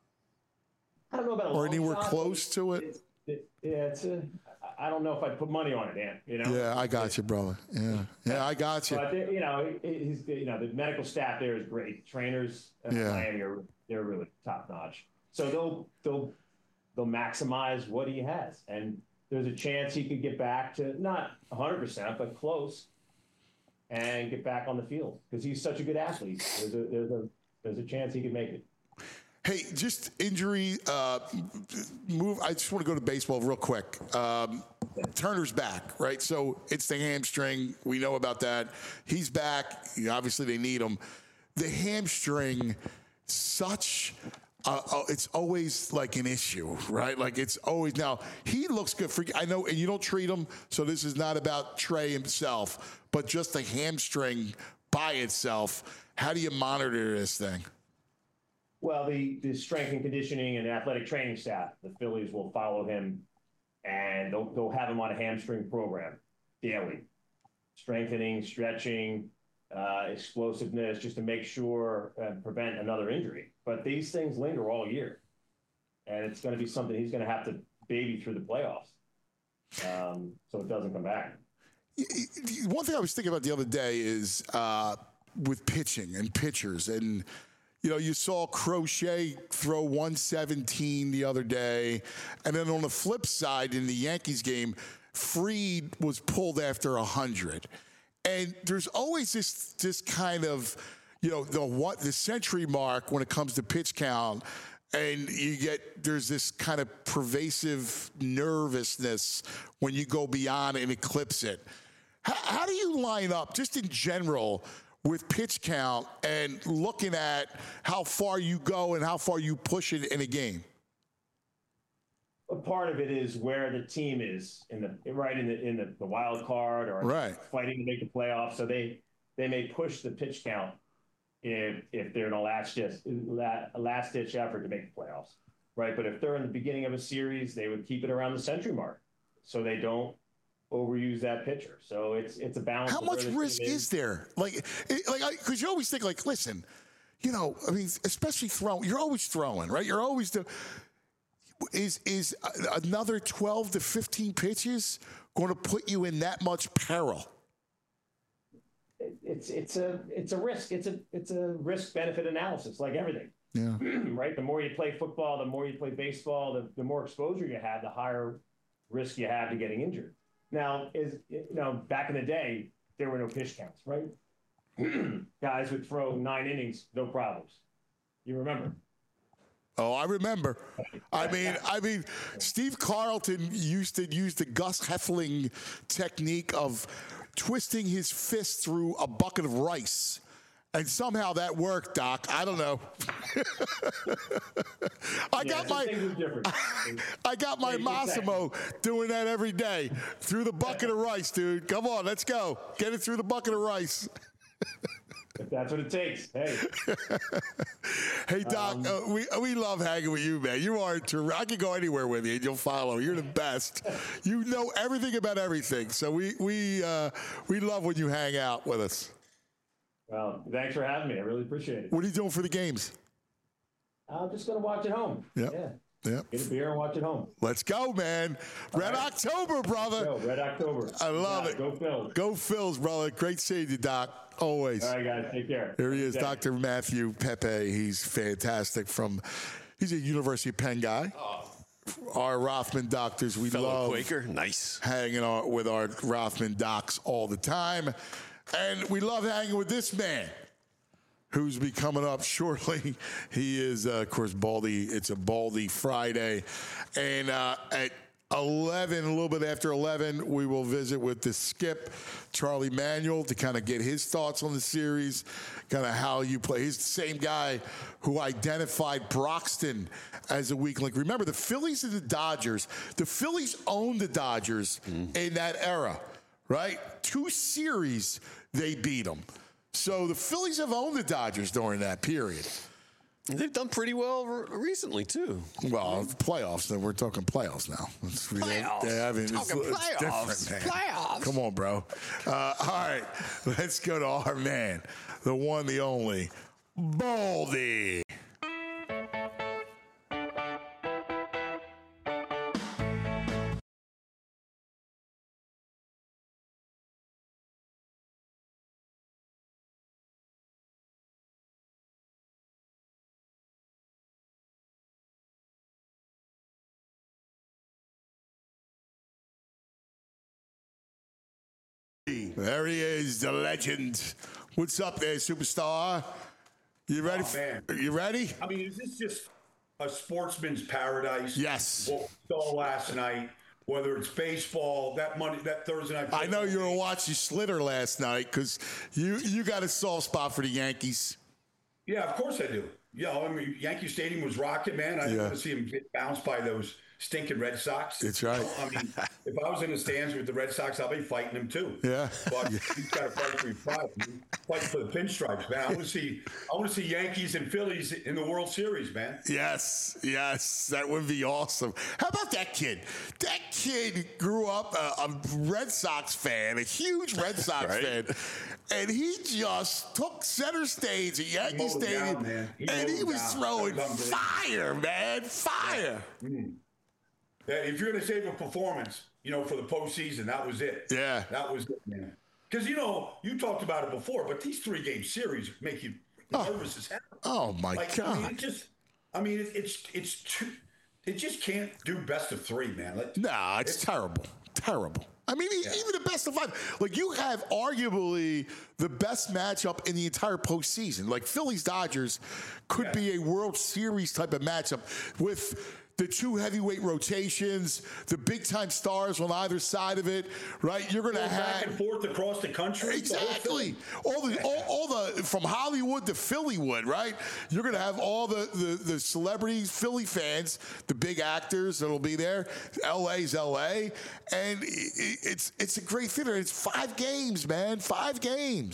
I don't know about a Or long anywhere shot, close but to it? It, it, yeah, it's a, I don't know if I'd put money on it, Dan, you know? Yeah, I got you, brother. Yeah. Yeah, I got you. But, they- you know, he- he's, you know, the medical staff there is great. Trainers at Yeah. Miami are, they're really top notch. So they'll, they'll, they'll maximize what he has. And there's a chance he could get back to not one hundred percent, but close, and get back on the field because he's such a good athlete. There's a, there's a, there's a chance he could make it. Hey, just injury. Uh, move. I just want to go to baseball real quick. Um, Turner's back, right? So it's the hamstring. We know about that. He's back. Obviously, they need him. The hamstring, such. Uh, uh, it's always like an issue, right? Like it's always now. He looks good for. I know, and you don't treat him. So this is not about Trey himself, but just the hamstring by itself. How do you monitor this thing? Well, the, the strength and conditioning and athletic training staff, the Phillies will follow him, and they'll, they'll have him on a hamstring program daily. Strengthening, stretching, uh, explosiveness, just to make sure and prevent another injury. But these things linger all year, and it's going to be something he's going to have to baby through the playoffs, um, so it doesn't come back. One thing I was thinking about the other day is uh, with pitching and pitchers, and you know, you saw Crochet throw one seventeen the other day, and then on the flip side in the Yankees game, Fried was pulled after one hundred. And there's always this this kind of, you know, the what the century mark when it comes to pitch count, and you get there's this kind of pervasive nervousness when you go beyond and eclipse it. How, how do you line up, just in general, with pitch count and looking at how far you go and how far you push it in a game? A part of it is where the team is in the right in the in the, the wild card or right. fighting to make the playoffs. So they they may push the pitch count if if they're in a last ditch a last ditch effort to make the playoffs, right? But if they're in the beginning of a series, they would keep it around the century mark so they don't overuse that pitcher. So it's it's a balance. How much risk is there? Like, it, like, because you always think, like, listen, you know, I mean, especially throwing, you're always throwing, right? You're always the. Is is another twelve to fifteen pitches going to put you in that much peril? It's it's a it's a risk. It's a it's a risk benefit analysis, like everything. Yeah. Right. The more you play football, the more you play baseball, the, the more exposure you have, the higher risk you have to getting injured. Now, is you know, back in the day, there were no pitch counts, right? Guys would throw nine innings, no problems. You remember? Oh, I remember. I mean, I mean, Steve Carlton used to use the Gus Heffling technique of twisting his fist through a bucket of rice. And somehow that worked, Doc. I don't know. I yeah, got my I got my Massimo doing that every day through the bucket of rice, dude. Come on, let's go. Get it through the bucket of rice. If that's what it takes, hey. Hey, Doc, um, uh, we we love hanging with you, man. You are terrific. I can go anywhere with you, and you'll follow. You're the best. You know everything about everything. So we we uh, we love when you hang out with us. Well, thanks for having me. I really appreciate it. What are you doing for the games? I'm just going to watch at home. Yep. Yeah. Yep. Get a beer and watch at home. Let's go, man. Red right. October, brother. Go, Red October. I love yeah, it. Go Phils. Go Phils, brother. Great seeing you, Doc. Always. All right, guys. Take care. Here he is, yeah. Doctor Matthew Pepe. He's fantastic. From He's a University of Penn guy. Oh. Our Rothman doctors, we Fellow love Quaker. Nice. hanging out with our Rothman docs all the time. And we love hanging with this man, who's be coming up shortly. He is, uh, of course, Baldy. It's a Baldy Friday. And uh, at eleven, a little bit after eleven, we will visit with the skip, Charlie Manuel, to kind of get his thoughts on the series, kind of how you play. He's the same guy who identified Broxton as a weak link. Remember, the Phillies and the Dodgers, the Phillies owned the Dodgers mm. in that era, right? Two series, they beat them. So the Phillies have owned the Dodgers during that period. They've done pretty well re- recently, too. Well, playoffs. Then we're talking playoffs now. It's, playoffs. Yeah, I mean, it's, talking it's playoffs. different, man. Playoffs. Come on, bro. Uh, all right, let's go to our man, the one, the only, Baldy. There he is, the legend. What's up there, superstar? You ready? Oh, man. You ready? I mean, is this just a sportsman's paradise? Yes. What we saw last night, whether it's baseball, that Monday, that Thursday night. I know you were watching Slitter last night because you you got a soft spot for the Yankees. Yeah, of course I do. Yeah, I mean, Yankee Stadium was rocking, man. I didn't Yeah. want to see him get bounced by those stinking Red Sox. That's right. I mean, if I was in the stands with the Red Sox, I'll be fighting them too. Yeah. But he's got to fight for his pride. Fight for the pinstripes, man. I want to see. I want to see Yankees and Phillies in the World Series, man. Yes, yes, that would be awesome. How about that kid? That kid grew up a, a Red Sox fan, a huge Red Sox Right. fan, and he just took center stage at Yankee mowed it Stadium, down, man. He and mowed he it was down. throwing That was unbelievable. fire, man, fire. Mm. Yeah, if you're going to save a performance, you know, for the postseason, that was it. Yeah. That was it, man. Because, you know, you talked about it before, but these three-game series make you nervous as hell. Oh, my like, God. I mean, it just, I mean, it, it's, it's too, it just can't do best of three, man. Like, Nah, it's, it's terrible. Terrible. I mean, yeah. even the best of five. Like, you have arguably the best matchup in the entire postseason. Like, Phillies-Dodgers could Yeah. be a World Series type of matchup with the two heavyweight rotations, the big-time stars on either side of it, right? You're going to have back and forth across the country. Exactly. All the all, all the from Hollywood to Phillywood, right? You're going to have all the, the the celebrities, Philly fans, the big actors that'll be there. L A's L A, and it, it's it's a great theater. It's five games, man. Five games.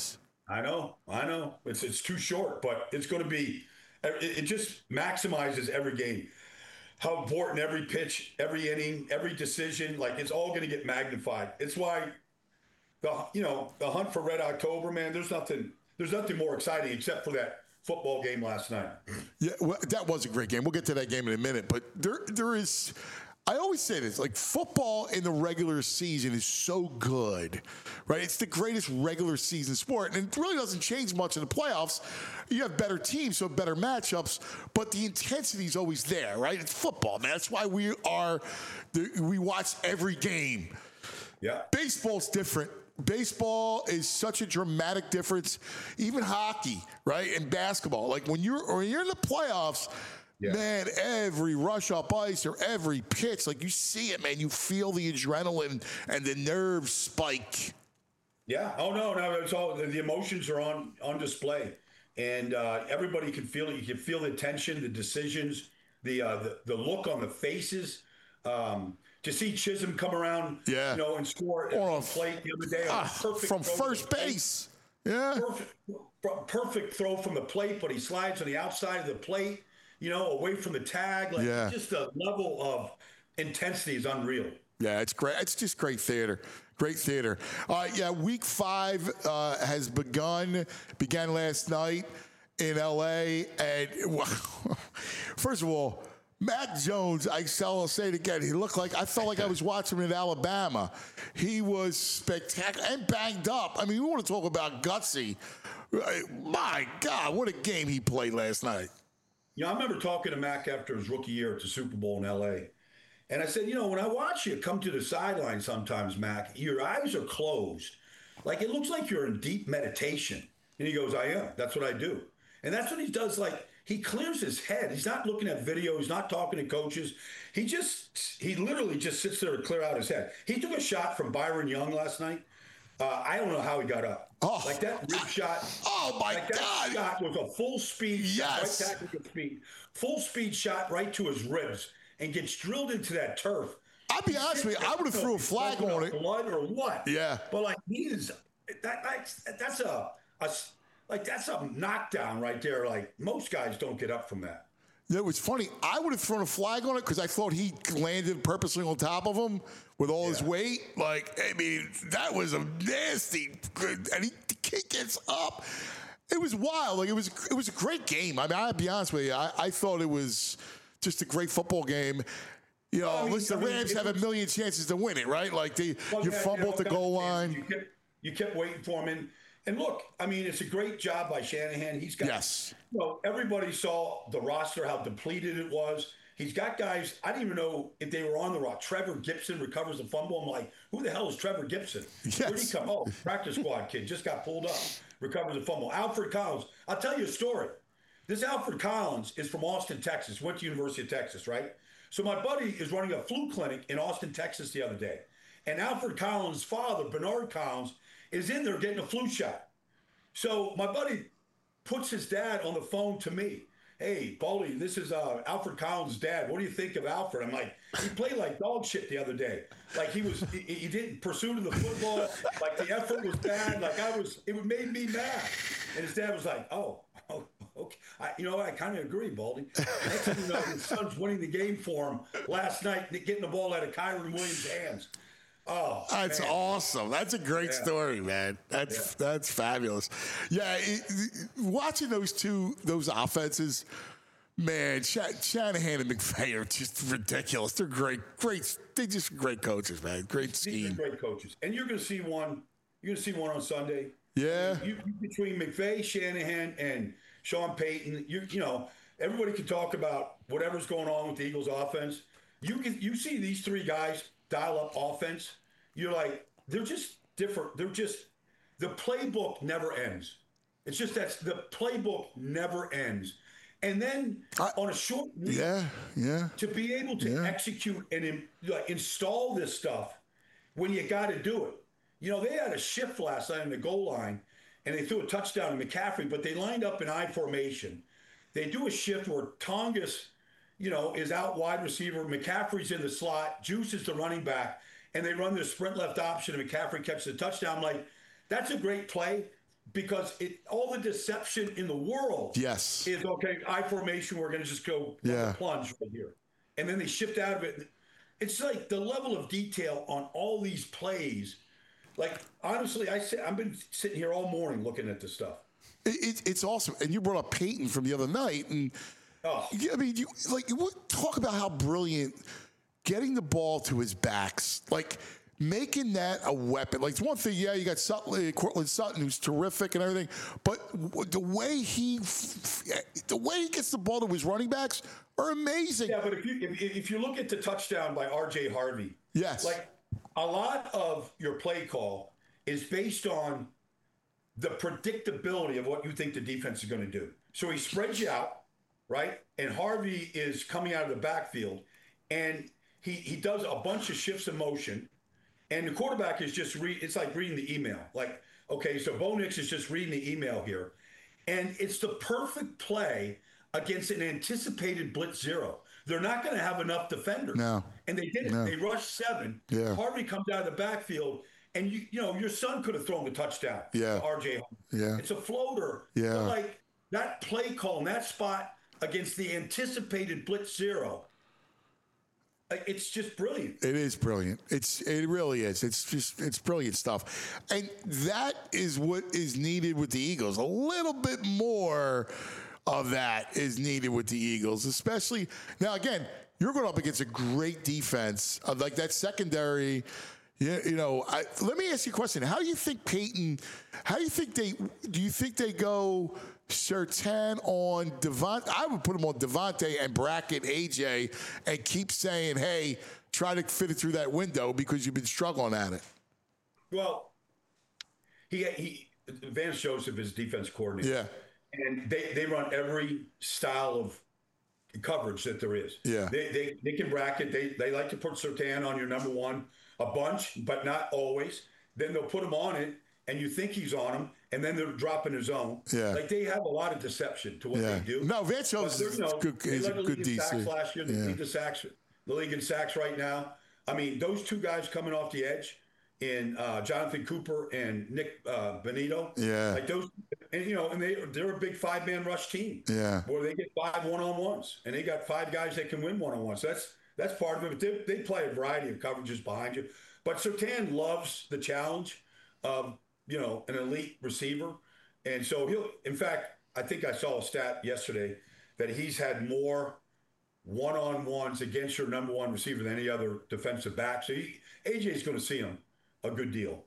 I know, I know. It's it's too short, but it's going to be. It, it just maximizes every game. How important every pitch, every inning, every decision. Like it's all going to get magnified. It's why the you know the hunt for Red October, man. There's nothing. There's nothing more exciting except for that football game last night. Yeah, well, that was a great game. We'll get to that game in a minute, but there there is. I always say this, like football in the regular season is so good, right? It's the greatest regular season sport, and it really doesn't change much in the playoffs. You have better teams, so better matchups, but the intensity is always there, right? It's football, man. That's why we are, we watch every game. Yeah. Baseball's different. Baseball is such a dramatic difference. Even hockey, right? And basketball. Like when you're, when you're in the playoffs, yeah. Man, every rush up ice or every pitch, like you see it, man. You feel the adrenaline and the nerves spike. Yeah. Oh no, no. It's all the emotions are on on display, and uh, everybody can feel it. You can feel the tension, the decisions, the uh, the, the look on the faces. Um, to see Chisholm come around, yeah. you know, and score or a plate the other day, ah, perfect from first base. Yeah. Perfect, perfect throw from the plate, but he slides on the outside of the plate. You know, away from the tag, like yeah. just the level of intensity is unreal. Yeah, it's great. It's just great theater. Great theater. All right, yeah, week five uh, has begun, began last night in L A. And well, first of all, Mac Jones, I shall say it again, he looked like, I felt like I was watching him in Alabama. He was spectacular and banged up. I mean, we want to talk about gutsy. My God, what a game he played last night. You know, I remember talking to Mac after his rookie year at the Super Bowl in L A. And I said, you know, when I watch you come to the sideline sometimes, Mac, your eyes are closed. Like, it looks like you're in deep meditation. And he goes, I am. That's what I do. And that's what he does. Like, he clears his head. He's not looking at video. He's not talking to coaches. He just, he literally just sits there to clear out his head. He took a shot from Byron Young last night. Uh, I don't know how he got up. Oh, like that rib shot. Oh, my like God. That shot was a full speed yes. shot, right tactical speed. Full speed shot right to his ribs and gets drilled into that turf. I'll be honest with you, I would have threw a flag on it. Blood or what? Yeah. But like he is, that, that's, that's a, a, like that's a knockdown right there. Like most guys don't get up from that. It was funny. I would have thrown a flag on it because I thought he landed purposely on top of him with all yeah. his weight. Like, I mean, that was a nasty. And he, he gets up. It was wild. Like, it was it was a great game. I mean, I'll be honest with you. I, I thought it was just a great football game. You know, I mean, listen, the Rams I mean, have a million chances to win it, right? Like, they, well, you yeah, fumble you know, at the goal line. You kept, you kept waiting for him. And, and look, I mean, it's a great job by Shanahan. He's got, yes. you know, everybody saw the roster, how depleted it was. He's got guys, I didn't even know if they were on the roster. Trevor Gibson recovers the fumble. I'm like, who the hell is Trevor Gibson? Yes. Where'd he come? Oh, practice squad kid, just got pulled up, recovers the fumble. Alfred Collins, I'll tell you a story. This Alfred Collins is from Austin, Texas, went to University of Texas, right? So my buddy is running a flu clinic in Austin, Texas the other day. And Alfred Collins' father, Bernard Collins, is in there getting a flu shot. So my buddy puts his dad on the phone to me. Hey, Baldy, this is uh, Alfred Collins' dad. What do you think of Alfred? I'm like, he played like dog shit the other day. Like he was, he, he didn't pursue to the football. Like the effort was bad. Like I was, it made me mad. And his dad was like, oh, oh okay. I, you know, I kind of agree, Baldy. Next thing you know, his son's winning the game for him last night, getting the ball out of Kyron Williams' hands. Oh, that's man. Awesome. That's a great yeah. story, man. That's yeah. that's fabulous. Yeah, it, it, watching those two those offenses, man, Sh- Shanahan and McVay are just ridiculous. They're great, great. They just great coaches, man. Great scheme. These are great coaches, and you're going to see one. You're going to see one on Sunday. Yeah. You, you, between McVay, Shanahan, and Sean Payton, you you know everybody can talk about whatever's going on with the Eagles' offense. You can you see these three guys dial up offense. You're like, they're just different. They're just, the playbook never ends. It's just that the playbook never ends. And then I, on a short week, yeah, yeah, to be able to yeah. execute and in, like, install this stuff when you got to do it. You know, they had a shift last night on the goal line, and they threw a touchdown to McCaffrey, but they lined up in I formation. They do a shift where Tongas, you know, is out wide receiver. McCaffrey's in the slot. Juice is the running back. And they run their sprint left option, and McCaffrey catches the touchdown. I'm like, that's a great play. because it all the deception in the world Yes. is okay, I formation, we're going to just go Yeah. plunge right here. And then they shift out of it. It's like the level of detail on all these plays. Like, honestly, I sit, I've been sitting here all morning looking at this stuff. It, it, it's awesome. And you brought up Peyton from the other night. And oh. I mean, you like you talk about how brilliant getting the ball to his backs, like making that a weapon. Like, it's one thing, yeah, you got Sutton, Cortland Sutton, who's terrific and everything, but the way he, the way he gets the ball to his running backs are amazing. Yeah, but if you if, if you look at the touchdown by R J Harvey, yes, like a lot of your play call is based on the predictability of what you think the defense is going to do. So he spreads you out, right? And Harvey is coming out of the backfield, and he he does a bunch of shifts of motion. And the quarterback is just read. It's like reading the email. Like, okay, so Bo Nix is just reading the email here, and it's the perfect play against an anticipated blitz zero. They're not going to have enough defenders. No, and they did it. No. They rushed seven. Yeah. Harvey comes out of the backfield, and you you know your son could have thrown the touchdown. Yeah. To R J. Yeah. It's a floater. Yeah. But like that play call in that spot against the anticipated blitz zero. It's just brilliant. It is brilliant. It's it really is. It's just it's brilliant stuff, and that is what is needed with the Eagles. A little bit more of that is needed with the Eagles, especially now. Again, you're going up against a great defense, uh, like that secondary. Yeah, you know. I, let me ask you a question. How do you think Peyton? How do you think they? Do you think they go Surtain on Devontae? I would put him on Devontae and bracket A J and keep saying, "Hey, try to fit it through that window because you've been struggling at it." Well, he he Vance Joseph is defense coordinator. Yeah, and they they run every style of coverage that there is. Yeah, they they, they can bracket. They they like to put Surtain on your number one a bunch, but not always. Then they'll put him on it, and you think he's on him, and then they're dropping his own. Yeah. Like they have a lot of deception to what Yeah. they do. No, Vance Joseph is no, good- they is led a the good league in D C. sacks last year. They Yeah. lead the sacks, the league in sacks right now. I mean, those two guys coming off the edge in uh, Jonathan Cooper and Nick uh, Benito. Yeah. Like those, and you know, and they they're a big five man rush team. Yeah. Where they get five one on ones, and they got five guys that can win one on ones. So that's that's part of it. But they, they play a variety of coverages behind you. But Surtain loves the challenge of, you know, an elite receiver. And so he'll, in fact, I think I saw a stat yesterday that he's had more one-on-ones against your number one receiver than any other defensive back. So he, A J's going to see him a good deal.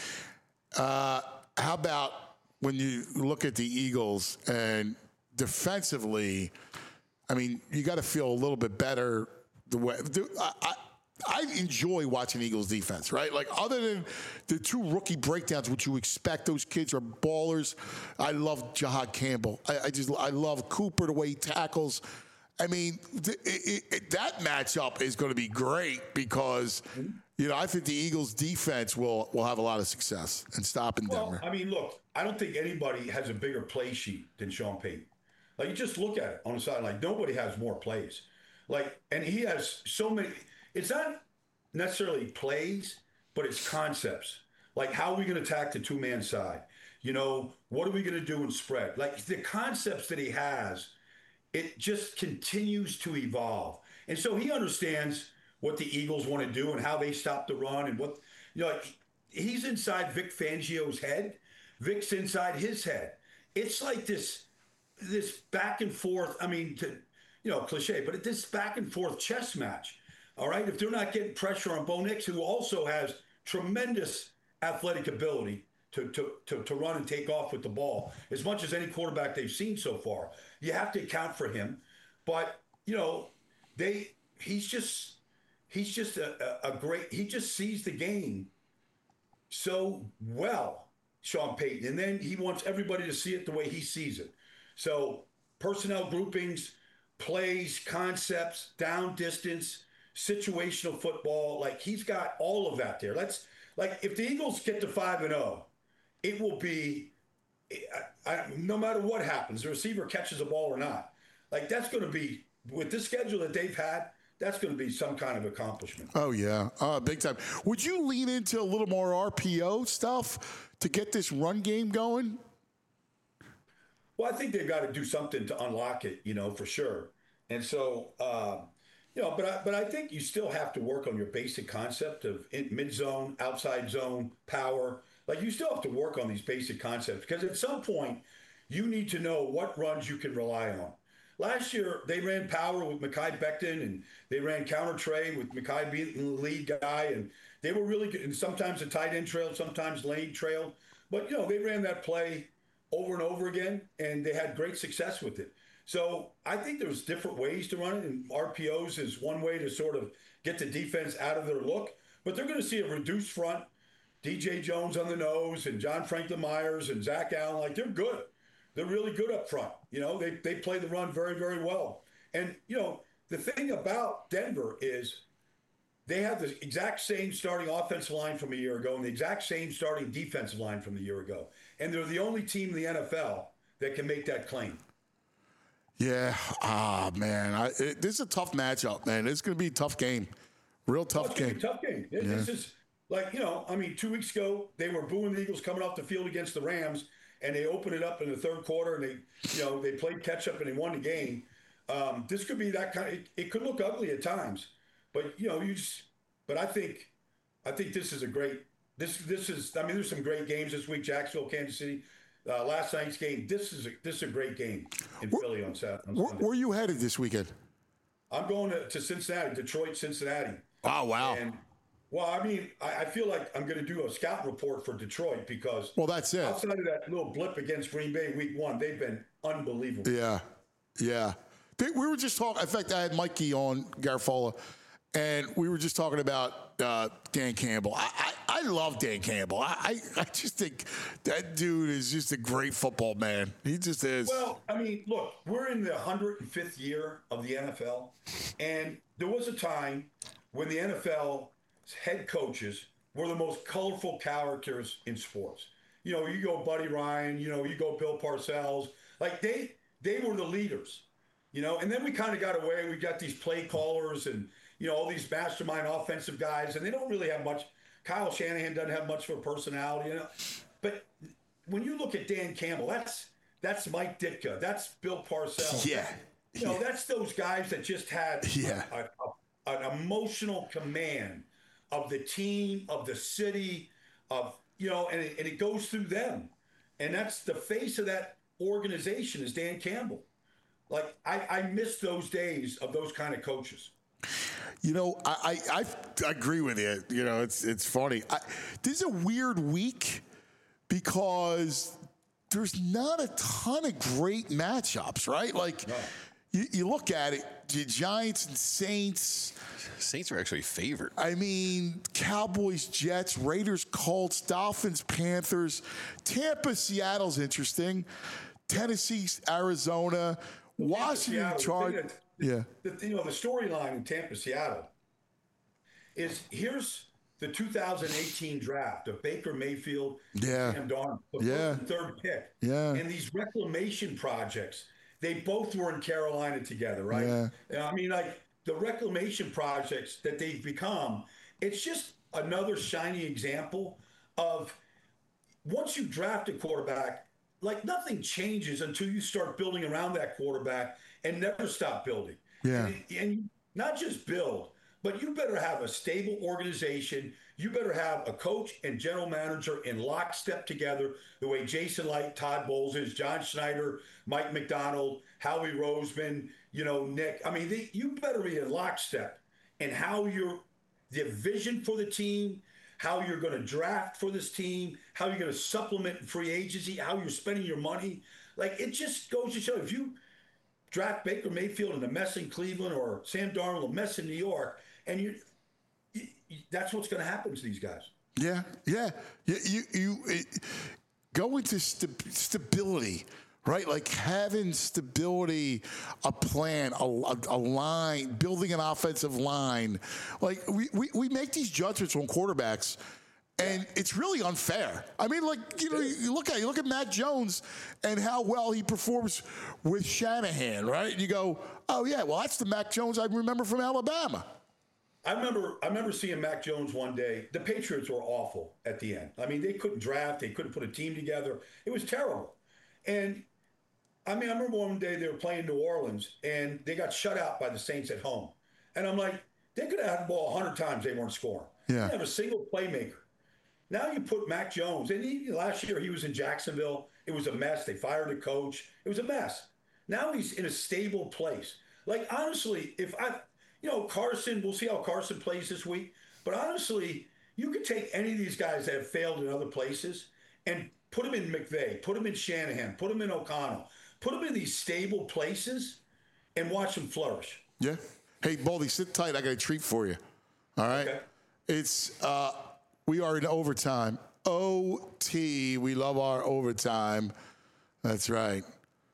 Uh, how about when you look at the Eagles and defensively, I mean, you got to feel a little bit better the way the, I, I, I enjoy watching Eagles defense, right? Like, other than the two rookie breakdowns, which you expect, those kids are ballers. I love Jahad Campbell. I, I just, I love Cooper, the way he tackles. I mean, th- it, it, that matchup is going to be great because, you know, I think the Eagles defense will, will have a lot of success in stopping Well, Denver. I mean, look, I don't think anybody has a bigger play sheet than Sean Payton. Like, you just look at it on the side, like, nobody has more plays. Like, and he has so many. It's not necessarily plays, but it's concepts. Like, how are we going to attack the two-man side? You know, what are we going to do in spread? Like, the concepts that he has, it just continues to evolve. And so he understands what the Eagles want to do and how they stop the run and what, you know, like, he's inside Vic Fangio's head. Vic's inside his head. It's like this, this back and forth, I mean, to, you know, cliche, but this back and forth chess match. All right, if they're not getting pressure on Bo Nix, who also has tremendous athletic ability to, to to to run and take off with the ball, as much as any quarterback they've seen so far, you have to account for him. But you know, they he's just he's just a, a, a great. He just sees the game so well, Sean Payton, and then he wants everybody to see it the way he sees it. So personnel groupings, plays, concepts, down distance, situational football, like he's got all of that there. Let's like if the Eagles get to five and zero, it will be I, I, no matter what happens, the receiver catches the ball or not. Like that's going to be with this schedule that they've had. That's going to be some kind of accomplishment. Oh yeah, uh, big time. Would you lean into a little more R P O stuff to get this run game going? Well, I think they've got to do something to unlock it, you know, for sure. And so, uh, you know, but I, but I think you still have to work on your basic concept of mid zone, outside zone, power. Like you still have to work on these basic concepts because at some point you need to know what runs you can rely on. Last year they ran power with Mekhi Becton and they ran counter trade with Mekhi being the lead guy, and they were really good. And sometimes the tight end trailed, sometimes Lane trailed, but you know they ran that play over and over again, and they had great success with it. So I think there's different ways to run it, and R P Os is one way to sort of get the defense out of their look. But they're going to see a reduced front, D J Jones on the nose, and John Franklin Myers and Zach Allen. Like they're good. They're really good up front. You know, they they play the run very, very well. And, you know, the thing about Denver is they have the exact same starting offensive line from a year ago and the exact same starting defensive line from the year ago. And they're the only team in the N F L that can make that claim. Yeah. Ah, man. I, it, this is a tough matchup, man. It's going to be a tough game. Real tough oh, game. tough game. It, yeah. This is like, you know, I mean, two weeks ago, they were booing the Eagles coming off the field against the Rams, and they opened it up in the third quarter, and they, you know, they played catch up and they won the game. Um, this could be that kind of, it, it could look ugly at times, but you know, you just, but I think, I think this is a great, this, this is, I mean, there's some great games this week, Jacksonville, Kansas City, uh, last night's game. This is a, this is a great game in where, Philly on Saturday. Where, where are you headed this weekend? I'm going to, to Cincinnati, Detroit, Cincinnati. Oh, wow. And, well, I mean, I, I feel like I'm going to do a scout report for Detroit because well, that's it. Outside of that little blip against Green Bay week one, they've been unbelievable. Yeah, yeah. They, we were just talking. In fact, I had Mikey on Garfola, and we were just talking about uh, Dan Campbell. I, I, I love Dan Campbell. I, I, I just think that dude is just a great football man. He just is. Well, I mean, look, we're in the one hundred fifth year of the N F L, and there was a time when the N F L head coaches were the most colorful characters in sports. You know, you go Buddy Ryan, you know, you go Bill Parcells. Like they they were the leaders, you know, and then we kind of got away. We got these play callers and, you know, all these mastermind offensive guys, and they don't really have much. Kyle Shanahan doesn't have much of a personality, you know. But when you look at Dan Campbell, that's that's Mike Ditka, that's Bill Parcells. Yeah. You know, that's those guys that just had yeah. a, a, an emotional command of the team, of the city, of, you know, and it, and it goes through them. And that's the face of that organization is Dan Campbell. Like, I, I miss those days of those kind of coaches. You know, I, I, I agree with you. You know, it's it's funny. I, this is a weird week because there's not a ton of great matchups, right? Like, no. you, you look at it, the Giants and Saints. Saints are actually favored. I mean, Cowboys, Jets, Raiders, Colts, Dolphins, Panthers, Tampa, Seattle's interesting. Tennessee, Arizona, Washington, Chargers. Yeah. The, you know, the storyline in Tampa, Seattle is here's the two thousand eighteen draft of Baker Mayfield, yeah. Sam Darnold, the yeah. first and third pick. Yeah. And these reclamation projects, they both were in Carolina together, right? Yeah. I mean, like the reclamation projects that they've become, it's just another shiny example of once you draft a quarterback, like nothing changes until you start building around that quarterback and never stop building. Yeah. And, and not just build, but you better have a stable organization. You better have a coach and general manager in lockstep together, the way Jason Light, Todd Bowles is, John Schneider, Mike McDonald, Howie Roseman, you know, Nick. I mean, they, you better be in lockstep in how you're, the vision for the team, how you're going to draft for this team, how you're going to supplement free agency, how you're spending your money. Like, it just goes to show if you draft Baker Mayfield in a mess in Cleveland or Sam Darnold a mess in New York, and you, you that's what's going to happen to these guys. Yeah, yeah. You, you, you it, go into st- stability, right? Like having stability, a plan, a, a, a line, building an offensive line. Like we, we, we make these judgments on quarterbacks, and it's really unfair. I mean, like, you know, you look at you look at Mac Jones and how well he performs with Shanahan, right? And you go, oh yeah, well that's the Mac Jones I remember from Alabama. I remember I remember seeing Mac Jones one day. The Patriots were awful at the end. I mean, they couldn't draft, they couldn't put a team together. It was terrible. And I mean, I remember one day they were playing New Orleans, and they got shut out by the Saints at home. And I'm like, they could have had the ball a hundred times, they weren't scoring. Yeah. They didn't have a single playmaker. Now you put Mac Jones, and he, last year he was in Jacksonville. It was a mess. They fired a coach. It was a mess. Now he's in a stable place. Like, honestly, if I, you know, Carson, we'll see how Carson plays this week. But honestly, you could take any of these guys that have failed in other places and put them in McVay, put them in Shanahan, put them in O'Connell, put them in these stable places and watch them flourish. Yeah. Hey, Baldy, sit tight. I got a treat for you. All right. Okay. It's, uh, we are in overtime. O T. We love our overtime. That's right.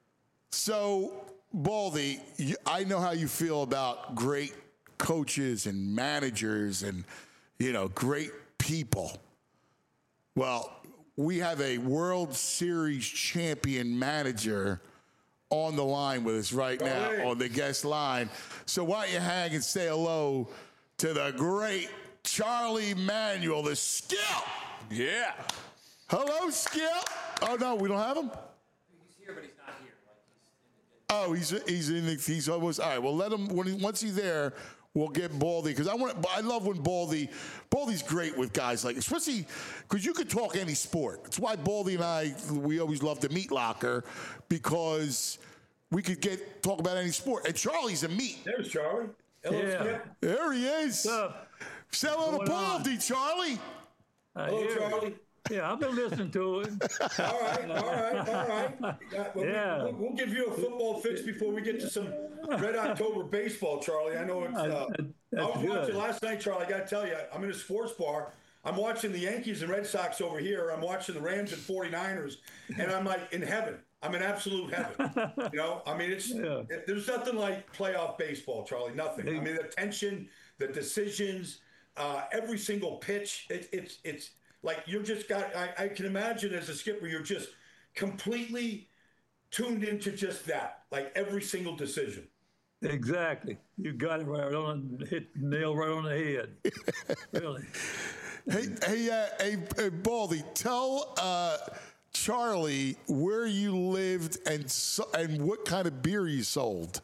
So, Baldy, you, I know how you feel about great coaches and managers and, you know, great people. Well, we have a World Series champion manager on the line with us right now, Hey. on the guest line. So why don't you hang and say hello to the great Charlie Manuel, the Skip. Yeah. Hello, Skip. Oh, no, we don't have him? He's here, but he's not here. Oh, he's he's in the, he's almost, all right, well, let him, when he, once he's there, we'll get Baldy, because I want, I love when Baldy, Baldy's great with guys like, especially, because you could talk any sport. That's why Baldy and I, we always love the meat locker, because we could get, talk about any sport. And Charlie's a meat. There's Charlie. Hello, Yeah. Skip. There he is. What's up? Say hello to What's going on? Baldy, Charlie. I Hello, hear it. Charlie. Yeah, I've been listening to it. All right, all right, all right. Yeah, well, we- Yeah. we, we'll give you a football fix before we get to some Red October baseball, Charlie. I know it's. Uh, I That's was good. watching last night, Charlie. I got to tell you, I'm in a sports bar. I'm watching the Yankees and Red Sox over here. I'm watching the Rams and forty-niners, and I'm like in heaven. I'm in absolute heaven. You know, I mean, it's Yeah. it, there's nothing like playoff baseball, Charlie. Nothing. I mean, the tension, the decisions, uh, every single pitch. It, it's it's like you're just got. I, I can imagine as a skipper, you're just completely tuned into just that, like every single decision. Exactly. You got it right on, hit the nail right on the head. Really. Hey, hey, uh, hey, hey, Baldy, tell uh, Charlie where you lived and so, and what kind of beer you sold.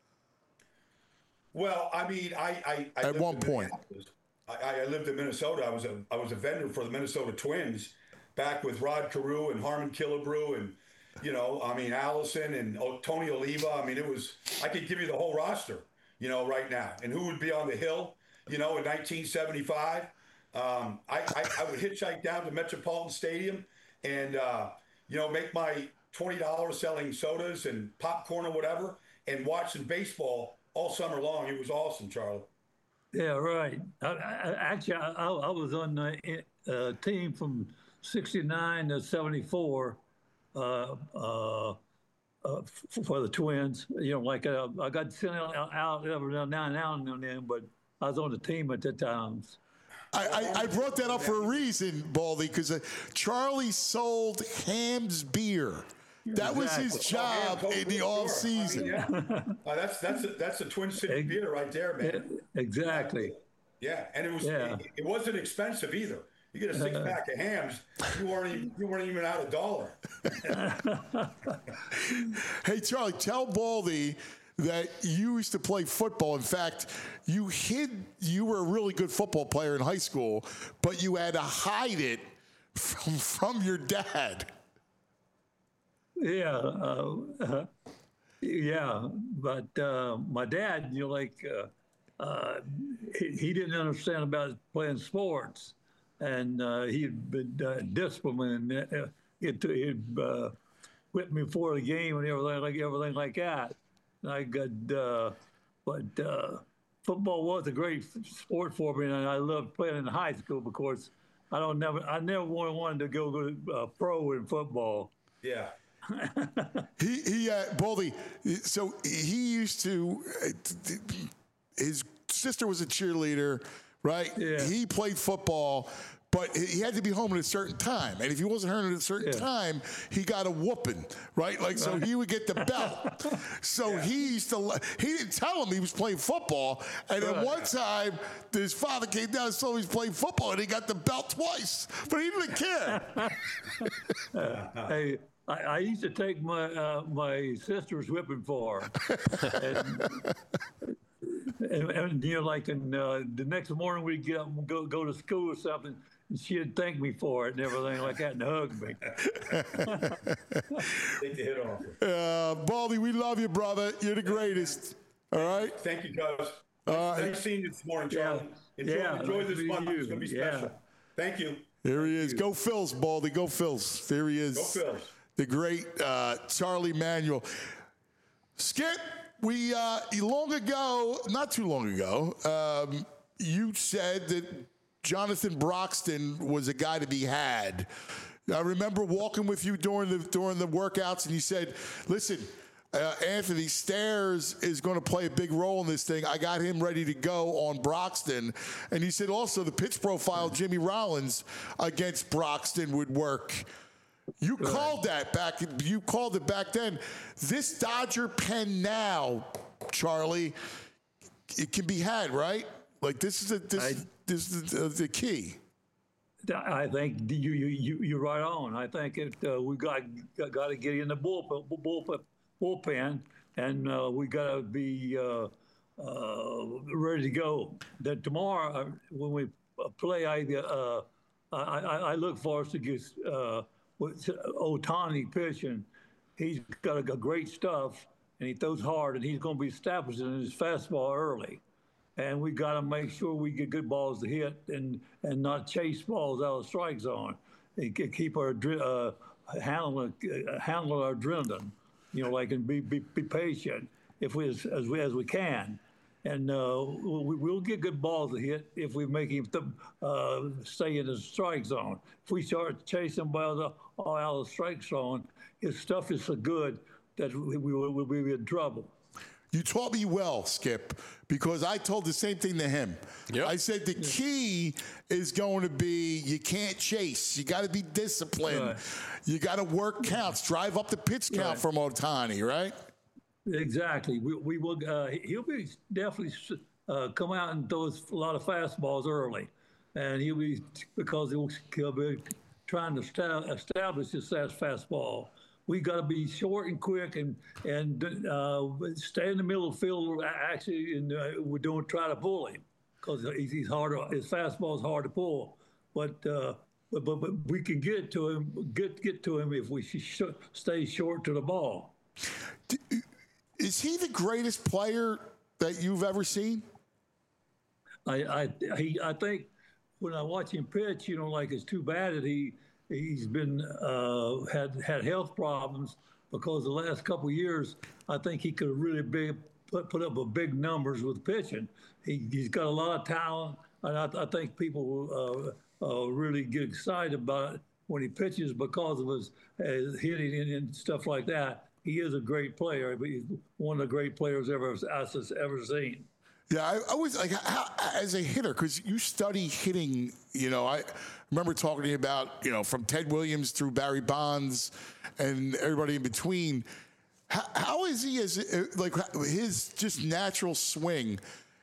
Well, I mean, I, I, I At lived one in point. Minneapolis. I, I lived in Minnesota. I was a I was a vendor for the Minnesota Twins back with Rod Carew and Harmon Killebrew and you know, I mean Allison and oh, Tony Oliva. I mean, it was I could give you the whole roster, you know, right now. And who would be on the hill, you know, in nineteen seventy-five? Um, I, I I would hitchhike down to Metropolitan Stadium and uh, you know make my twenty dollars selling sodas and popcorn or whatever and watching baseball all summer long. It was awesome, Charlie. Yeah, right. I, I, actually, I, I was on the uh, team from sixty-nine to seventy-four uh, uh, uh, f- for the Twins. You know, like uh, I got sent out, out every now and now and then, but I was on the team at the times. I, I, I brought that up for a reason, Baldy, because uh, Charlie sold Ham's beer. That was his job Oh, yeah, in the sure. off season. I mean, yeah. Uh, that's that's a, that's a Twin City beer right there, man. Exactly. Yeah, and it was Yeah. it, it wasn't expensive either. You get a six pack of Hams, you weren't even, you weren't even out a dollar. Hey, Charlie, tell Baldy that you used to play football. In fact, you hid, you were a really good football player in high school, but you had to hide it from, from your dad. Yeah, uh, uh, yeah, but uh, my dad, you know, like uh, uh, he, he didn't understand about playing sports, and uh, he'd been uh, disciplined. Uh, he'd he'd uh, whip me before the game and everything like everything like that. And I got, uh, but uh, football was a great sport for me, and I loved playing in high school because I don't never I never wanted wanted to go to uh, pro in football. Yeah. he, he, uh, Baldy, so he used to, uh, his sister was a cheerleader, right? Yeah. He played football, but he had to be home at a certain time. And if he wasn't home at a certain Yeah. time, he got a whooping, right? Like, so he would get the belt. So he used to, he didn't tell him he was playing football. And then Right. one time, his father came down and saw he was playing football, and he got the belt twice. But he didn't care. Hey, I, I used to take my uh, my sister's whipping for her. and, and, and you know, like, in, uh, the next morning we'd get up and go go to school or something, and she'd thank me for it and everything like that and hug me. Take the hit off. Uh, Baldy, we love you, brother. You're the greatest. All right. Thank you, guys. Uh, nice seeing you this morning, Charlie. Enjoy, yeah, enjoy nice this meeting month. you. It's going to be Yeah. special. Thank you. There he is. Go Phils, Baldy. Go Phils. There he is. Go Phils. The great uh, Charlie Manuel. Skip, we uh, long ago, not too long ago, um, you said that Jonathan Broxton was a guy to be had. I remember walking with you during the during the workouts, and you said, "Listen, uh, Anthony Stairs is going to play a big role in this thing. I got him ready to go on Broxton." And he said also the pitch profile Jimmy Rollins against Broxton would work. You Good. called that back. You called it back then. This Dodger pen now, Charlie, it can be had, right? Like this is a, this I, this is the, the key. I think you you you you're right on. I think it uh, we got got to get in the bullpen bullpen, bullpen and uh, we got to be uh, uh, ready to go. That tomorrow uh, when we play, I uh, I, I I look for us to get uh, with Ohtani pitching. He's got a, a great stuff and he throws hard and he's going to be establishing his fastball early. And we got to make sure we get good balls to hit and, and not chase balls out of the strike zone. And keep our uh, handling uh, handling our adrenaline, you know, like and be be, be patient if we as, as we as we can, and uh, we, we'll get good balls to hit if we make him th- uh, stay in the strike zone. If we start chasing balls out of the strike zone, his stuff is so good that we will we'll be in trouble. You taught me well, Skip, because I told the same thing to him. Yep. I said the key is going to be you can't chase. You got to be disciplined. Right. You got to work counts, drive up the pitch count right. from Ohtani, right? Exactly. We, we will. Uh, he'll be definitely uh, come out and throw a lot of fastballs early, and he'll be because he'll, he'll be trying to sta- establish his fastball. We got to be short and quick and and uh, stay in the middle of the field. Actually, and uh, we don't try to pull him because he's, he's hard. His fastball is hard to pull, but, uh, but but but we can get to him. Get get to him if we sh- stay short to the ball. Is he the greatest player that you've ever seen? I I he, I think when I watch him pitch, you know, like it's too bad that he. He's been uh, had had health problems because the last couple of years, I think he could have really big, put put up a big numbers with pitching. He he's got a lot of talent, and I, I think people uh, uh, really get excited about it when he pitches because of his uh, hitting and, and stuff like that. He is a great player. He's one of the great players ever I've ever seen. Yeah, I, I was like, how, as a hitter, because you study hitting, you know, I remember talking to you about, you know, from Ted Williams through Barry Bonds and everybody in between. How, how is he as, like, his just natural swing?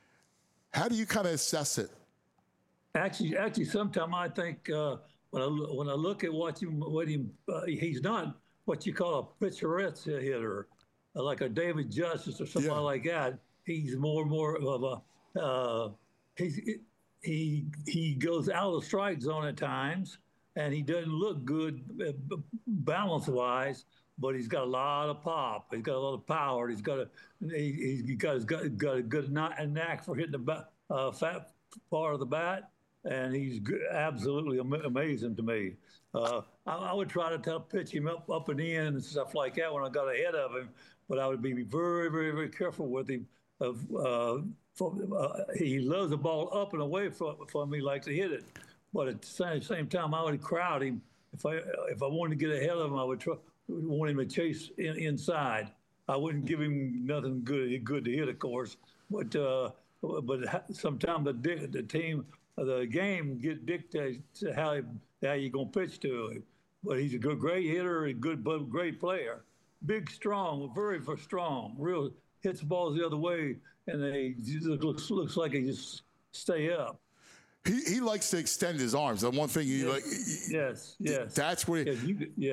How do you kind of assess it? Actually, actually, sometimes I think uh, when I when I look at what him, what him, uh, he's not what you call a picturesque hitter, like a David Justice or somebody yeah. like that. He's more and more of a uh, he's he he goes out of the strike zone at times, and he doesn't look good uh, balance wise. But he's got a lot of pop. He's got a lot of power. He's got a he, he's got he's got, got a good knack for hitting the bat, uh, fat part of the bat, and he's good, absolutely am- amazing to me. Uh, I, I would try to tell, pitch him up up and in and stuff like that when I got ahead of him, but I would be very very very careful with him. Of uh, for, uh, he loves the ball up and away from, from me, like to hit it. But at the same, same time, I would crowd him. If I if I wanted to get ahead of him, I would try, want him to chase in, inside. I wouldn't give him nothing good good to hit, of course. But uh, but sometimes the the team, the game get dictates how how you gonna pitch to him. But he's a good, great hitter, a good, but great player. Big, strong, very, very strong, real. Hits the balls the other way, and they looks looks like he just stay up. He he likes to extend his arms. The one thing you yes. like. Yes, yes. That's where. Yeah, you, yeah.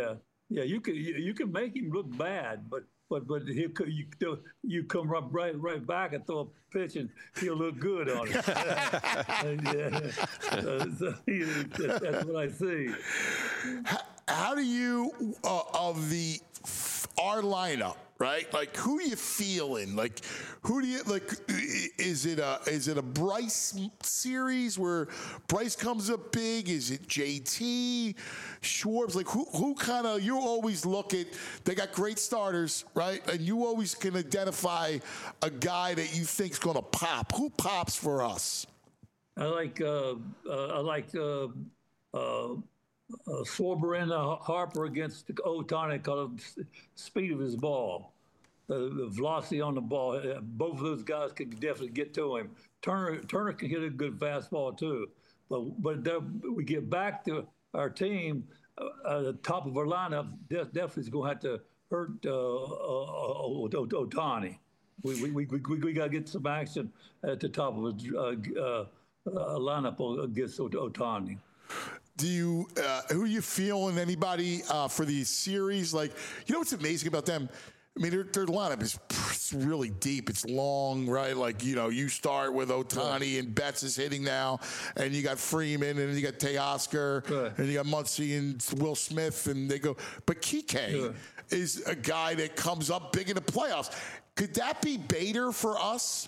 yeah, you can you, you can make him look bad, but but but he'll co- you you come up right right back and throw a pitch and he'll look good on it. Yeah. Uh, so, yeah, that's what I see. How, how do you uh, of the our lineup? Right, like who you feeling? Like, who do you like? Is it a is it a Bryce series where Bryce comes up big? Is it J T, Schwartz? Like, who who kind of you always look at? They got great starters, right? And you always can identify a guy that you think's going to pop. Who pops for us? I like uh, uh, I like uh, uh, uh, Schwarber and uh, Harper against Ohtani because of the speed of his ball, the, the velocity on the ball. Uh, both of those guys can definitely get to him. Turner Turner can hit a good fastball too. But but there, we get back to our team. Uh, the top of our lineup definitely is going to have to hurt uh, uh, Ohtani. We we we we, we got to get some action at the top of his uh, uh, uh, lineup against Ohtani. Do you, uh, who are you feeling? Anybody uh, for the series? Like, you know what's amazing about them? I mean, their, their lineup is it's really deep. It's long, right? Like, you know, you start with Ohtani and Betts is hitting now, and you got Freeman, and you got Teoscar, Right. and you got Muncy and Will Smith, and they go. But Kike Yeah. is a guy that comes up big in the playoffs. Could that be Bader for us?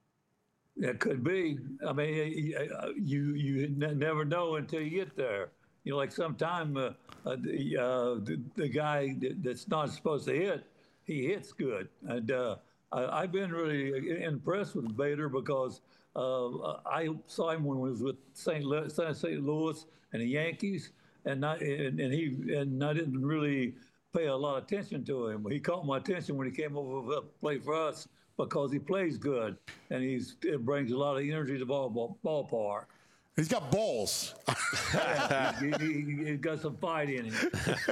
It could be. I mean, you you never know until you get there. You know, like sometime uh, uh, the, uh, the the guy that's not supposed to hit, he hits good. And uh, I, I've been really impressed with Bader because uh, I saw him when he was with Saint Louis, Saint Louis and the Yankees, and I, and, and he and I didn't really pay a lot of attention to him. He caught my attention when he came over to play for us, because he plays good and he's it brings a lot of energy to the ball, ball, ballpark. He's got balls. Yeah, he, he, he, he's got some fight in him.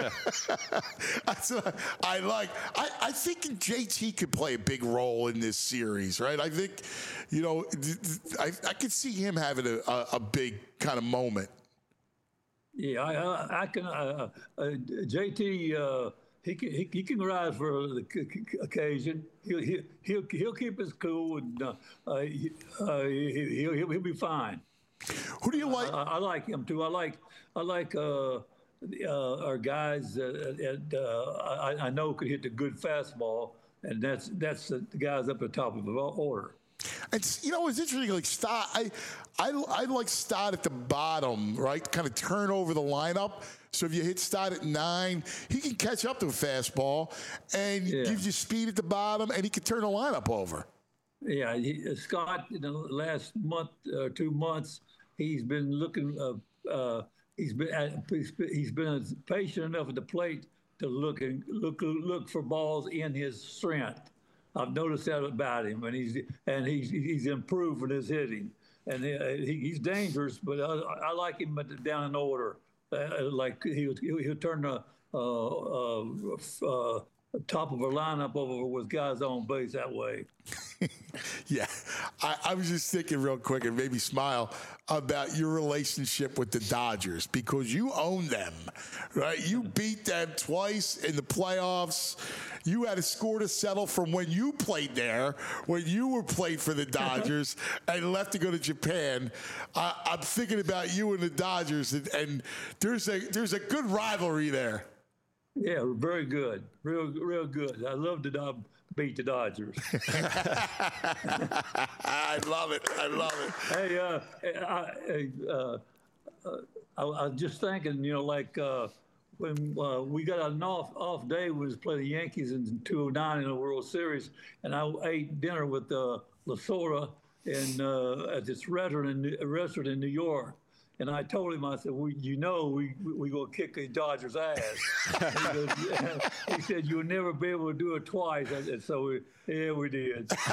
That's what I like. I, I think J T could play a big role in this series, right? I think, you know, I, I could see him having a, a, a big kind of moment. Yeah, I, I, I can. Uh, uh, J T, uh, he can he, he can rise for the occasion. He'll he'll he'll, he'll keep his cool, and uh, uh, he, uh, he'll, he'll he'll be fine. Who do you like? I, I like him too. I like I like uh, uh, our guys that uh, uh, I, I know could hit the good fastball, and that's that's the guys up at the top of the order. It's, you know, it's interesting. Like Stott, I, I, I like Stott at the bottom, right? Kind of turn over the lineup. So if you hit Stott at nine, he can catch up to a fastball and Yeah. gives you speed at the bottom, and he can turn the lineup over. Yeah, he, Scott, in the last month or uh, two months, he's been looking. Uh, uh, he's been at, he's been he's been patient enough at the plate to look and look look for balls in his strength. I've noticed that about him, and he's and he's he's improved in his hitting, and he, he's dangerous. But I, I like him down in order. Uh, like he'll he'll turn the uh, uh, uh, top of a lineup over with guys on base that way. Yeah, I, I was just thinking real quick and maybe smile about your relationship with the Dodgers, because you own them, right? You beat them twice in the playoffs. You had a score to settle from when you played there, when you were played for the Dodgers and left to go to Japan. I, I'm thinking about you and the Dodgers, and, and there's a there's a good rivalry there. Yeah, very good, real real good. I love to uh, beat the Dodgers. I love it. I love it. Hey, uh, I, uh, uh, I, I was just thinking, you know, like uh, when uh, we got an off off day, we was playing the Yankees in two oh nine in the World Series, and I ate dinner with uh, Lasorda in uh, at this restaurant in, restaurant in New York. And I told him, I said, well, you know, we we gonna kick the Dodgers' ass. he, goes, yeah. He said, you'll never be able to do it twice. I said, so we, yeah, we did. Take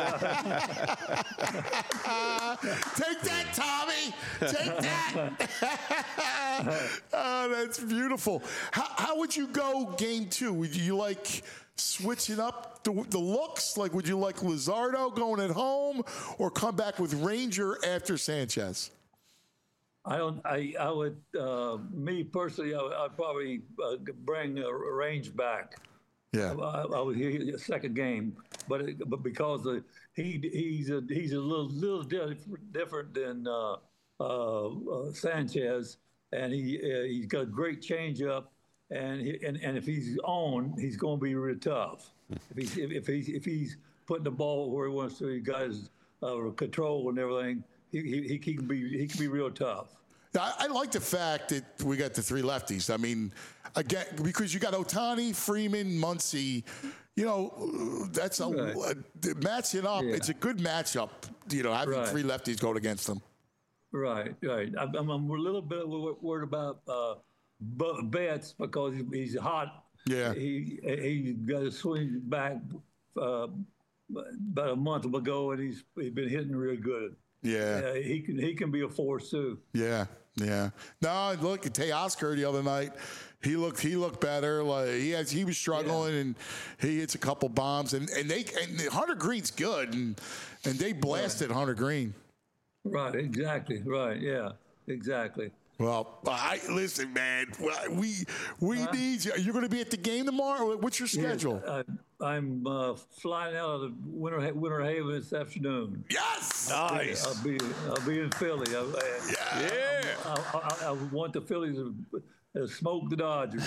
that, Tommy. Take that. Oh, that's beautiful. How, how would you go game two? Would you like switching up the, the looks? Like, would you like Luzardo going at home, or come back with Ranger after Sanchez? I don't. I I would. Uh, me personally, I, I'd probably uh, bring uh, Range back. Yeah. I, I would hear the second game, but it, but because the, he he's a he's a little little different different than uh, uh, uh, Sanchez, and he uh, he's got a great changeup, and he, and and if he's on, he's going to be real tough. If he's if, if he's if he's putting the ball where he wants to, he got his uh, control and everything. He, he he can be he can be real tough. I, I like the fact that we got the three lefties. I mean, again, because you got Ohtani, Freeman, Muncy. You know, that's a Right. uh, matching up. Yeah. It's a good matchup. You know, having Right. three lefties going against them. Right, right. I'm, I'm I'm a little bit wor- worried about uh, Bu- Betts because he- he's hot. Yeah. He he got a swing back uh, about a month ago, and he's he's been hitting real good. Yeah. Uh, he can he can be a force too. Yeah, yeah. No, look at Teoscar the other night. He looked he looked better. Like he has he was struggling and he hits a couple bombs and, and they and Hunter Green's good and and they blasted Hunter Green. Right, exactly. Right, yeah, exactly. Well, I listen, man. We we need you. You're going to be at the game tomorrow. What's your schedule? Yes, I, I'm uh, flying out of the Winter Ha- Winter Haven this afternoon. Yes, Nice. I'll be I'll be in Philly. I, I, Yeah. I, I, I want the Phillies to uh, smoke the Dodgers.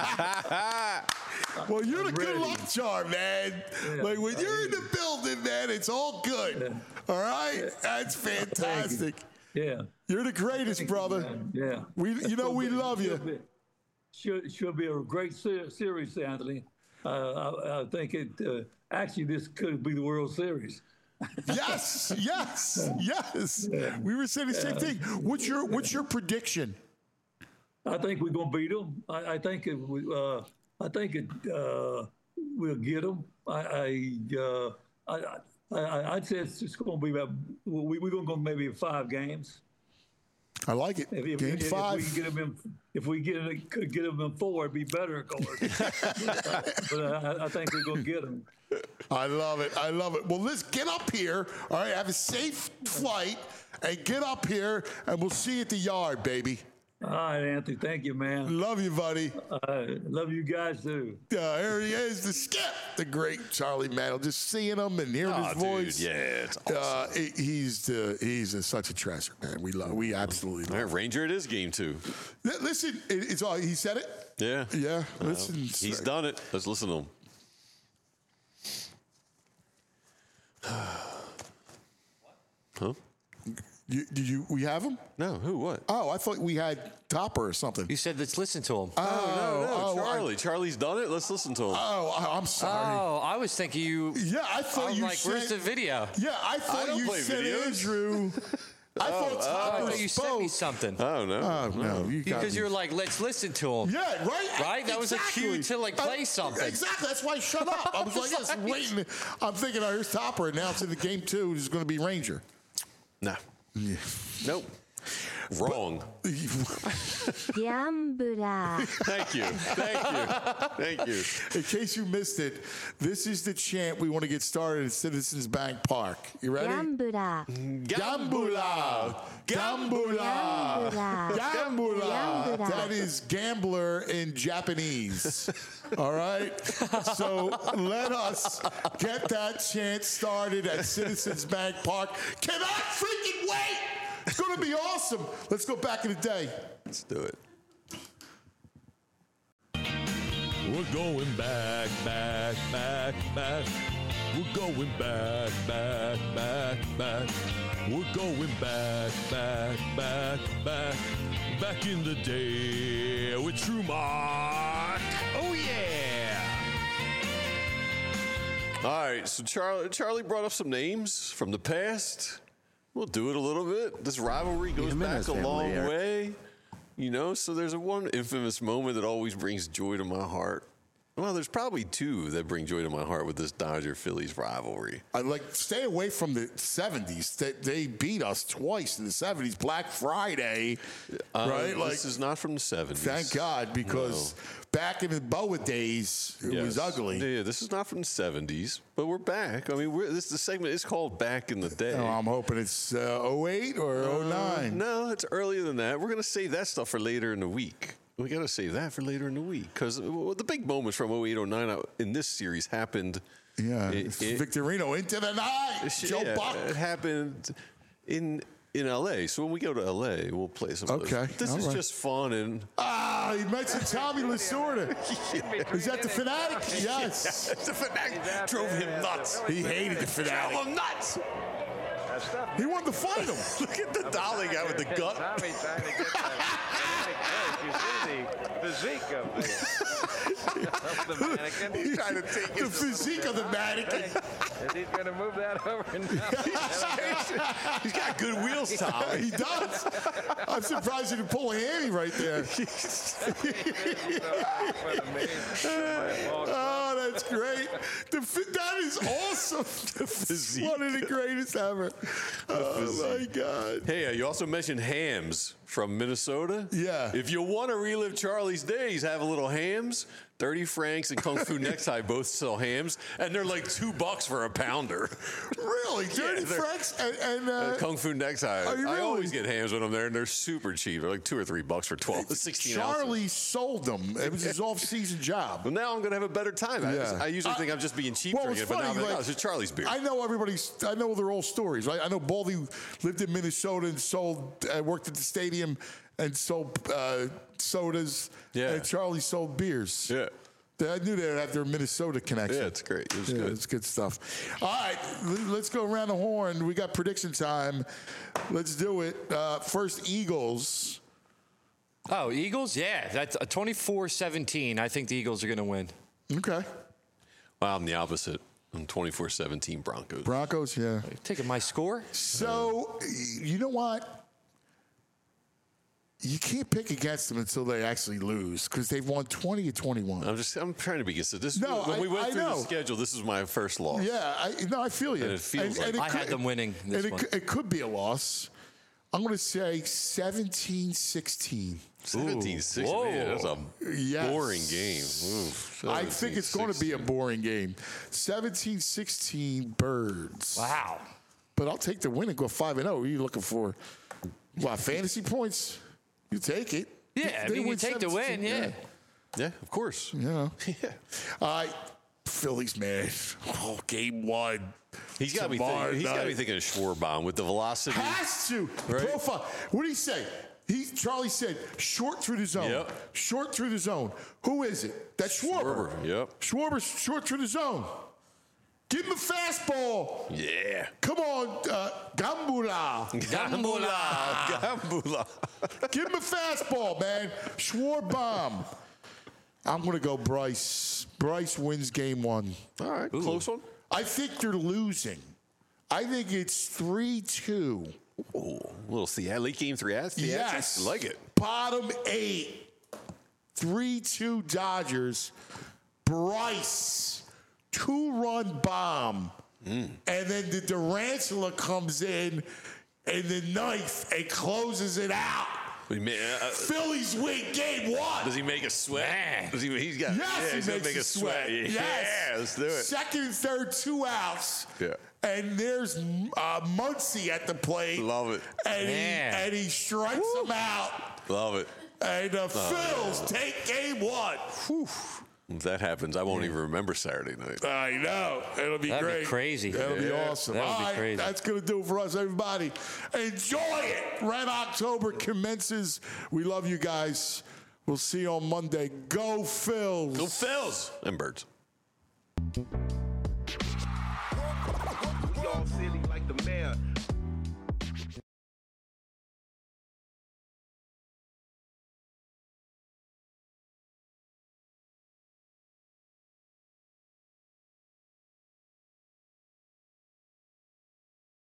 Well, you're the good ready. luck charm, man. Yeah. Like when you're in the building, man, it's all good. All right, that's fantastic. Yeah. You're the greatest, brother. Yeah. We, you know, we love you. Should be, should, should be a great se- series, Anthony. Uh, I, I think it uh, actually this could be the World Series. Yes, yes, yes. We were saying the same thing. What's your What's your prediction? I think we're gonna beat them. I, I think it, we, uh, I think it, uh, we'll get them. I, I, uh, I, I, I'd say it's just going to be about. We, we're going to go maybe five games. I like it. If, if, Game if, five. If we get them in, if we get it, could get them in four, it'd be better, of course. but I, I think we're going to get them. I love it. I love it. Well, let's get up here. All right, have a safe flight and get up here, and we'll see you at the yard, baby. All right, Anthony. Thank you, man. Love you, buddy. Uh, love you guys too. Uh, here he is, the skip, the great Charlie Mantle. Just seeing him and hearing Oh, his dude, voice. yeah, it's awesome. Uh, he- he's uh, he's uh, such a treasure, man. We love. We absolutely love. All right, Ranger it is game two. Li- Listen, it- it's all. He said it. Yeah. Yeah. Uh, Listen, he's done it. Let's listen to him. Huh? You, did you? We have him? No. Who? What? Oh, I thought we had Topper or something. You said let's listen to him. Oh, no, no, oh, Charlie. Charlie's done it. Let's listen to him. Oh, I- I'm sorry. Oh, I was thinking you. Yeah, I thought I'm you like, said. where's the video? Yeah, I thought don't you play said videos. Andrew. I thought Oh, I Topper thought you sent me spoke. something. Oh no. Oh no, you got Because me. you were like, let's listen to him. Yeah, right. Right? That was a cue to, like, play Uh, something. Exactly. That's why I shut up. I was like, just waiting. I'm thinking, oh, here's Topper announcing the game two is going to be Ranger. No. Yeah. Nope. Wrong. Gambler. Thank you. Thank you. Thank you. In case you missed it, this is the chant we want to get started at Citizens Bank Park. You ready? Gambler. Gambula! Gambula! Gambula. Gambula! Gambula. That is gambler in Japanese. All right? So let us get that chant started at Citizens Bank Park. Cannot freaking wait! It's going to be awesome. Let's go back in the day. Let's do it. We're going back, back, back, back. We're going back, back, back, back. We're going back, back, back, back. Back in the day with True Mark. Oh, yeah. All right. So Charlie, Charlie brought up some names from the past. We'll do it a little bit. This rivalry goes back a long way. You know, so there's a one infamous moment that always brings joy to my heart. Well, there's probably two that bring joy to my heart with this Dodger-Phillies rivalry. I like stay away from the seventies. They, they beat us twice in the seventies. Black Friday, Uh, right? Like, this is not from the seventies. thank God, because No. back in the Boa days, it Yes. was ugly. Yeah, this is not from the seventies, but we're back. I mean, we're, this the segment is called Back in the Day. Oh, I'm hoping it's uh, oh eight or oh nine. No, it's earlier than that. We're going to save that stuff for later in the week. We got to save that for later in the week because the big moments from oh eight, oh nine in this series happened. Yeah, it, it's it- Victorino into the night. Joe yeah, Buck. It happened in in L A. So when we go to L A, we'll play some. of those. Okay, This all is right. just fun and. Ah, you mentioned Tommy Lasorda. Is that the Fanatic? Yes. The Fanatic drove him nuts. He hated the Fanatic. Drove him nuts. He wanted to fight him. Look at the dolly guy with the gut. Tommy trying to get that. You see the physique of the, of the mannequin. He's trying to take The his. physique of the mannequin. Is he going to move that over and down? He's got good wheels, Tom. He does. I'm surprised he didn't pull a hammy right there. Oh, that's great. The, fi- that is awesome. The physique. One of the greatest ever. Oh, my God. Hey, uh, you also mentioned hams from Minnesota. Yeah. If you want to relive Charlie's days, have a little hams. thirty Franks and Kung Fu Necktie both sell hams, and they're like two bucks for a pounder. Really? Dirty they're- Franks and, and uh, Uh, Kung Fu Necktie. Are you I really? always get hams when I'm there, and they're super cheap. They're like two or three bucks for twelve, sixteen Charlie ounces. sold them. It was his off-season job. Well, now I'm going to have a better time. I, Yeah. I usually I- think I'm just being cheap Well, drinking it's it, but now I'm funny, like, like, oh, it's Charlie's beer. I know everybody's. I know their old stories. Right? I know Baldy lived in Minnesota and sold. Uh, worked at the stadium and sold uh, sodas. Yeah. And Charlie sold beers. Yeah. I knew they'd have their Minnesota connection. Yeah, it's great. It was yeah, good. It's good stuff. All right, l- let's go around the horn. We got prediction time. Let's do it. Uh, first, Eagles. Oh, Eagles? Yeah, that's a twenty-four seventeen. I think the Eagles are going to win. Okay. Wow, I'm the opposite. I'm twenty-four seventeen Broncos. Broncos, yeah. Taking my score? So, you know what? You can't pick against them until they actually lose because they've won twenty to twenty-one. I'm just I'm trying to be consistent. This, No, when I- we went I through know. the schedule, this is my first loss. Yeah, I, no, I feel you. And it feels like- I had them winning this and it, one. cou- it could be a loss. I'm going to say seventeen sixteen. seventeen sixteen. Whoa. Man, that's a Yes. boring game. Oof, I think it's going to be a boring game. seventeen sixteen Birds. Wow. But I'll take the win and go five and oh. What are you looking for? What, fantasy points? You take it. Yeah, I They mean, you win take the win, seventeen, yeah. Yeah, of course. You know. Yeah. All right. Phillies, man. Oh, game one. He's got me Tomorrow thinking. He's got me night. thinking of Schwarbaum with the velocity. Has to. Right. Profile. What did he say? He Charlie said short through the zone. Yep. Short through the zone. Who is it? That's Schwarber. Schwarber, yep. Schwarber short through the zone. Give him a fastball. Yeah. Come on, uh, Gambula. Gambula. Gambula. Give him a fastball, man. Schwarbaum. I'm going to go Bryce. Bryce wins game one. All right. Close one. I think they're losing. I think it's three two. Ooh, a little theat- late game three. Theatrics. Yes. I like it. Bottom eight. three two Dodgers. Bryce. Two-run bomb. Mm. And then the Durantula comes in in the ninth and closes it out. We may- uh, uh, Phillies win game one. Does he make a sweat? Does he? He's got. Yes, yeah, he he's gonna makes make a a sweat. sweat. Yeah, Yes. let's do it. Second and third, two outs. Yeah. And there's uh, Muncy at the plate. Love it. And he, Man. and he strikes him out. Love it. And the Phils yeah. take game one. Whew. If that happens, I won't even remember Saturday night. I know. It'll be That'd be great. crazy. That'll be Yeah. awesome. That would All be right, crazy. that's going to do it for us, everybody. Enjoy it. Red October commences. We love you guys. We'll see you on Monday. Go Phils. Go Phils and Birds. Y'all silly like the mayor.